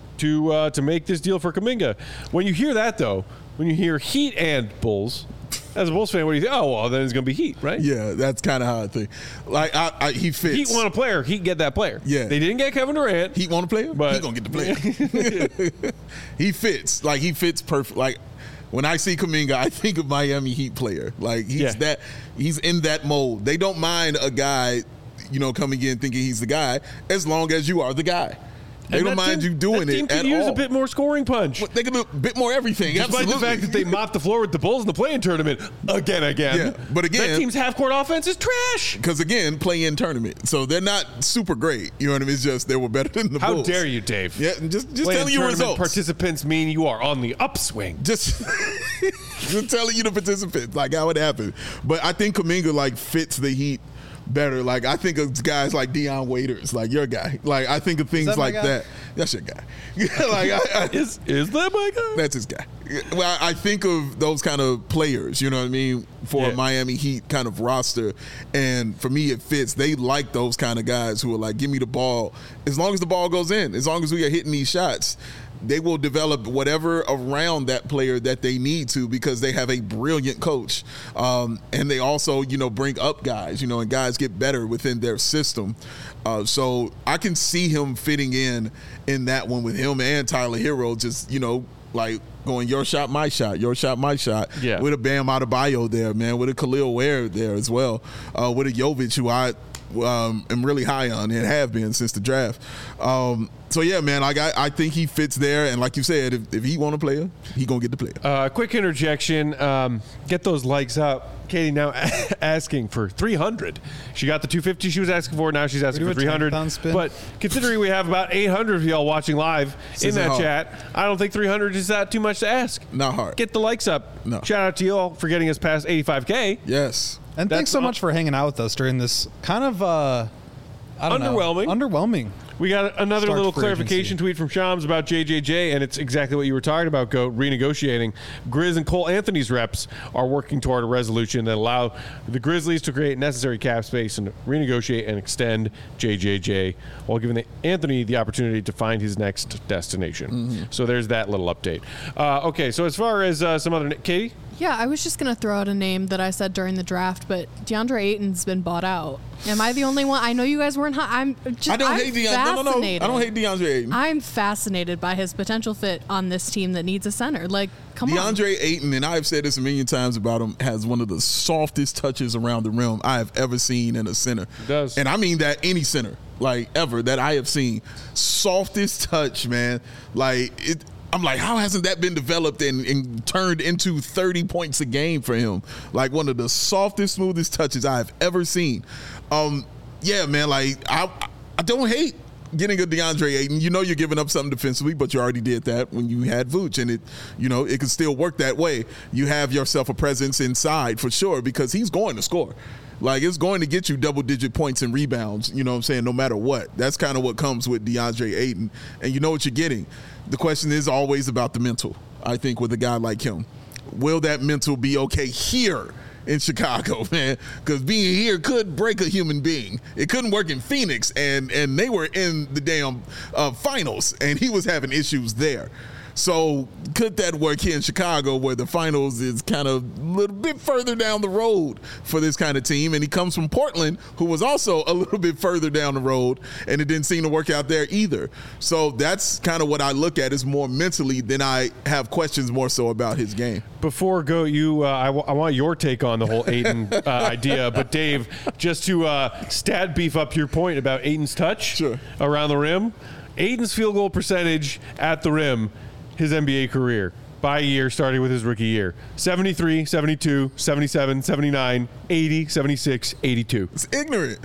to uh, to make this deal for Kuminga. When you hear that, though, when you hear Heat and Bulls, as a Bulls fan, what do you think? Oh, well, then it's going to be Heat, right? Yeah, that's kind of how I think. Like I, I he fits. Heat want a player. Heat get that player. Yeah. They didn't get Kevin Durant. He want to play him? But- he gonna get the player. He fits. Like he fits perfect. Like when I see Kuminga, I think of Miami Heat player. Like he's Yeah. that. He's in that mold. They don't mind a guy, you know, coming in thinking he's the guy, as long as you are the guy. They And don't that mind team- you doing that team it could at use all. a bit more scoring punch. They can do a bit more everything. Despite Absolutely. the fact that they mopped the floor with the Bulls in the play-in tournament again, again. Yeah, but again- that team's half-court offense is trash. Because again, play in tournament, so they're not super great. You know what I mean? It's just they were better than the How Bulls. dare you, Dave? Yeah, just just Play-in telling you tournament results. participants mean you are on the upswing. just just telling you the participants like how it happened. But I think Kuminga like fits the Heat better. Like I think of guys like Deion Waiters, like your guy. Like I think of things that my like guy? that. That's your guy. like I, I, Is is that my guy? that's his guy. Well, I I think of those kind of players, you know what I mean, for Yeah. a Miami Heat kind of roster. And for me, it fits. They like those kind of guys who are like, give me the ball. As long as the ball goes in, as long as we are hitting these shots, they will develop whatever around that player that they need to because they have a brilliant coach. Um, and they also, you know, bring up guys, you know, and guys get better within their system. Uh, so I can see him fitting in in that one with him and Tyler Hero just, you know, like going your shot, my shot, your shot, my shot. Yeah. With a Bam Adebayo there, man, with a Khalil Ware there as well, uh, with a Jovic who I um, am really high on and have been since the draft. Um, so yeah, man, like I, I think he fits there, and like you said, if, if he want to play, he gonna get the player. Uh, quick interjection. Um, get those likes up. Katie now asking for three hundred. She got the two fifty she was asking for. Now she's asking Do for a three hundred. ten-pound spin. But considering we have about eight hundred of y'all watching live in isn't that hard. chat, I don't think three hundred is that too much to ask. Not hard. Get the likes up. No. Shout out to you all for getting us past eighty-five K. Yes. And That's thanks so all- much for hanging out with us during this kind of uh, I don't Underwhelming. know, underwhelming. We got another Start little free clarification agency. tweet from Shams about J J J, and it's exactly what you were talking about, Goat, renegotiating. Grizz and Cole Anthony's reps are working toward a resolution that allow the Grizzlies to create necessary cap space and renegotiate and extend J J J while giving the Anthony the opportunity to find his next destination. Mm-hmm. So there's that little update. Uh, okay, so as far as uh, some other... Katie? Yeah, I was just going to throw out a name that I said during the draft, but DeAndre Ayton's been bought out. Am I the only one? I know you guys weren't high. I'm just I don't I'm hate DeAndre. No, no, no. fascinated. I don't hate DeAndre Ayton. I'm fascinated by his potential fit on this team that needs a center. Like, come on. DeAndre Ayton, and I've said this a million times about him, has one of the softest touches around the rim I have ever seen in a center. He does. And I mean that any center, like ever, that I have seen. Softest touch, man. Like, it. I'm like, how hasn't that been developed and, and turned into thirty points a game for him? Like one of the softest, smoothest touches I have ever seen. Um, yeah, man, like I, I don't hate getting a DeAndre Ayton. You know you're giving up something defensively, but you already did that when you had Vooch, and it, you know, it can still work that way. You have yourself a presence inside for sure because he's going to score. Like, it's going to get you double-digit points and rebounds, you know what I'm saying, no matter what. That's kind of what comes with DeAndre Ayton. And you know what you're getting. The question is always about the mental, I think, with a guy like him. Will that mental be okay here in Chicago, man? Because being here could break a human being. It couldn't work in Phoenix, and, and they were in the damn uh, finals, and he was having issues there. So could that work here in Chicago where the finals is kind of a little bit further down the road for this kind of team? And he comes from Portland, who was also a little bit further down the road, and it didn't seem to work out there either. So that's kind of what I look at is more mentally than I have questions more so about his game. Before Go, you, uh, I, w- I want your take on the whole Ayton uh, idea. But Dave, just to uh, stat beef up your point about Ayton's touch Sure. around the rim, Ayton's field goal percentage at the rim, his N B A career by year, starting with his rookie year: seventy-three, seventy-two, seventy-seven, seventy-nine, eighty, seventy-six, eighty-two. It's ignorant.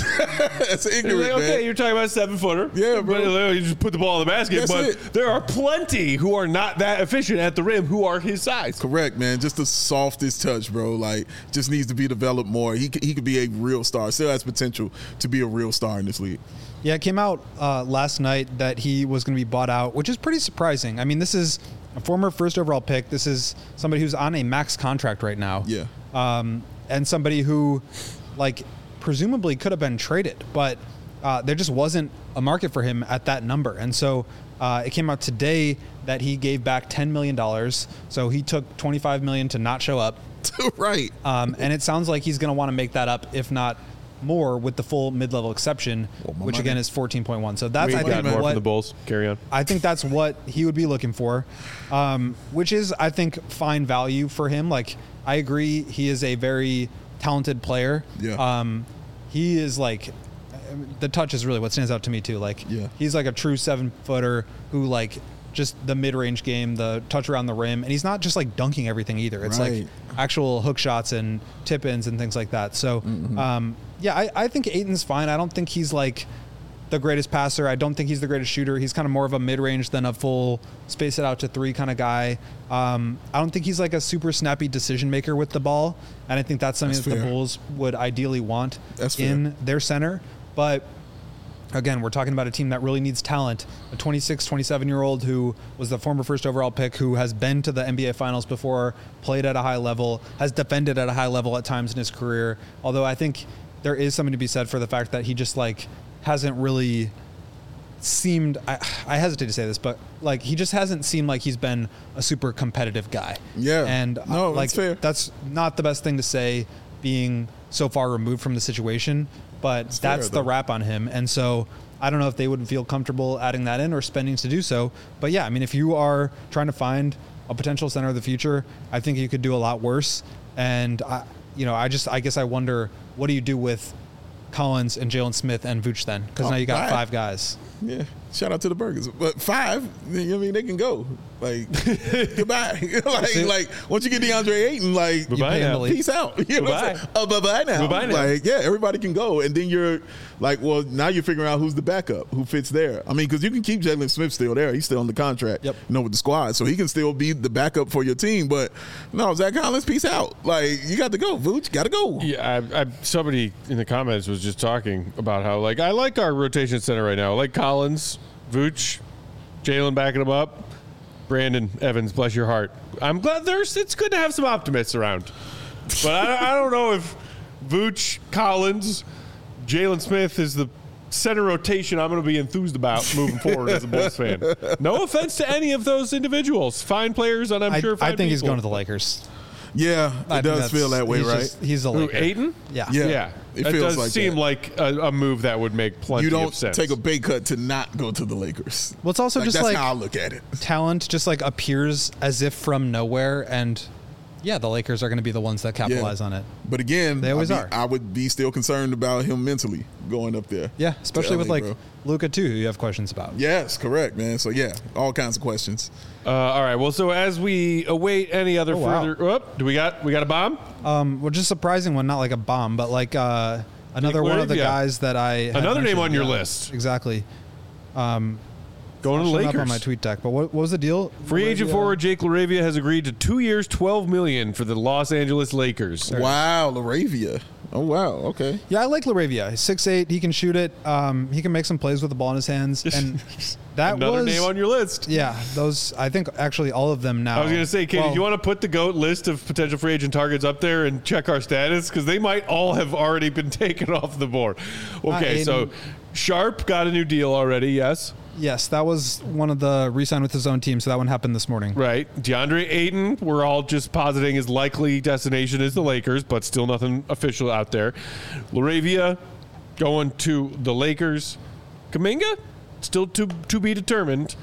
It's You're ignorant, like, okay, man. you're talking about a seven footer. Yeah, bro. But you just put the ball in the basket. That's but it. there are plenty who are not that efficient at the rim who are his size. Correct, man. Just the softest touch, bro. Like, just needs to be developed more. He could, he could be a real star. Still has potential to be a real star in this league. Yeah, it came out uh, last night that he was going to be bought out, which is pretty surprising. I mean, this is a former first overall pick. This is somebody who's on a max contract right now. Yeah. Um, and somebody who, like, presumably could have been traded, but uh, there just wasn't a market for him at that number. And so uh, it came out today that he gave back ten million dollars. So he took twenty-five million dollars to not show up. Right. Um, and it sounds like he's going to want to make that up, if not more, with the full mid-level exception, Well, my which money. again is fourteen point one. So that's, We I got think, more what from the Bulls. Carry on. I think that's what he would be looking for, um, which is, I think, fine value for him. Like, I agree, he is a very talented player. Yeah. Um, he is like, the touch is really what stands out to me too. Like, Yeah. he's like a true seven footer who, like, just the mid-range game, the touch around the rim, and he's not just like dunking everything either. It's Right. like actual hook shots and tip-ins and things like that. So, um, yeah, I, I think Ayton's fine. I don't think he's like the greatest passer. I don't think he's the greatest shooter. He's kind of more of a mid-range than a full space it out to three kind of guy. Um, I don't think he's like a super snappy decision maker with the ball, and I think that's something That's that the fair. Bulls would ideally want That's in fair. their center. But again, we're talking about a team that really needs talent. A twenty-six, twenty-seven-year-old who was the former first overall pick, who has been to the N B A Finals before, played at a high level, has defended at a high level at times in his career. Although I think there is something to be said for the fact that he just like hasn't really seemed, I, I hesitate to say this, but like he just hasn't seemed like he's been a super competitive guy. Yeah. And No, uh, like that's fair. that's not the best thing to say, being so far removed from the situation, but fair, that's the though. rap on him. And so I don't know if they would feel comfortable adding that in or spending to do so. But yeah, I mean, if you are trying to find a potential center of the future, I think you could do a lot worse. And I, you know, I just, I guess I wonder, what do you do with Collins and Jalen Smith and Vooch then? Because Oh, now you got right. five guys. Yeah, shout out to the Burgers, but five. I mean, they can go. Like goodbye. like, See- like once you get DeAndre Ayton, like Bye-bye pay him now. to leave. peace out. You know what I'm Bye-bye. saying? Oh, bye bye now. Bye-bye now. Like, yeah, everybody can go, and then you're like, well, now you're figuring out who's the backup, who fits there. I mean, because you can keep Jalen Smith still there; he's still on the contract, Yep. you know, with the squad, so he can still be the backup for your team. But no, Zach Collins, peace out. Like, you got to go, Vooch, got to go. Yeah, I, I, somebody in the comments was just talking about how, like, I like our rotation center right now. I like Collins, Vooch, Jalen backing him up, Brandon Evans, bless your heart. I'm glad there's. It's good to have some optimists around, but I, I don't know if Vooch, Collins, Jalen Smith is the center rotation I'm going to be enthused about moving forward as a Bulls fan. No offense to any of those individuals, fine players, and I'm I, sure fine I think he's people. going to the Lakers. Yeah, I it think does that's- feel that way, he's right? just- he's a Who, Laker. Ayton? Yeah. Yeah. Yeah, It it feels does like seem that. like a, a move that would make plenty You don't of sense. take a pay cut to not go to the Lakers. Well, it's also Like, just that's like how I look at it. talent just like appears as if from nowhere, and yeah, the Lakers are going to be the ones that capitalize on it. But again, They always I'd be- are. I would be still concerned about him mentally going up there. Yeah, to especially with L A, like bro. Luka too, who you have questions about. Yes, correct, man. So yeah, all kinds of questions. Uh, all right. Well, so as we await any other Oh, wow. further, Whoop, do we got we got a bomb? Um, well, just surprising one, not like a bomb, but like uh, another Jake one of the Laravia. guys that I had Another name mentioned. on your Yeah, list. Exactly. Um, Going to the showing up Lakers. on my tweet deck. But what, what was the deal? Free agent Laravia- forward Jake Laravia has agreed to two years, twelve million for the Los Angeles Lakers. Wow, Laravia. Oh wow, okay. Yeah, I like Laravia. He's six eight. He can shoot it. Um, he can make some plays with the ball in his hands, and that Another was name on your list. yeah. Those I think actually all of them now. I was going to say, Katie, Well, do you want to put the GOAT list of potential free agent targets up there and check our status? Because they might all have already been taken off the board. Okay, Uh, so Aiden- Sharp got a new deal already, yes. Yes, that was one of the re-signed with his own team, so that one happened this morning. Right. DeAndre Ayton, we're all just positing his likely destination is the Lakers, but still nothing official out there. Laravia going to the Lakers. Kuminga, still to to be determined.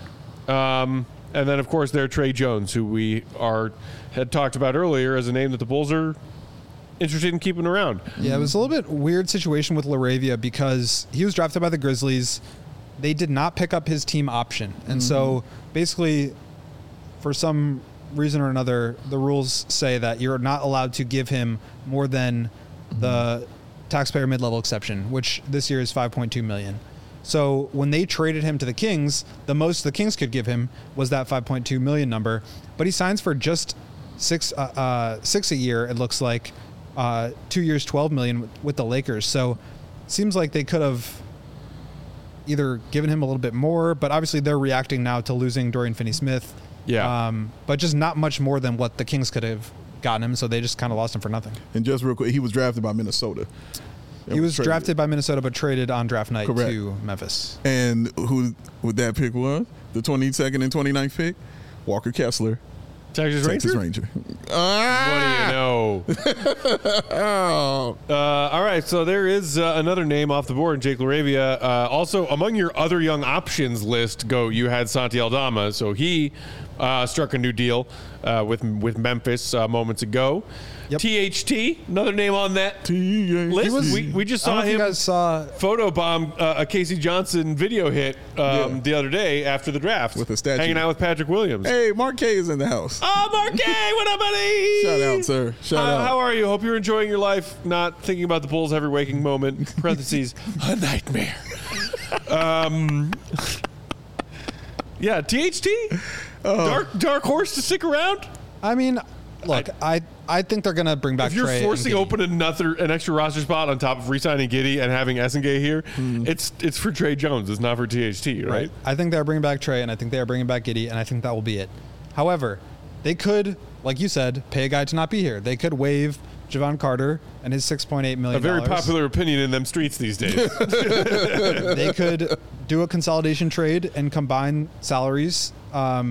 Um, and then, of course, there Trey Jones, who we are had talked about earlier as a name that the Bulls are interested in keeping around. Yeah, it was a little bit weird situation with Laravia because he was drafted by the Grizzlies. They did not pick up his team option. And so basically, for some reason or another, the rules say that you're not allowed to give him more than the taxpayer mid-level exception, which this year is five point two million dollars. So when they traded him to the Kings, the most the Kings could give him was that five point two million dollars number. But he signs for just six, uh, uh, six a year, it looks like, uh, two years, twelve million dollars with, with the Lakers. So seems like they could have either given him a little bit more, but obviously they're reacting now to losing Dorian Finney-Smith. Yeah. Um, but just not much more than what the Kings could have gotten him, so they just kind of lost him for nothing. And just real quick, he was drafted by Minnesota. He was traded. drafted by Minnesota, but traded on draft night Correct. to Memphis. And who would that pick was? The twenty-second and twenty-ninth pick? Walker Kessler, Texas, Texas Ranger? Ranger. What Ah! do you know? Oh. Uh, all right, so there is uh, another name off the board, Jake Laravia. Uh, also, among your other young options list, go you had Santi Aldama, so he uh, struck a new deal uh, with with Memphis uh, moments ago. Yep. T H T, another name on that T H T. list. we, we just I don't saw know if you him guys saw photobomb uh, a Casey Johnson video hit um, Yeah. the other day after the draft, With a statue. hanging out with Patrick Williams. Hey, Mark K is in the house. Oh, Marquet, what up, buddy? Shout out, sir. Shout How, out. how are you? Hope you're enjoying your life, not thinking about the Bulls every waking moment. Parentheses, a nightmare. Um, yeah, T H T? Oh. Dark dark horse to stick around? I mean, look, I I think they're gonna bring back If you're Trey and forcing Giddey. open another an extra roster spot on top of re-signing Giddey and having Essengay here, it's it's for Trey Jones. It's not for T H T, right? I think they're bringing back Trey, and I think they are bringing back Giddey, and I think that will be it. However, they could, like you said, pay a guy to not be here. They could waive Javon Carter and his six point eight million A dollars. very popular opinion in them streets these days. They could do a consolidation trade and combine salaries. Um,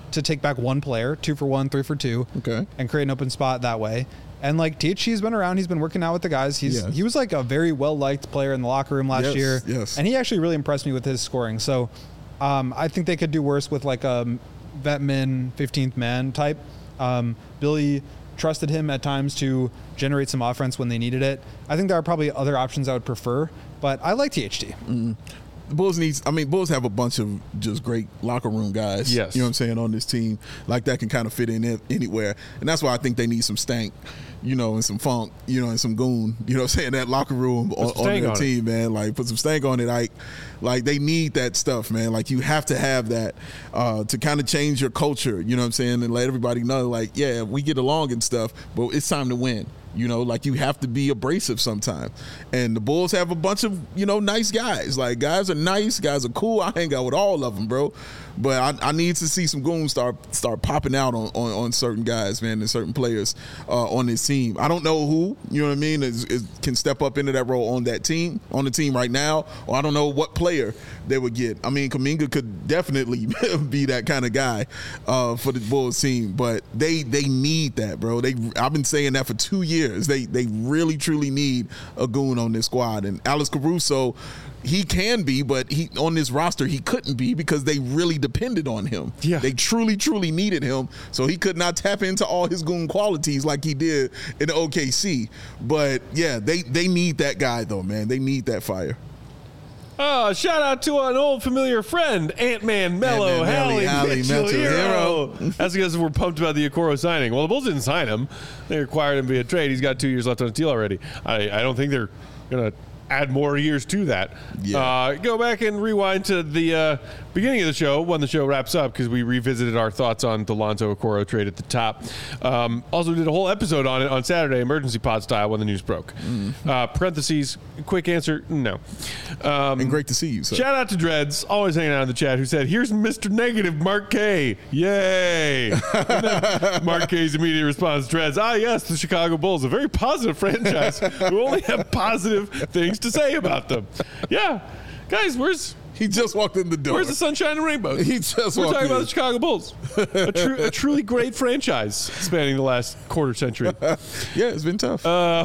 to take back one player, two for one, three for two, Okay. and create an open spot that way. And like T H C's been around, he's been working out with the guys. He's Yes. he was like a very well liked player in the locker room last Yes, year. yes. And he actually really impressed me with his scoring. So um, I think they could do worse with like a vet min fifteenth man type. Um, Billy trusted him at times to generate some offense when they needed it. I think there are probably other options I would prefer, but I like T H T. Mm-hmm. The Bulls needs. I mean, Bulls have a bunch of just great locker room guys. Yes. You know what I'm saying, on this team. Like that can kind of fit in it anywhere, and that's why I think they need some stank, you know, and some funk, you know, and some goon. You know what I'm saying? That locker room on, on their on team, man. Like put some stank on it. Like, like they need that stuff, man. Like you have to have that uh, to kind of change your culture. You know what I'm saying? And let everybody know, like, yeah, we get along and stuff, but it's time to win. You know, like you have to be abrasive sometimes. And the Bulls have a bunch of, you know, nice guys. Like guys are nice, guys are cool. I hang out with all of them, bro. But I, I need to see some goons start start popping out on, on, on certain guys, man, and certain players uh, on this team. I don't know who, you know what I mean, is, is, can step up into that role on that team, on the team right now, or I don't know what player they would get. I mean, Kuminga could definitely be that kind of guy uh, for the Bulls team, but they they need that, bro. They I've been saying that for two years. They they really truly need a goon on this squad, and Alex Caruso, he can be, but he on this roster he couldn't be because they really depended on him. Yeah. They truly, truly needed him, so he could not tap into all his goon qualities like he did in O K C. But yeah, they they need that guy though, man. They need that fire. Oh, shout out to an old familiar friend, Ant-Man Mello, Ant-Man, Hallie, Hallie, Mitchell, Mitchell, Hero. Hero. That's because we're pumped about the Okoro signing. Well, the Bulls didn't sign him. They required him via trade. He's got two years left on his deal already. I, I don't think they're going to add more years to that. Yeah. Uh, go back and rewind to the uh, beginning of the show when the show wraps up because we revisited our thoughts on the Lonzo Okoro trade at the top. Um, also did a whole episode on it on Saturday, emergency pod style, when the news broke. Mm. Uh, parentheses, quick answer, no. Um, And great to see you, sir. Shout out to Dreads, always hanging out in the chat, who said, here's Mister Negative, Mark K. Yay. And then Mark K's immediate response, Dreads, ah, yes, the Chicago Bulls, a very positive franchise who only have positive things to say about them. Yeah. Guys, where's He just walked in the door. where's the sunshine and rainbows? He just We're walked talking in. about the Chicago Bulls. A, tru- a truly great franchise spanning the last quarter century. Yeah, it's been tough. Uh,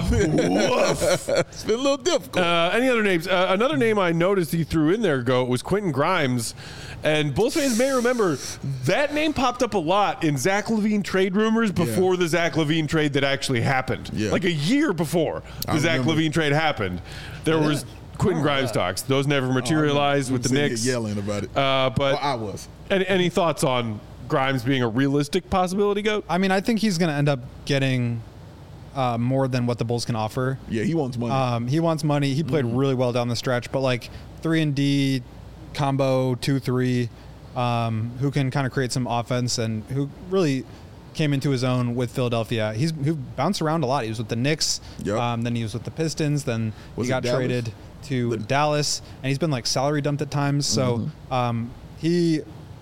woof. It's been a little difficult. Uh, any other names? Uh, another name I noticed he threw in there, Go, was Quentin Grimes. And Bulls fans may remember that name popped up a lot in Zach LaVine trade rumors before Yeah. the Zach LaVine trade that actually happened. Yeah. Like a year before the I Zach remember. LaVine trade happened. There was Quentin Grimes talks. Those never materialized with the Sitting here Knicks. yelling about it. Uh, but Well, I was. any, any thoughts on Grimes being a realistic possibility, Goat? I mean, I think he's going to end up getting uh, more than what the Bulls can offer. Yeah, he wants money. Um, he wants money. He played Mm-hmm. really well down the stretch, but like three and D combo, two three, um, who can kind of create some offense and who really came into his own with Philadelphia. He's who bounced around a lot. He was with the Knicks, Yep. um, then he was with the Pistons, then Was he it got Dallas? traded to The- Dallas, and he's been like salary dumped at times. So Mm-hmm. um, he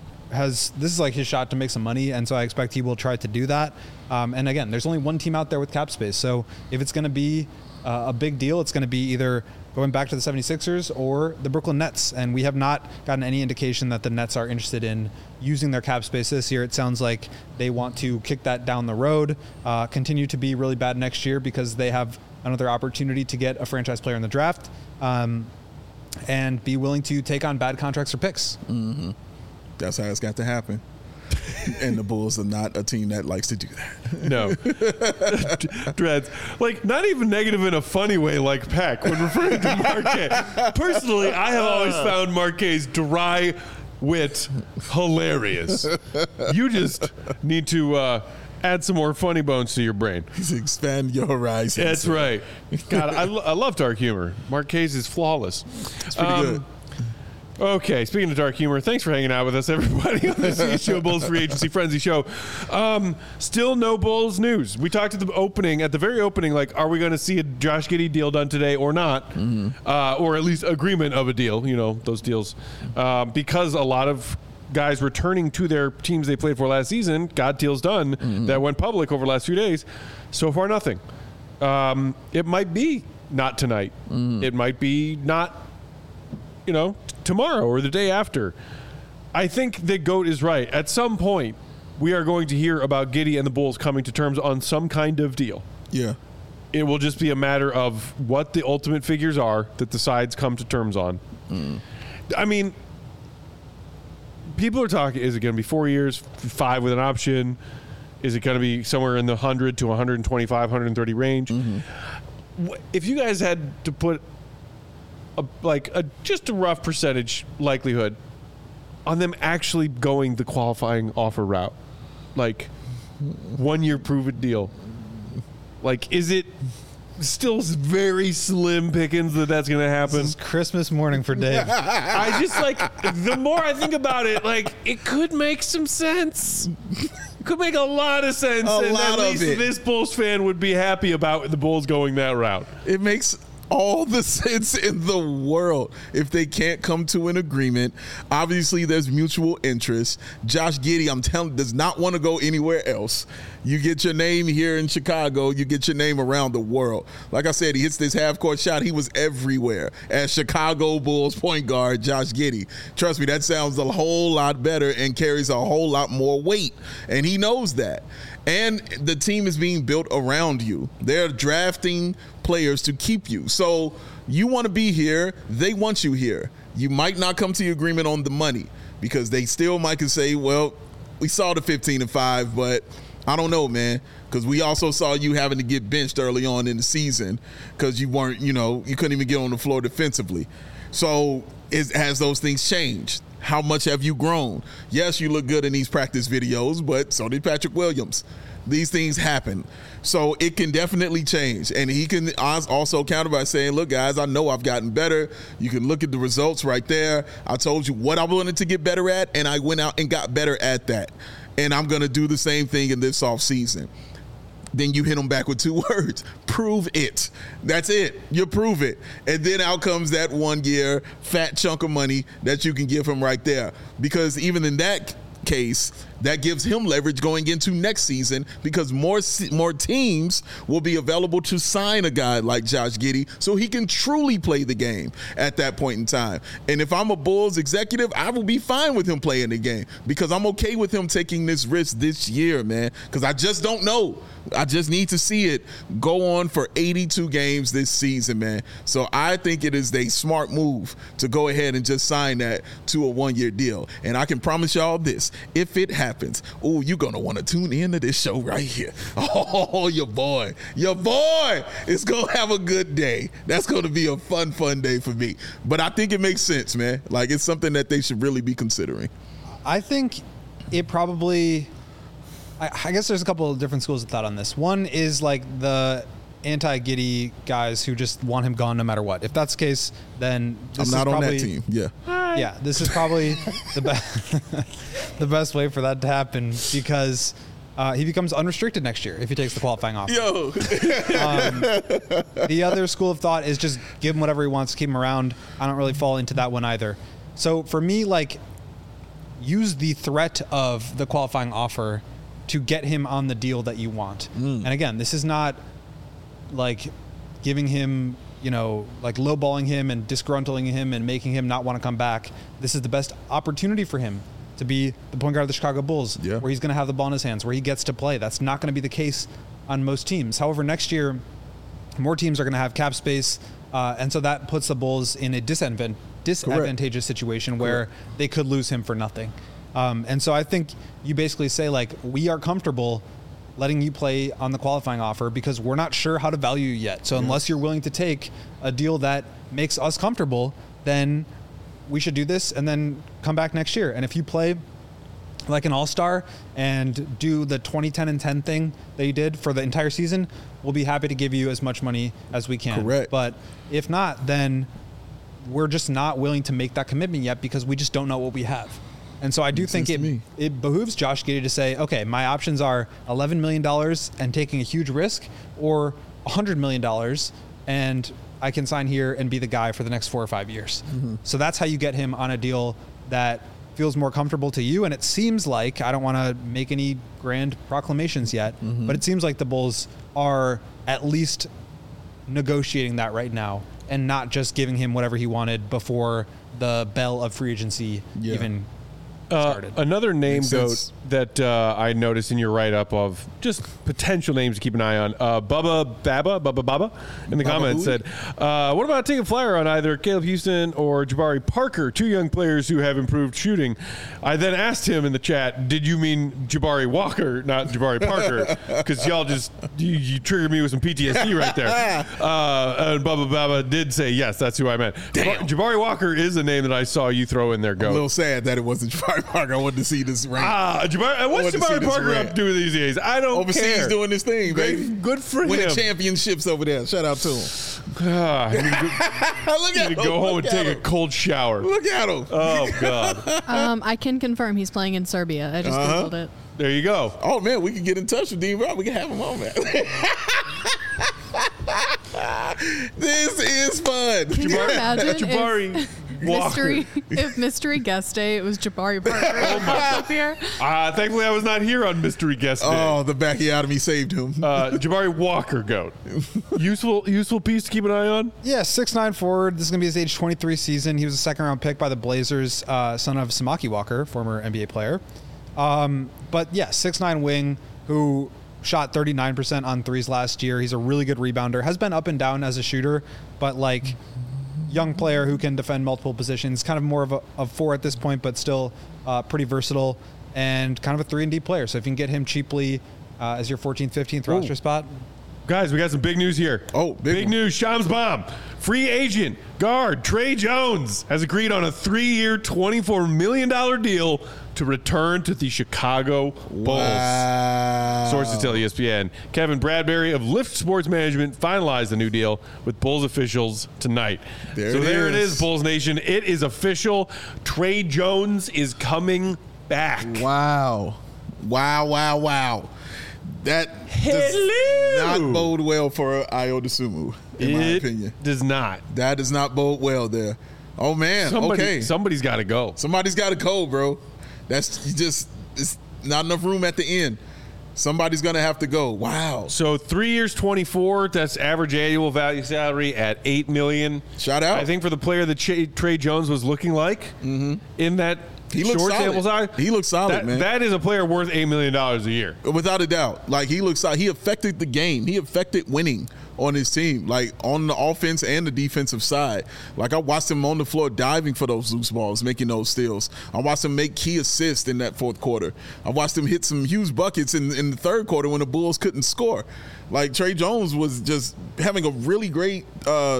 has this is like his shot to make some money, and so I expect he will try to do that. Um, and again, there's only one team out there with cap space, so if it's going to be uh, a big deal, it's going to be either going back to the seventy-sixers or the Brooklyn Nets, and we have not gotten any indication that the Nets are interested in using their cap space this year. It sounds like they want to kick that down the road, uh, continue to be really bad next year because they have another opportunity to get a franchise player in the draft, um, and be willing to take on bad contracts or picks. Mm-hmm. That's how it's got to happen. And the Bulls are not a team that likes to do that. No. Dreads. Like, not even negative in a funny way like Peck when referring to Marquez. Personally, I have always found Marquez's dry wit hilarious. You just need to uh, add some more funny bones to your brain. Expand your horizons. That's right. God, I, lo- I love dark humor. Marquez is flawless. It's pretty Um, good. Okay, speaking of dark humor, thanks for hanging out with us, everybody, on the C H G O Bulls Free Agency Frenzy Show. Um, still no Bulls news. We talked at the opening, at the very opening, like, are we going to see a Josh Giddey deal done today or not? Mm-hmm. Uh, or at least agreement of a deal, you know, those deals. Um, because a lot of guys returning to their teams they played for last season got deals done mm-hmm. that went public over the last few days. So far, nothing. Um, it might be not tonight. Mm-hmm. It might be not, you know, tomorrow or the day after. I think that Goat is right. At some point, we are going to hear about Giddey and the Bulls coming to terms on some kind of deal. Yeah. It will just be a matter of what the ultimate figures are that the sides come to terms on. Mm. I mean, people are talking, is it going to be four years, five with an option? Is it going to be somewhere in the one hundred to one twenty-five, one thirty range? Mm-hmm. If you guys had to put a, like a just a rough percentage likelihood on them actually going the qualifying offer route, like one year prove it deal, like is it still very slim pickings that that's going to happen? This is Christmas morning for Dave. I just like, the more I think about it, like it could make some sense. It could make a lot of sense. A and lot at least of it. this Bulls fan would be happy about the Bulls going that route. It makes all the sense in the world if they can't come to an agreement. Obviously, there's mutual interest. Josh Giddey, I'm telling, does not want to go anywhere else. You get your name here in Chicago, you get your name around the world. Like I said, he hits this half-court shot. He was everywhere as Chicago Bulls point guard Josh Giddey. Trust me, that sounds a whole lot better and carries a whole lot more weight, and he knows that. And the team is being built around you. They're drafting players to keep you. So you want to be here. They want you here. You might not come to the agreement on the money because they still might can say, well, we saw the fifteen and five, but I don't know, man, because we also saw you having to get benched early on in the season because you weren't, you know, you couldn't even get on the floor defensively. So is, has those things changed? How much have you grown? Yes, you look good in these practice videos, but so did Patrick Williams. These things happen. So it can definitely change. And he can also counter by saying, look, guys, I know I've gotten better. You can look at the results right there. I told you what I wanted to get better at, and I went out and got better at that. And I'm going to do the same thing in this offseason. Then you hit them back with two words. Prove it. That's it. You prove it. And then out comes that one year fat chunk of money that you can give him right there. Because even in that case, that gives him leverage going into next season because more more teams will be available to sign a guy like Josh Giddey so he can truly play the game at that point in time. And if I'm a Bulls executive, I will be fine with him playing the game because I'm okay with him taking this risk this year, man, because I just don't know. I just need to see it go on for eighty-two games this season, man. So I think it is a smart move to go ahead and just sign that to a one-year deal. And I can promise y'all this, if it happens, oh, you're going to want to tune in to this show right here. Oh, your boy, your boy is going to have a good day. That's going to be a fun, fun day for me. But I think it makes sense, man. Like, it's something that they should really be considering. I think it probably... I guess there's a couple of different schools of thought on this. One is like the anti-Giddey guys who just want him gone no matter what. If that's the case, then this I'm not is on probably, that team. Yeah. Yeah, this is probably the best the best way for that to happen because uh, he becomes unrestricted next year if he takes the qualifying offer. Yo. um, the other school of thought is just give him whatever he wants, keep him around. I don't really fall into that one either. So for me, like, use the threat of the qualifying offer to get him on the deal that you want. Mm. And again, this is not like giving him, you know, like lowballing him and disgruntling him and making him not want to come back. This is the best opportunity for him to be the point guard of the Chicago Bulls, yeah. where he's going to have the ball in his hands, where he gets to play. That's not going to be the case on most teams. However, next year, more teams are going to have cap space, uh, and so that puts the Bulls in a disadvant- disadvantageous Correct. situation where Correct. they could lose him for nothing. Um, and so I think you basically say, like, we are comfortable letting you play on the qualifying offer because we're not sure how to value you yet. So yeah. unless you're willing to take a deal that makes us comfortable, then we should do this and then come back next year. And if you play like an all-star and do the twenty, ten, and ten thing that you did for the entire season, we'll be happy to give you as much money as we can. Correct. But if not, then we're just not willing to make that commitment yet because we just don't know what we have. And so I do Makes think it, it behooves Josh Giddey to say, okay, my options are eleven million dollars and taking a huge risk or one hundred million dollars and I can sign here and be the guy for the next four or five years. Mm-hmm. So that's how you get him on a deal that feels more comfortable to you. And it seems like, I don't want to make any grand proclamations yet, mm-hmm. but it seems like the Bulls are at least negotiating that right now and not just giving him whatever he wanted before the bell of free agency yeah. even started. Uh, another name, Makes goat, sense. that uh, I noticed in your write-up of just potential names to keep an eye on. Uh, Bubba Baba, Bubba Baba, in the Baba comments who? said, uh, what about taking a flyer on either Caleb Houston or Jabari Parker, two young players who have improved shooting? I then asked him in the chat, did you mean Jabari Walker, not Jabari Parker? Because y'all just, you, you triggered me with some P T S D right there. Uh, and Bubba Baba did say, yes, that's who I meant. Damn. Jabari Walker is a name that I saw you throw in there, A Goat. little sad that it wasn't Jabari Parker. I wanted to see this rank. Ah, Jabari, I what's want to see Jabari this Parker rant. up to these days? I don't Overseas care. doing this thing, Great- baby. good for Winning him. championships over there. Shout out to him. Ah, I need to go, Look need at to him. go home and Look take at a him. cold shower. Look at him. Oh God! Um, I can confirm he's playing in Serbia. I just Uh-huh. googled it. There you go. Oh man, we can get in touch with Dean Rob. We can have him on, man. This is fun. Can you imagine Jabari if Walker. mystery if mystery guest day it was Jabari Parker Oh up here? Uh, thankfully, I was not here on Mystery Guest Day. Oh, the Bacchiotomy saved him. Uh, Jabari Walker, Goat. Useful, useful piece to keep an eye on. Yeah, six nine forward. This is going to be his age twenty-three season. He was a second round pick by the Blazers, uh, son of Samaki Walker, former N B A player. Um, but yeah, six nine wing who shot thirty-nine percent on threes last year. He's a really good rebounder. Has been up and down as a shooter, but like young player who can defend multiple positions. Kind of more of a of four at this point, but still uh, pretty versatile and kind of a three and D player. So if you can get him cheaply uh, as your fourteenth, fifteenth roster spot. Guys, we got some big news here. Oh, big big one. news. Shams Bomb, free agent guard Trey Jones has agreed on a three-year, twenty-four million dollars deal to return to the Chicago Bulls. Wow. Sources tell E S P N. Kevin Bradbury of Lift Sports Management finalized the new deal with Bulls officials tonight. There so it there it is. is, Bulls Nation. It is official. Trey Jones is coming back. Wow. Wow, wow, wow. That Hello. does not bode well for Ayo Dosunmu, in my It opinion. does not. That does not bode well there. Oh, man. Somebody, okay. Somebody's got to go. Somebody's got to go, bro. That's you just, it's not enough room at the end. Somebody's going to have to go. Wow. So three years, twenty-four. That's average annual value salary at eight million. Shout out. I think for the player that Ch- Trey Jones was looking like in that He looks short solid. sample size, He looks solid, that, man. That is a player worth eight million dollars a year. Without a doubt. Like, he looks like he affected the game. He affected winning on his team, like on the offense and the defensive side. Like, I watched him on the floor diving for those loose balls, making those steals. I watched him make key assists in that fourth quarter. I watched him hit some huge buckets in, in the third quarter when the Bulls couldn't score. Like, Trey Jones was just having a really great uh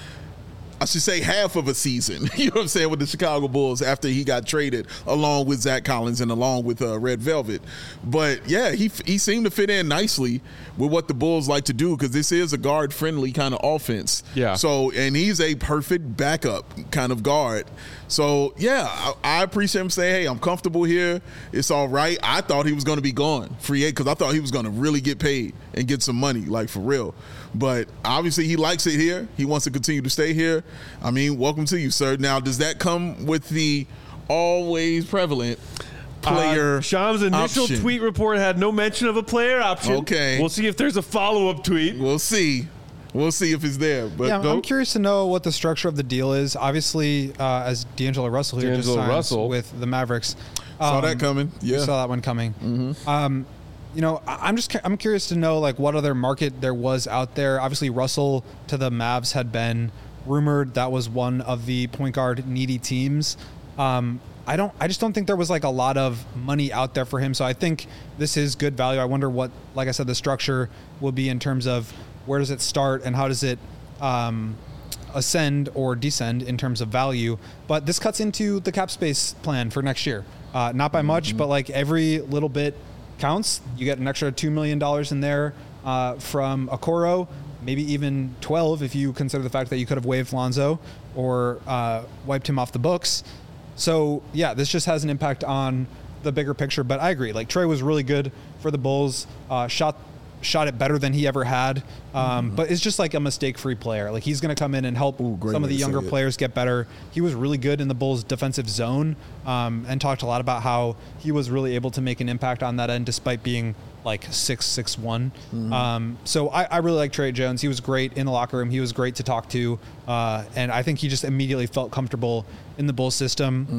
I should say half of a season, you know what I'm saying, with the Chicago Bulls after he got traded along with Zach Collins and along with uh, Red Velvet. But, yeah, he he seemed to fit in nicely with what the Bulls like to do because this is a guard-friendly kind of offense. Yeah. So, and he's a perfect backup kind of guard. So, yeah, I, I appreciate him saying, hey, I'm comfortable here. It's all right. I thought he was going to be gone, free agent, because I thought he was going to really get paid and get some money, like for real. But obviously he likes it here. He wants to continue to stay here. I mean, welcome to you, sir. Now, does that come with the always prevalent player Uh, Shams' initial option? tweet report had no mention of a player option. Okay. We'll see if there's a follow-up tweet. We'll see. We'll see if it's there. But Yeah, I'm, go. I'm curious to know what the structure of the deal is. Obviously, uh, as D'Angelo Russell here just D'Angelo signs Russell. with the Mavericks. Saw Um, that coming. we Yeah. saw that one coming. Mm-hmm. Um, you know, I- I'm just cu- I'm curious to know like what other market there was out there. Obviously, Russell to the Mavs had been rumored. That was one of the point guard needy teams. Um, I don't. I just don't think there was like a lot of money out there for him. So I think this is good value. I wonder what, like I said, the structure will be in terms of where does it start and how does it um, ascend or descend in terms of value. But this cuts into the cap space plan for next year. Uh, not by much, but like every little bit counts. You get an extra two million dollars in there uh, from Okoro, maybe even twelve if you consider the fact that you could have waived Lonzo or uh, wiped him off the books. So, yeah, this just has an impact on the bigger picture. But I agree. Like, Trey was really good for the Bulls, uh, shot shot it better than he ever had. Um, mm-hmm. But it's just like a mistake-free player. Like, he's going to come in and help Ooh, great some of way the to younger say it. players get better. He was really good in the Bulls' defensive zone um, and talked a lot about how he was really able to make an impact on that end despite being like six six one. Mm-hmm. Um, so I, I really like Trey Jones. He was great in the locker room. He was great to talk to. Uh, and I think he just immediately felt comfortable in the Bulls system.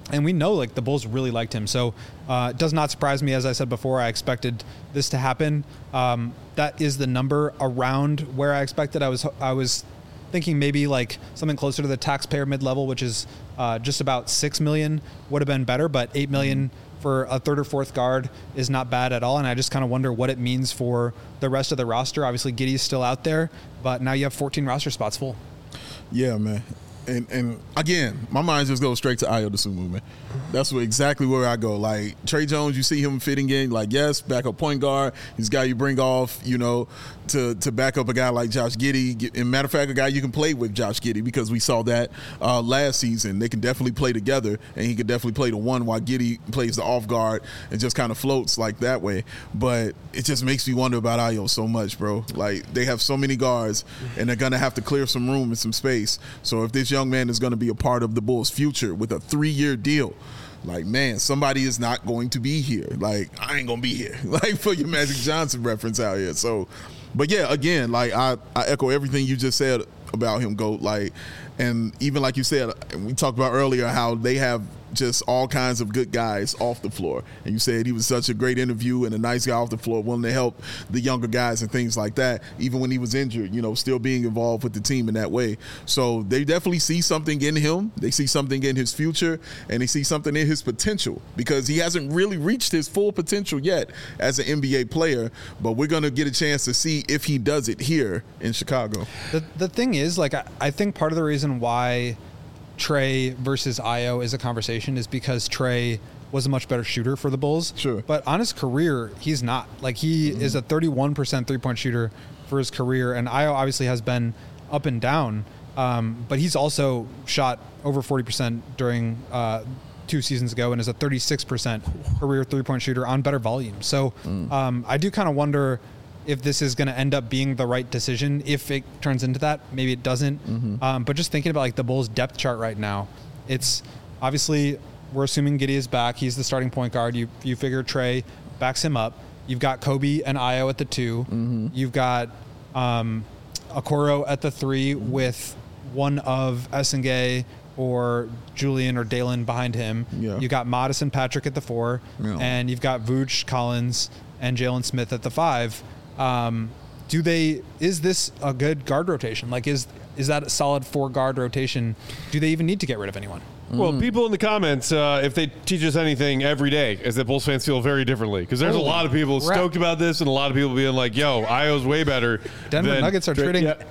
And we know like the Bulls really liked him. So uh, it does not surprise me. As I said before, I expected this to happen. Um, that is the number around where I expected. I was I was thinking maybe like something closer to the taxpayer mid-level, which is uh, just about six million would have been better, but eight million for a third or fourth guard is not bad at all. And I just kind of wonder what it means for the rest of the roster. Obviously, Giddey's still out there, but now you have fourteen roster spots full. Yeah, man. And and again, my mind just goes straight to Ayo Dosunmu, man. That's what, exactly where I go. Like, Trey Jones, you see him fitting in. Like, yes, backup point guard. He's a guy you bring off, you know, to, to back up a guy like Josh Giddey. And matter of fact, a guy you can play with Josh Giddey, because we saw that uh, last season. They can definitely play together, and he could definitely play the one while Giddey plays the off guard and just kind of floats like that way. But it just makes me wonder about Ayo so much, bro. Like, they have so many guards, and they're going to have to clear some room and some space. So if this young man is going to be a part of the Bulls' future with a three-year deal, like, man, somebody is not going to be here. Like, I ain't going to be here. Like, for your Magic Johnson reference out here. So, but yeah, again, like, I, I echo everything you just said about him, GOAT. Like, and even like you said, we talked about earlier how they have just all kinds of good guys off the floor. And you said he was such a great interview and a nice guy off the floor, willing to help the younger guys and things like that, even when he was injured, you know, still being involved with the team in that way. So they definitely see something in him. They see something in his future, and they see something in his potential, because he hasn't really reached his full potential yet as an N B A player, but we're going to get a chance to see if he does it here in Chicago. The, the thing is, like, I, I think part of the reason why Trey versus Ayo is a conversation is because Trey was a much better shooter for the Bulls. Sure. But on his career, he's not. Like, he mm-hmm. is a thirty-one percent three-point shooter for his career, and Ayo obviously has been up and down, um, but he's also shot over forty percent during uh, two seasons ago and is a thirty-six percent career three-point shooter on better volume. So mm. um, I do kind of wonder if this is going to end up being the right decision. If it turns into that, maybe it doesn't. Mm-hmm. Um, but just thinking about like the Bulls depth chart right now, it's obviously, we're assuming Giddey is back. He's the starting point guard. You you figure Trey backs him up. You've got Kobe and Ayo at the two. Mm-hmm. You've got um, Okoro at the three with one of Essengay or Julian or Dalen behind him. Yeah. You got Modest and Patrick at the four. Yeah. And you've got Vooch, Collins, and Jalen Smith at the five. Um, do they, is this a good guard rotation? Like, is, is that a solid four guard rotation? Do they even need to get rid of anyone? Well, people in the comments, uh, if they teach us anything every day, is that Bulls fans feel very differently. Because there's Holy a lot of people crap. stoked about this, and a lot of people being like, yo, Ayo's way better. Denver than Nuggets are trading. Yeah.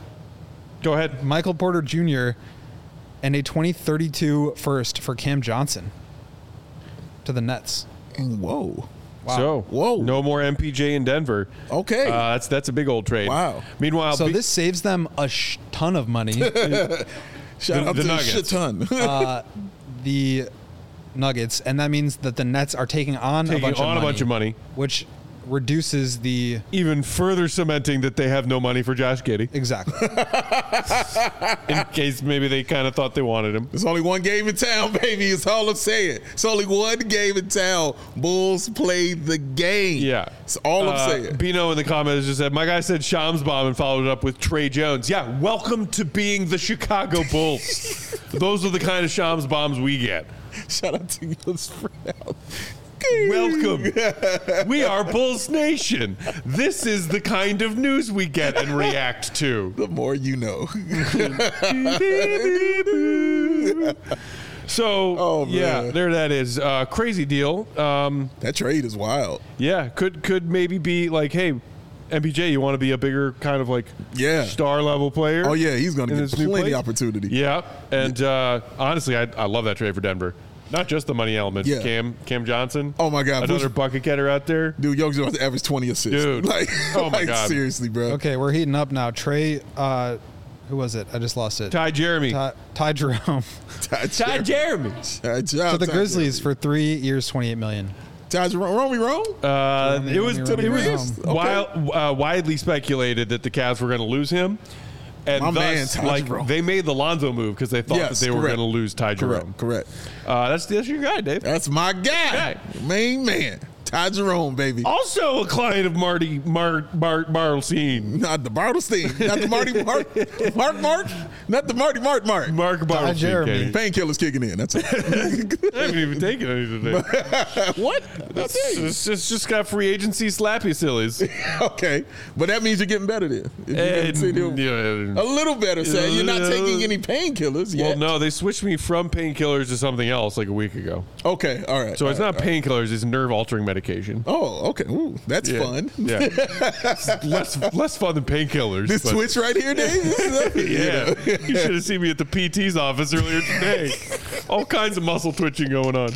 Go ahead. Michael Porter Junior and a twenty thirty-two first for Cam Johnson to the Nets. Whoa. Wow. So, whoa! No more M P J in Denver. Okay, uh, that's that's a big old trade. Wow. Meanwhile, so be- this saves them a sh- ton of money. Shout the, out the to Nuggets. a shit ton. uh, the Nuggets, and that means that the Nets are taking on taking a bunch on of money, a bunch of money, which reduces the even further cementing that they have no money for Josh Giddey. Exactly. In case maybe they kind of thought they wanted him. There's only one game in town, baby. It's all I'm saying. It's only one game in town. Bulls played the game. Yeah. It's all I'm uh, saying. Bino in the comments just said, my guy said Shams bomb and followed it up with Trey Jones. Yeah, welcome to being the Chicago Bulls. Those are the kind of Shams bombs we get. Shout out to you, spread out. Welcome. We are Bulls Nation. This is the kind of news we get and react to. The more you know. So, oh, yeah, there that is. Uh, crazy deal. Um, that trade is wild. Yeah, could could maybe be like, hey, M P J, you want to be a bigger kind of like yeah. star level player? Oh, yeah, he's going to get plenty opportunity. Yeah, and uh, honestly, I, I love that trade for Denver. Not just the money element. Yeah. Cam Cam Johnson. Oh, my God. Another Bush, bucket getter out there. Dude, Young's about to average twenty assists. Dude. Like, oh, my like, God. Seriously, bro. Okay, we're heating up now. Trey, uh, who was it? I just lost it. Ty Jeremy. Ty, Ty Jerome. Ty, Ty Jeremy. Ty, so the Grizzlies for three years, twenty-eight million dollars. Ty Jerome, wrong, we wrong? Uh, Jeremy, it was, Jeremy, it was Jeremy. wild, uh, widely speculated that the Cavs were going to lose him. And My thus, man, like, Jerome. they made the Lonzo move because they thought yes, that they correct. were going to lose Ty Jerome. Correct, correct. Uh, that's, that's your guy, Dave. That's my guy. guy. Main man. Ty Jerome, baby. Also a client of Marty Mar Mar Bartelstein. Not the Bartelstein. Not the Marty Mark. Mark Mark. Not the Marty Mark Mark. Mark Bartelstein. Jeremy. Katie. Painkillers kicking in. That's it. I haven't even taken any today. What? It's, it's just, just got free agency slappy sillies. Okay. But that means you're getting better then. If you And, can sit here- yeah. A little better, say. You're not taking any painkillers Well, yet. no, they switched me from painkillers to something else like a week ago. Okay, all right. So it's all not right, all right. painkillers; it's nerve-altering medication. Oh, okay. Ooh, that's Yeah. fun. Yeah, It's less less fun than painkillers. This but- twitch right here, Dave? Yeah, you should have seen me at the P T's office earlier today. All kinds of muscle twitching going on.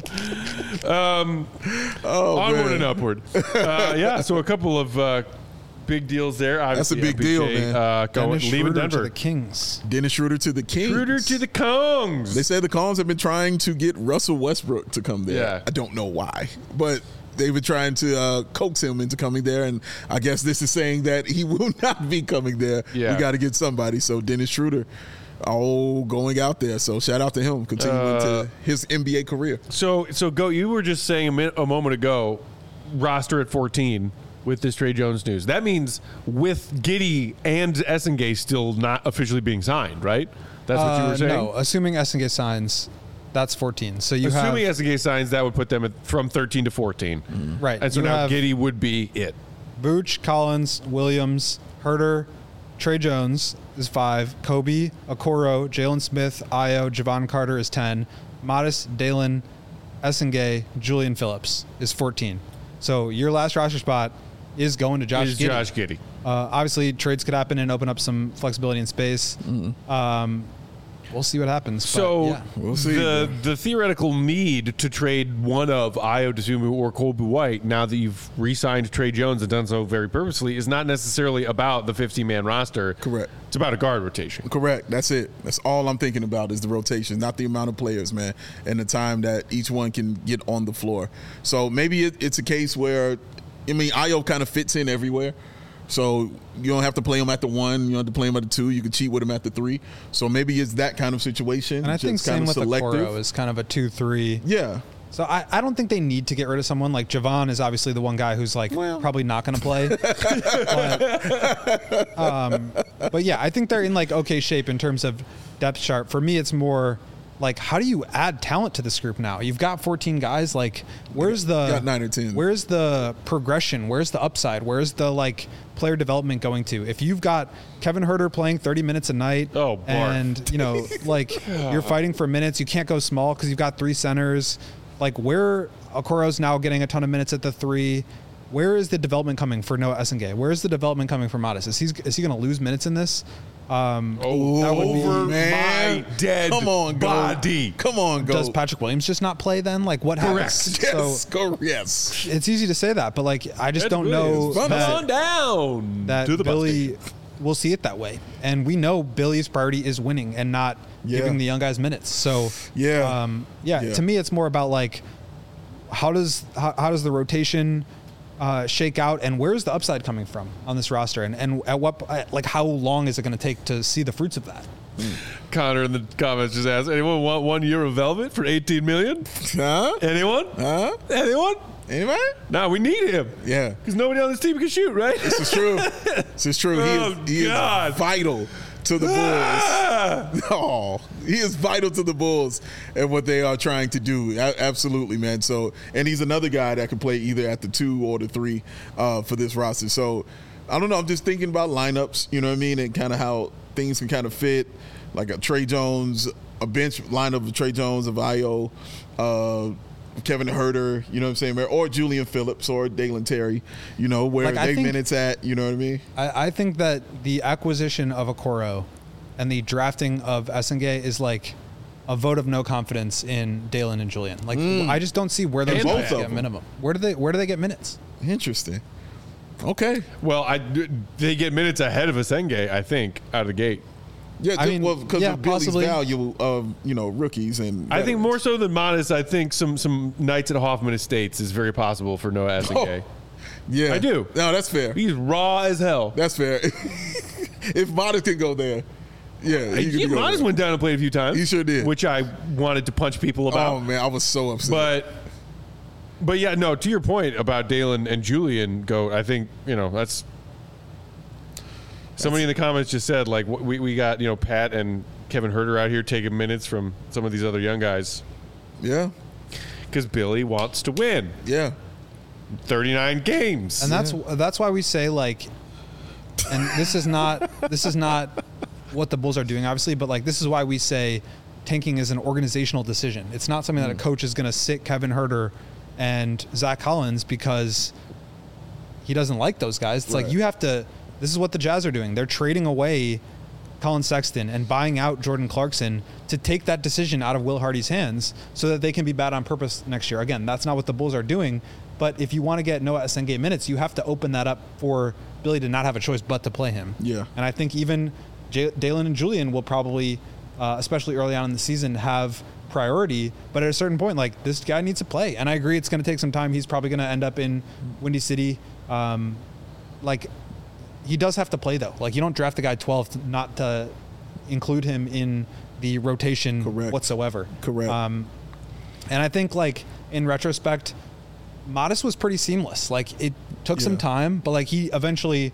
Um, Oh, onward man. and upward. Uh, yeah, so a couple of uh, big deals there. That's a Obviously, big deal, man. Uh, going, Dennis leaving Schroeder to Denver. the Kings. Dennis Schroeder to the Kings. Schroeder to the Kongs. They said the Kongs have been trying to get Russell Westbrook to come there. Yeah. I don't know why, but they've been trying to uh, coax him into coming there, and I guess this is saying that he will not be coming there. Yeah. We got to get somebody. So Dennis Schroeder, oh, going out there. So shout out to him, continuing Uh, to his N B A career. So, so go. You were just saying a, min- a moment ago, roster at fourteen with this Trey Jones news. That means with Giddey and Essengay still not officially being signed, right? That's what you Uh, were saying. No, assuming Essengay signs, that's fourteen. So you Assuming have Essengay signs, that would put them at, from thirteen to fourteen. right. And so you now have Giddey would be it. Vooch, Collins, Williams, Herter, Trey Jones is five, Kobe, Okoro, Jalen Smith, Io, Javon Carter is ten, Modest, Dalen, Essengay, Julian Phillips is fourteen. So your last roster spot is going to Josh Is Giddey. Josh Giddey. Uh, obviously, trades could happen and open up some flexibility in space. Um, we'll see what happens. but, So yeah. We'll see, the man. the theoretical need to trade one of Io DeSumo or Colby White, now that you've re-signed Trey Jones and done so very purposely, is not necessarily about the fifteen-man roster. Correct. It's about a guard rotation. Correct. That's it. That's all I'm thinking about is the rotation, not the amount of players, man, and the time that each one can get on the floor. So maybe it, it's a case where, I mean, Io kind of fits in everywhere. So you don't have to play him at the one. You don't have to play him at the two. You can cheat with him at the three. So maybe it's that kind of situation. And I think just same kind with of selective. Okoro is kind of a two three. Yeah. So I, I don't think they need to get rid of someone. Like Javon is obviously the one guy who's like Well. probably not going to play. but, um, but yeah, I think they're in like okay shape in terms of depth chart. For me, it's more like how do you add talent to this group now? You've got fourteen guys. Like where's the Got nine or ten. Where's the progression? Where's the upside? Where's the like player development going to? If you've got Kevin Herter playing thirty minutes a night, Oh, Bart. and you know like you're fighting for minutes, you can't go small because you've got three centers. Like where Okoro's now getting a ton of minutes at the three. Where is the development coming for Noah Essengay? Where is the development coming for Modest? Is he is he going to lose minutes in this? Um, Oh, that would be- over Man. my dead Come on, go. body. Come on, go. does Patrick Williams just not play then? Like what happens? Yes. So go. Yes. it's easy to say that, but like I just Ed don't know Williams, fun. that, on down that to the bus Billy station. will see it that way. And we know Billy's priority is winning and not Yeah. giving the young guys minutes. So Yeah. um, yeah, Yeah. to me it's more about like how does how, how does the rotation uh, shake out, and where's the upside coming from on this roster, and and at what like how long is it going to take to see the fruits of that? Connor in the comments just asked, anyone want one year of Velvet for eighteen million? Huh? Anyone? Huh? Anyone? Anybody? No, we need him. Yeah. Because nobody on this team can shoot, right? This is true. This is true. Oh, he is, he God. is vital to the Bulls. Ah! Oh, he is vital to the Bulls and what they are trying to do. A- absolutely, man. So, and he's another guy that can play either at the two or the three uh, for this roster. So, I don't know. I'm just thinking about lineups, you know what I mean, and kind of how things can kind of fit, like a Trey Jones, a bench lineup of Trey Jones, of Io, uh, Kevin Herter, you know what I'm saying, or Julian Phillips or Dalen Terry, you know, where Like, I they think- minutes at, you know what I mean? I, I think that the acquisition of Okoro and the drafting of Essengay is like a vote of no confidence in Dalen and Julian. Like I just don't see where those And guys both of get them. minimum. Where do they where do they get minutes? Interesting. Okay. Well, I, they get minutes ahead of Essengay, I think, out of the gate. Yeah, I mean, well, because yeah, of Billy's possibly. value of, you know, rookies and I think veterans. more so than Modest, I think some some nights at Hoffman Estates is very possible for Noah Essengay. Yeah. I do. No, that's fair. He's raw as hell. That's fair. If Modest can go there, yeah, he He can go Modest there. went down and played a few times. He sure did. Which I wanted to punch people about. Oh, man, I was so upset. But But yeah, no. To your point about Dalen and Julian, go. I think you know that's. Somebody in the comments just said like we we got you know Pat and Kevin Huerter out here taking minutes from some of these other young guys. Yeah. Because Billy wants to win. Yeah. thirty-nine games. And that's Yeah. that's why we say like, and this is not this is not what the Bulls are doing, obviously, but like this is why we say tanking is an organizational decision. It's not something that a coach is going to sit Kevin Huerter and Zach Collins because he doesn't like those guys. It's Right. like you have to. This is what the Jazz are doing. They're trading away Colin Sexton and buying out Jordan Clarkson to take that decision out of Will Hardy's hands so that they can be bad on purpose next year. Again, that's not what the Bulls are doing. But if you want to get Noah Essengate minutes, you have to open that up for Billy to not have a choice but to play him. Yeah. And I think even J- Dalen and Julian will probably, uh, especially early on in the season, have priority. But at a certain point, like, this guy needs to play. And I agree it's going to take some time. He's probably going to end up in Windy City. Um, like, he does have to play, though. Like, you don't draft the guy twelfth not to include him in the rotation Correct. whatsoever. Correct. Um, and I think, like, in retrospect, Modest was pretty seamless. Like, it took some Yeah. time, but, like, he eventually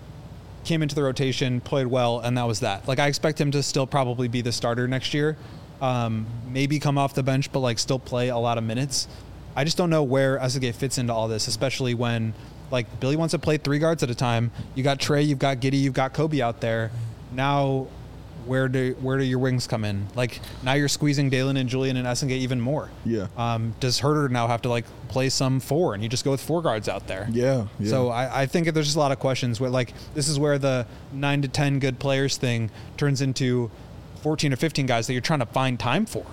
came into the rotation, played well, and that was that. Like, I expect him to still probably be the starter next year. Um, maybe come off the bench, but, like, still play a lot of minutes. I just don't know where Essengate fits into all this, especially when, like, Billy wants to play three guards at a time. You got Trey, you've got Giddey, you've got Kobe out there. Now, where do where do your wings come in? Like, now you're squeezing Dalen and Julian and Essengate even more. Yeah. Um, does Huerter now have to, like, play some four, and you just go with four guards out there? Yeah. yeah. So I, I think there's just a lot of questions where, like, this is where the nine to ten good players thing turns into fourteen or fifteen guys that you're trying to find time for.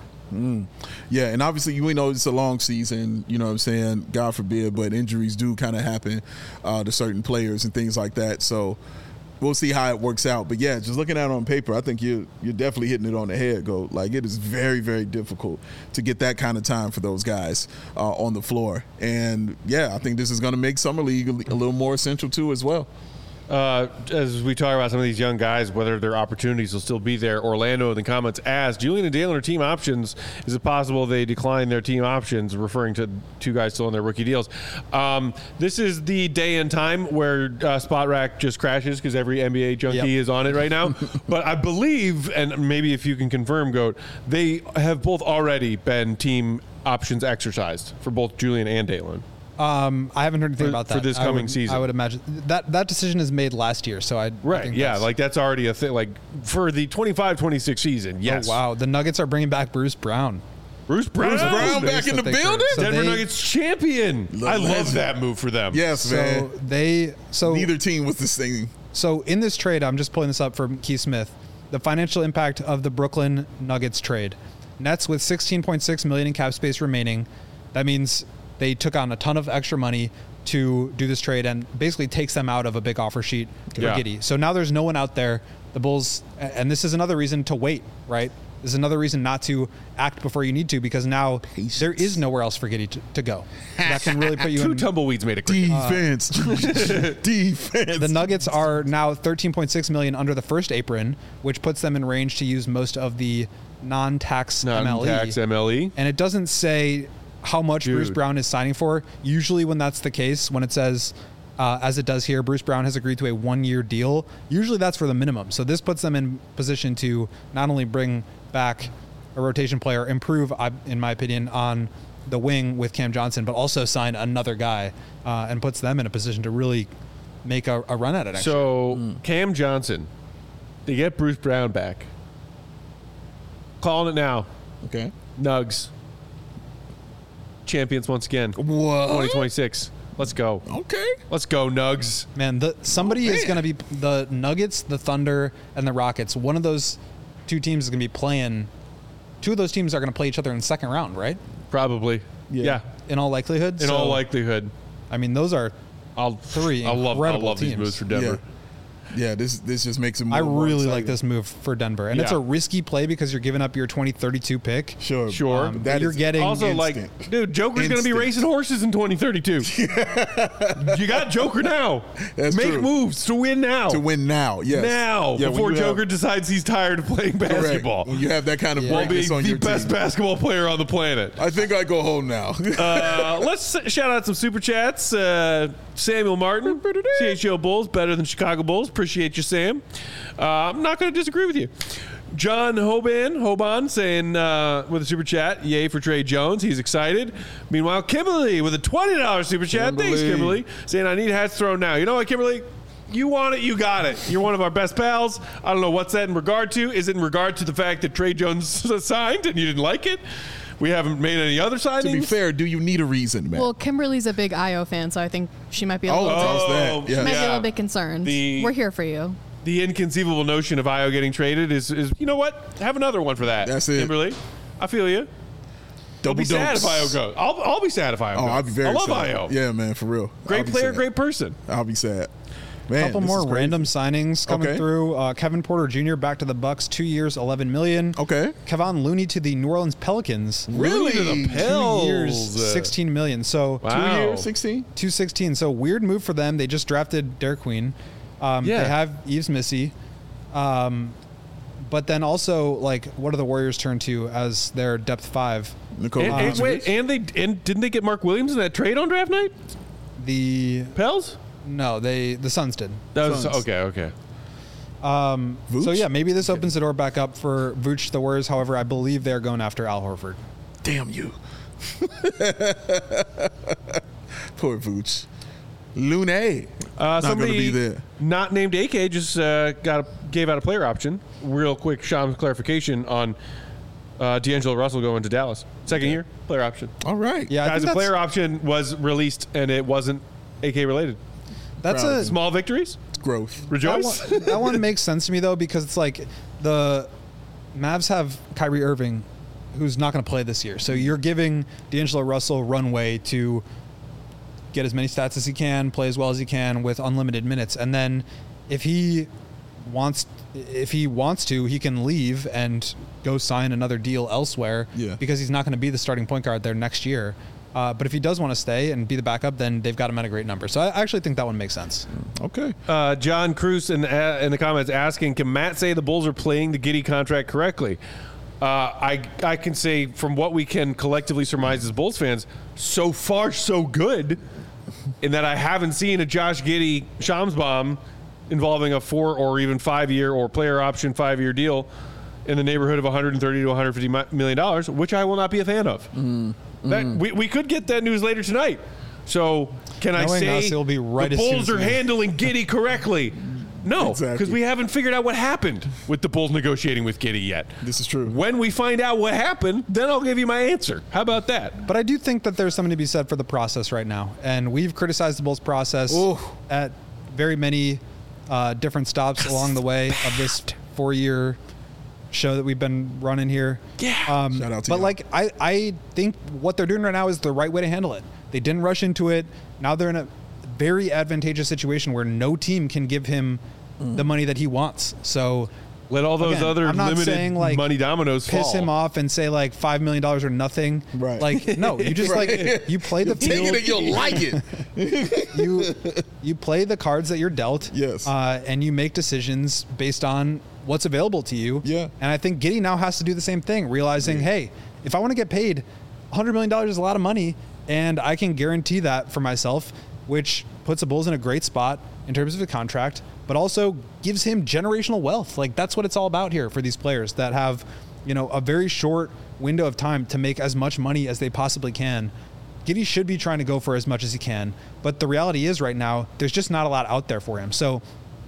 Yeah, and obviously we know it's a long season, you know what I'm saying, God forbid, but injuries do kind of happen uh, to certain players and things like that. So we'll see how it works out. But yeah, just looking at it on paper, I think you're, you're definitely hitting it on the head, Go. Like, it is very, very difficult to get that kind of time for those guys uh, on the floor. And yeah, I think this is going to make Summer League a, a little more essential too as well. Uh, as we talk about some of these young guys, whether their opportunities will still be there, Orlando in the comments asked, Julian and Dalen are team options. Is it possible they decline their team options, referring to two guys still on their rookie deals? Um, this is the day and time where uh, Spot Rack just crashes because every N B A junkie Yep. is on it right now. But I believe, and maybe if you can confirm, Goat, they have both already been team options exercised for both Julian and Dalen. Um, I haven't heard anything For- about that for this I coming would- season. I would imagine that that decision is made last year. So I I Right, think yeah, that's- like that's already a thing. Like for the twenty-five twenty-six season, yes. Oh, wow, the Nuggets are bringing back Bruce Brown. Bruce Brown, Bruce Brown back in the that they building? So Denver they- Nuggets champion. The I love legend. that move for them. Yes, So man. they so Neither team was the same. So in this trade, I'm just pulling this up from Keith Smith. The financial impact of the Brooklyn Nuggets trade: Nets with sixteen point six million in cap space remaining. That means they took on a ton of extra money to do this trade, and basically takes them out of a big offer sheet for Yeah. Giddey. So now there's no one out there. The Bulls, and this is another reason to wait, right? This is another reason not to act before you need to, because now Patience. there is nowhere else for Giddey to, to go. That can really put you Two in. tumbleweeds made a cricket. Defense. Defense. The Nuggets are now thirteen point six million under the first apron, which puts them in range to use most of the non-tax, M L E. Non-tax M L E. And it doesn't say how much Dude. Bruce Brown is signing for. Usually when that's the case, when it says, uh, as it does here, Bruce Brown has agreed to a one-year deal, usually that's for the minimum. So this puts them in position to not only bring back a rotation player, improve, I- in my opinion, on the wing with Cam Johnson, but also sign another guy uh, and puts them in a position to really make a, a run at it. Actually. So Cam Johnson, they get Bruce Brown back. Calling it now. Okay. Nugs. Champions once again. What? twenty twenty-six. Let's go. Okay. Let's go, Nugs. Man, the somebody Oh, is man. going to be the Nuggets, the Thunder, and the Rockets. One of those two teams is going to be playing. Two of those teams are going to play each other in the second round, right? Probably. Yeah. Yeah. In all likelihood. In So, all likelihood. I mean, those are I'll three I love I incredible love these teams. moves for Denver. Yeah, this this just makes it more. I and more really exciting. like this move for Denver, and it's Yeah. a risky play because you're giving up your twenty thirty-two pick. Sure, Sure. Um, But that you're is getting Also, instant. like, dude, Joker's going to be Instant. racing horses in twenty thirty-two. You got Joker now. That's Make true. moves to win now. to win now. Yes, Now, Yeah, when before you have- Joker decides he's tired of playing correct. basketball. When you have that kind of Yeah. While being brightness on the your best team. basketball player on the planet. I think I go home now. Uh, let's s- shout out some super chats. Uh, Samuel Martin, C H O Bulls, better than Chicago Bulls. Appreciate you, Sam. Uh, I'm not going to disagree with you. John Hoban, Hoban saying uh, with a super chat, yay for Trey Jones. He's excited. Meanwhile, Kimberly with a twenty dollars super chat. Thanks, Kimberly. Kimberly. Saying, I need hats thrown now. You know what, Kimberly? You want it, you got it. You're one of our best pals. I don't know what's that in regard to. Is it in regard to the fact that Trey Jones signed and you didn't like it? We haven't made any other signings. To be fair, do you need a reason, man? Well, Kimberly's a big I O fan, so I think she might be a Oh, little, how's bit, that? Oh, Yeah. might be a yeah. little bit concerned. The- We're here for you. The inconceivable notion of Io getting traded is, is, you know what? Have another one for that. That's it. Kimberly. I feel you. I'll Double be sad if dunks. Io goes. I'll, I'll be sad if Io Oh, goes. I'll be very I love sad. Io. Yeah, man, for real. I'll Great be player, sad. great person. I'll be sad. Man, couple this more is crazy. random signings coming Okay. through. Uh, Kevin Porter Junior back to the Bucks, two years, eleven million. Okay. Kevon Looney to the New Orleans Pelicans, Really? To the two Pels. years, sixteen million. So Wow. Two years, sixteen. two sixteen. So weird move for them. They just drafted Derek Queen. Um, Yeah. They have Yves Missy. Um, but then also, like, what do the Warriors turn to as their depth five? Nikola And, and, Vucevic. wait, and they and didn't they get Mark Williams in that trade on draft night? The Pels? no, they the Suns did. That was Suns. okay. Okay. Um, Vooch? so yeah, maybe this opens the door back up for Vooch the Warriors. However, I believe they're going after Al Horford. Damn you. Poor Vooch. Lune. Uh, Not somebody gonna be there. not named A K just uh, got a, gave out a player option. Real quick, Sean's clarification on uh, D'Angelo Russell going to Dallas. Second year player option. All right. Yeah, I Guys, think the that's, player option was released and it wasn't A K related. that's Proud a of him. Small victories. It's growth. that Rejoice. one, that one makes sense to me though, because it's like the Mavs have Kyrie Irving, who's not going to play this year. So you're giving D'Angelo Russell runway to get as many stats as he can, play as well as he can with unlimited minutes, and then if he wants, if he wants to, he can leave and go sign another deal elsewhere. Yeah. Because he's not going to be the starting point guard there next year. Uh, but if he does want to stay and be the backup, then they've got him at a great number. So I actually think that one makes sense. Okay. Uh, John Cruz in, uh, in the comments asking, can Matt say the Bulls are playing the Giddey contract correctly? Uh, I I can say from what we can collectively surmise as Bulls fans, so far so good, in that I haven't seen a Josh Giddey Shams bomb involving a four or even five year or player option five year deal in the neighborhood of one hundred thirty to one hundred fifty million dollars, which I will not be a fan of. Mm. That we, we could get that news later tonight. So can I Knowing say us, it'll be right the as soon Bulls as are we- handling Giddey correctly? No, because Exactly. we haven't figured out what happened with the Bulls negotiating with Giddey yet. This is true. When we find out what happened, then I'll give you my answer. How about that? But I do think that there's something to be said for the process right now. And we've criticized the Bulls process Ooh. at very many uh, different stops along the way of this four-year show that we've been running here. Yeah. Um, Shout out to but y'all. like, I, I think what they're doing right now is the right way to handle it. They didn't rush into it. Now they're in a very advantageous situation where no team can give him the money that he wants. So Let all those Again, other I'm not limited saying, like, money dominoes piss fall. him off and say like five million dollars or nothing. Right. Like no, you just Right. like you play the Take field. it and you'll like it. you you play the cards that you're dealt. Yes. Uh, and you make decisions based on what's available to you. Yeah. And I think Giddey now has to do the same thing, realizing, hey, if I want to get paid, one hundred million dollars is a lot of money, and I can guarantee that for myself, which puts the Bulls in a great spot in terms of the contract, but also gives him generational wealth. Like that's what it's all about here for these players that have, you know, a very short window of time to make as much money as they possibly can. Giddey should be trying to go for as much as he can, but the reality is right now there's just not a lot out there for him. So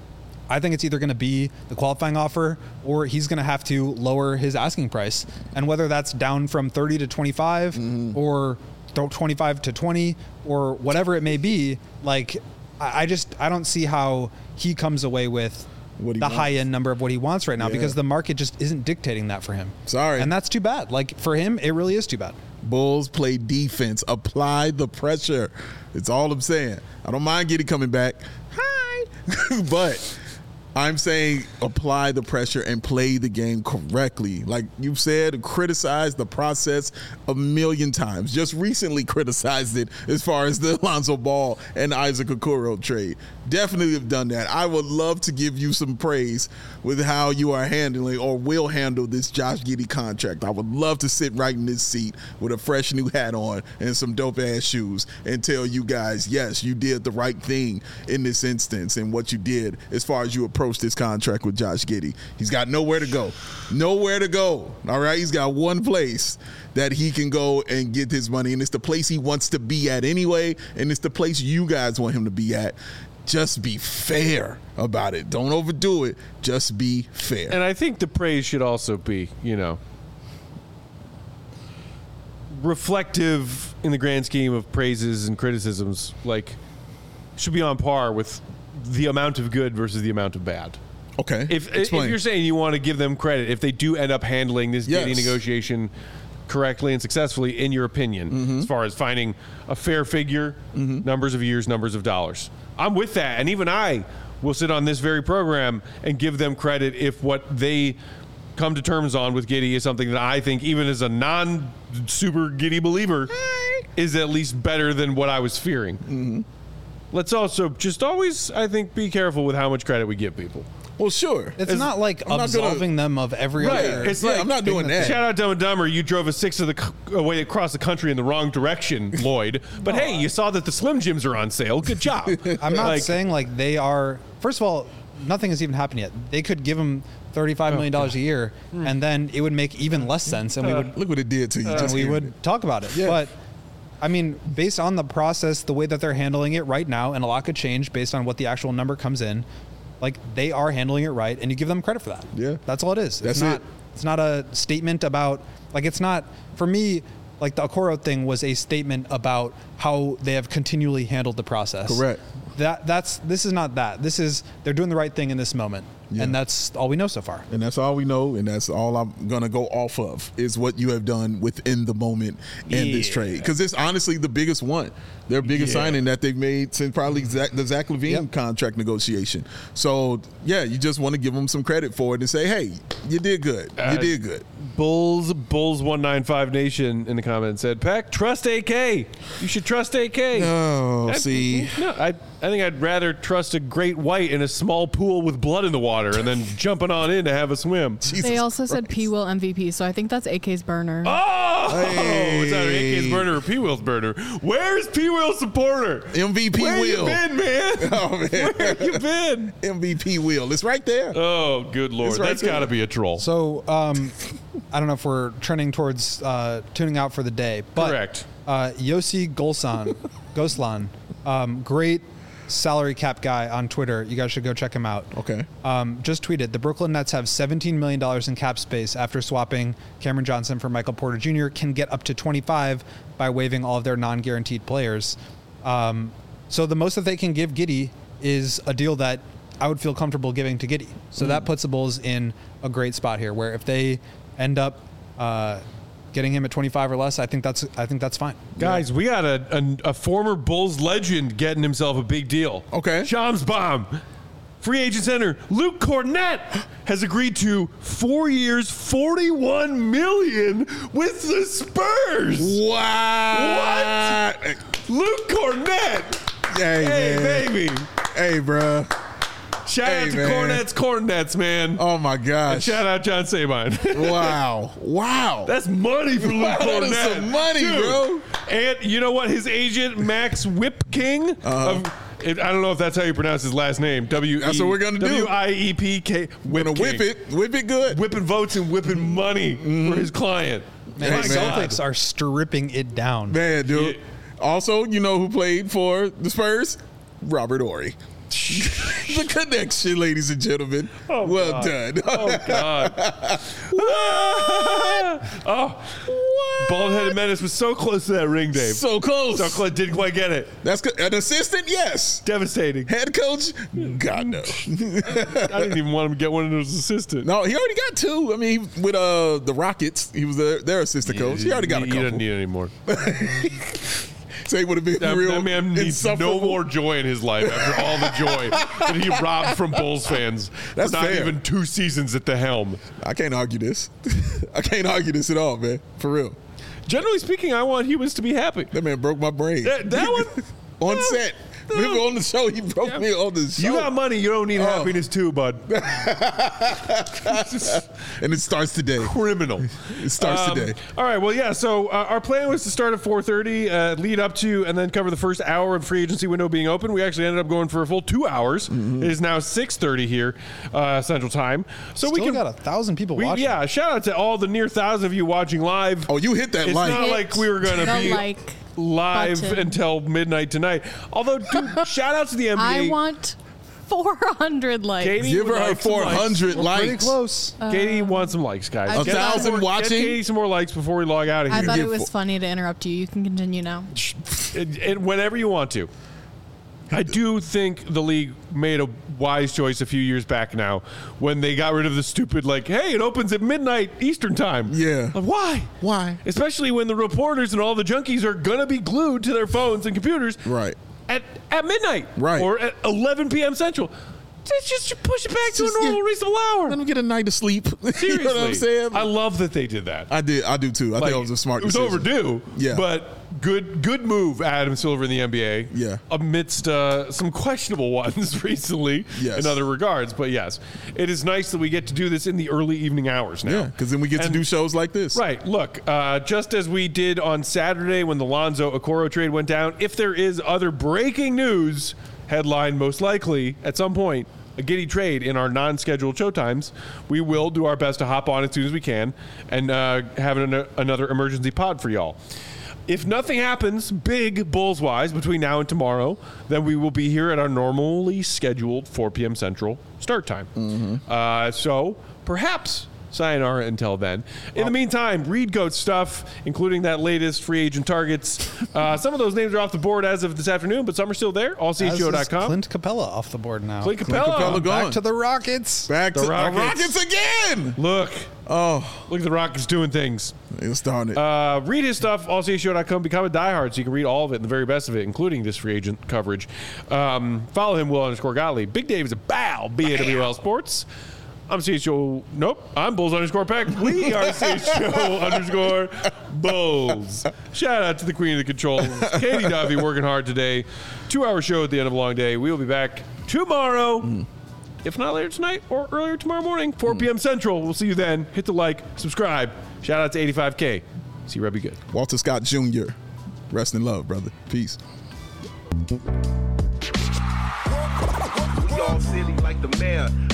I think it's either going to be the qualifying offer or he's going to have to lower his asking price. And whether that's down from thirty to twenty-five Mm-hmm. or twenty-five to twenty or whatever it may be, like I I just I don't see how he comes away with What he the wants. high end number of what he wants right now Yeah. because the market just isn't dictating that for him. Sorry. And that's too bad. Like for him, it really is too bad. Bulls play defense. Apply the pressure. It's all I'm saying. I don't mind Giddey coming back. Hi. But I'm saying apply the pressure and play the game correctly. Like you've said, criticize the process a million times. Just recently criticized it as far as the Alonzo Ball and Isaac Okoro trade. Definitely have done that. I would love to give you some praise with how you are handling or will handle this Josh Giddey contract. I would love to sit right in this seat with a fresh new hat on and some dope ass shoes and tell you guys, yes, you did the right thing in this instance and what you did as far as you approach this contract with Josh Giddey. He's got nowhere to go. Nowhere to go. All right? He's got one place that he can go and get his money, and it's the place he wants to be at anyway, and it's the place you guys want him to be at. Just be fair about it. Don't overdo it. Just be fair. And I think the praise should also be, you know, reflective in the grand scheme of praises and criticisms. Like, should be on par with the amount of good versus the amount of bad. Okay. If, if you're saying you want to give them credit, if they do end up handling this Yes. Giddey negotiation correctly and successfully, in your opinion, Mm-hmm. as far as finding a fair figure, Mm-hmm. numbers of years, numbers of dollars, I'm with that. And even I will sit on this very program and give them credit if what they come to terms on with Giddey is something that I think, even as a non-super Giddey believer, is at least better than what I was fearing. Mm-hmm. Let's also just always, I think, be careful with how much credit we give people. Well, sure. It's not like I'm not absolving them of every Right. other. It's Yeah, like I'm not doing that. Shout out Dumb and Dumber. You drove a sixth of the c- away across the country in the wrong direction, Lloyd. But hey, you saw that the Slim Jims are on sale. Good job. I'm not Like- saying like they are. First of all, nothing has even happened yet. They could give him thirty-five million dollars a year, and then it would make even less sense, and we would Look what it did to you. and Just we hearing would it. talk about it. Yeah. But I mean, based on the process, the way that they're handling it right now, and a lot could change based on what the actual number comes in. Like they are handling it right, and you give them credit for that. Yeah. that's all it is. That's it's not. it. It's not a statement about like it's not for me. Like the Okoro thing was a statement about how they have continually handled the process. Correct. That that's this is not that. This is they're doing the right thing in this moment, Yeah. and that's all we know so far. And that's all we know, and that's all I'm gonna go off of is what you have done within the moment in this Yeah. trade. Because it's honestly the biggest one, their biggest Yeah. signing that they've made since probably Zach, the Zach LaVine Yep. contract negotiation. So yeah, you just want to give them some credit for it and say, hey, you did good, you Uh, did good. Bulls Bulls one ninety-five Nation in the comments said, Peck, trust A K. You should trust A K. Oh, I- see, No, I, I think I'd rather trust a great white in a small pool with blood in the water and then jumping on in to have a swim. Jesus They also said Christ. P Will M V P, so I think that's A K's burner. Oh! Hey. It's either A K's burner or P Will's burner. Where's P Will's supporter? M V P Where Will. you been, man? Oh man, Where you been? M V P Will, it's right there. Oh, good lord. It's right That's there. got to be a troll. So um, I don't know if we're trending towards uh, tuning out for the day, but Correct. Uh, Yossi Golsan, Goslan, um, great salary cap guy on Twitter. You guys should go check him out. Okay. Um, just tweeted the Brooklyn Nets have seventeen million dollars in cap space after swapping Cameron Johnson for Michael Porter Junior Can get up to twenty-five by waiving all of their non-guaranteed players. Um, so the most that they can give Giddey is a deal that I would feel comfortable giving to Giddey. So that puts the Bulls in a great spot here, where if they end up uh, getting him at twenty-five or less, I think that's I think that's fine. Guys, we got a, a, a former Bulls legend getting himself a big deal. Okay. Shams Bomb. Free agent center Luke Cornett has agreed to four years, forty-one million with the Spurs. Wow. What? Luke Cornett. Hey, Hey, man. baby. Hey, bruh. Shout Hey, out to man. Cornet's Cornets, man. Oh my gosh. Shout out John Sabine. Wow. Wow. That's money for Luke Wow, that Cornett. is some money, Dude. bro. And you know what? His agent, Max Whip King, Uh-huh. of, it, I don't know if that's how you pronounce his last name. W. That's what we're gonna do. W I E P K. We're gonna whip it. Whip it good. Whipping votes and whipping money for his client. Man, Hey, the man. Celtics are stripping it down. Man, dude. Yeah. Also, you know who played for the Spurs? Robert Ory. The connection, ladies and gentlemen. Oh, well God. done. Oh, God. oh. Bald-headed Menace was so close to that ring, Dave. So close. So close. Didn't quite get it. That's good. An assistant, yes. Devastating. Head coach, God no. I didn't even want him to get one of those assistants. No, he already got two. I mean, he- with uh the Rockets, he was their, their assistant coach. He already got a He couple. doesn't need any more. Say would have been That, real. that man needs no insufferable. more joy in his life after all the joy that he robbed from Bulls fans. That's for not fair. even two seasons at the helm. I can't argue this. I can't argue this at all, man. For real. Generally speaking, I want Hubas to be happy. That man broke my brain. That, that one on no, set. no. Remember on the show, he broke Yeah. me on the show. You got money, you don't need Oh. happiness too, bud. And it starts today. Criminal. It starts Um, today. All right. Well, yeah. So uh, our plan was to start at four thirty, uh, lead up to, and then cover the first hour of free agency window being open. We actually ended up going for a full two hours. Mm-hmm. It is now six thirty here, uh, Central Time. So Still we can. got a thousand people we, watching. yeah. Shout out to all the near thousand of you watching live. Oh, you hit that It's like. not like we were going to the be like live button. until midnight tonight. Although, dude, shout out to the N B A. I want four hundred likes. Katie Give would her like some four hundred likes. Pretty likes. close. Katie wants some likes, guys. I A Get thousand more- watching? Get Katie some more likes before we log out of I here. thought give it was four- funny to interrupt you. You can continue now. It- it- whenever you want to. I do think the league made a wise choice a few years back now when they got rid of the stupid, like, hey, it opens at midnight Eastern time. Yeah. Like, why? Why? Especially when the reporters and all the junkies are going to be glued to their phones and computers Right. at, at midnight. Right. Or at eleven p.m. Central. Just, just push it back to Just a normal get- reasonable hour. Let them get a night of sleep. Seriously. You know what I'm saying? I love that they did that. I did. I do too. I Like, think it was a smart It was decision. overdue. Yeah. But good good move, Adam Silver in the N B A. Yeah. Amidst uh, some questionable ones recently Yes. in other regards. But yes, it is nice that we get to do this in the early evening hours now. Yeah, because then we get And- to do shows like this. Right. Look, uh, just as we did on Saturday when the Lonzo Okoro trade went down, if there is other breaking news, headline most likely at some point, a Giddey trade in our non-scheduled showtimes, we will do our best to hop on as soon as we can and uh, have an, another emergency pod for y'all. If nothing happens big Bulls-wise between now and tomorrow, then we will be here at our normally scheduled four p.m. Central start time. Mm-hmm. Uh, so perhaps sayonara until then. In the meantime, read Goat stuff, including that latest free agent targets. Uh, some of those names are off the board as of this afternoon, but some are still there. all c h o dot As is com. Clint Capella off the board now. Clint Capella. Capella gone. Back to the Rockets. Back The to Rockets. the Rockets again. Look, Oh, look at the Rockets doing things. it's starting. Uh, read his stuff, all c h o dot com. Become a diehard so you can read all of it and the very best of it, including this free agent coverage. Um, follow him, Will underscore Gottlieb. Big Dave is a bow, B A W L Sports. I'm C H O. Nope. I'm Bulls underscore Peck. We are C H O underscore Bulls. Shout out to the queen of the controls, Katie Duffy, working hard today. Two hour show at the end of a long day. We will be back tomorrow. Mm. If not later tonight or earlier tomorrow morning, four p.m. Central. We'll see you then. Hit the like, subscribe. Shout out to eighty-five K. See you, Rebby Good. Walter Scott Junior Rest in love, brother. Peace. We all silly like the mayor.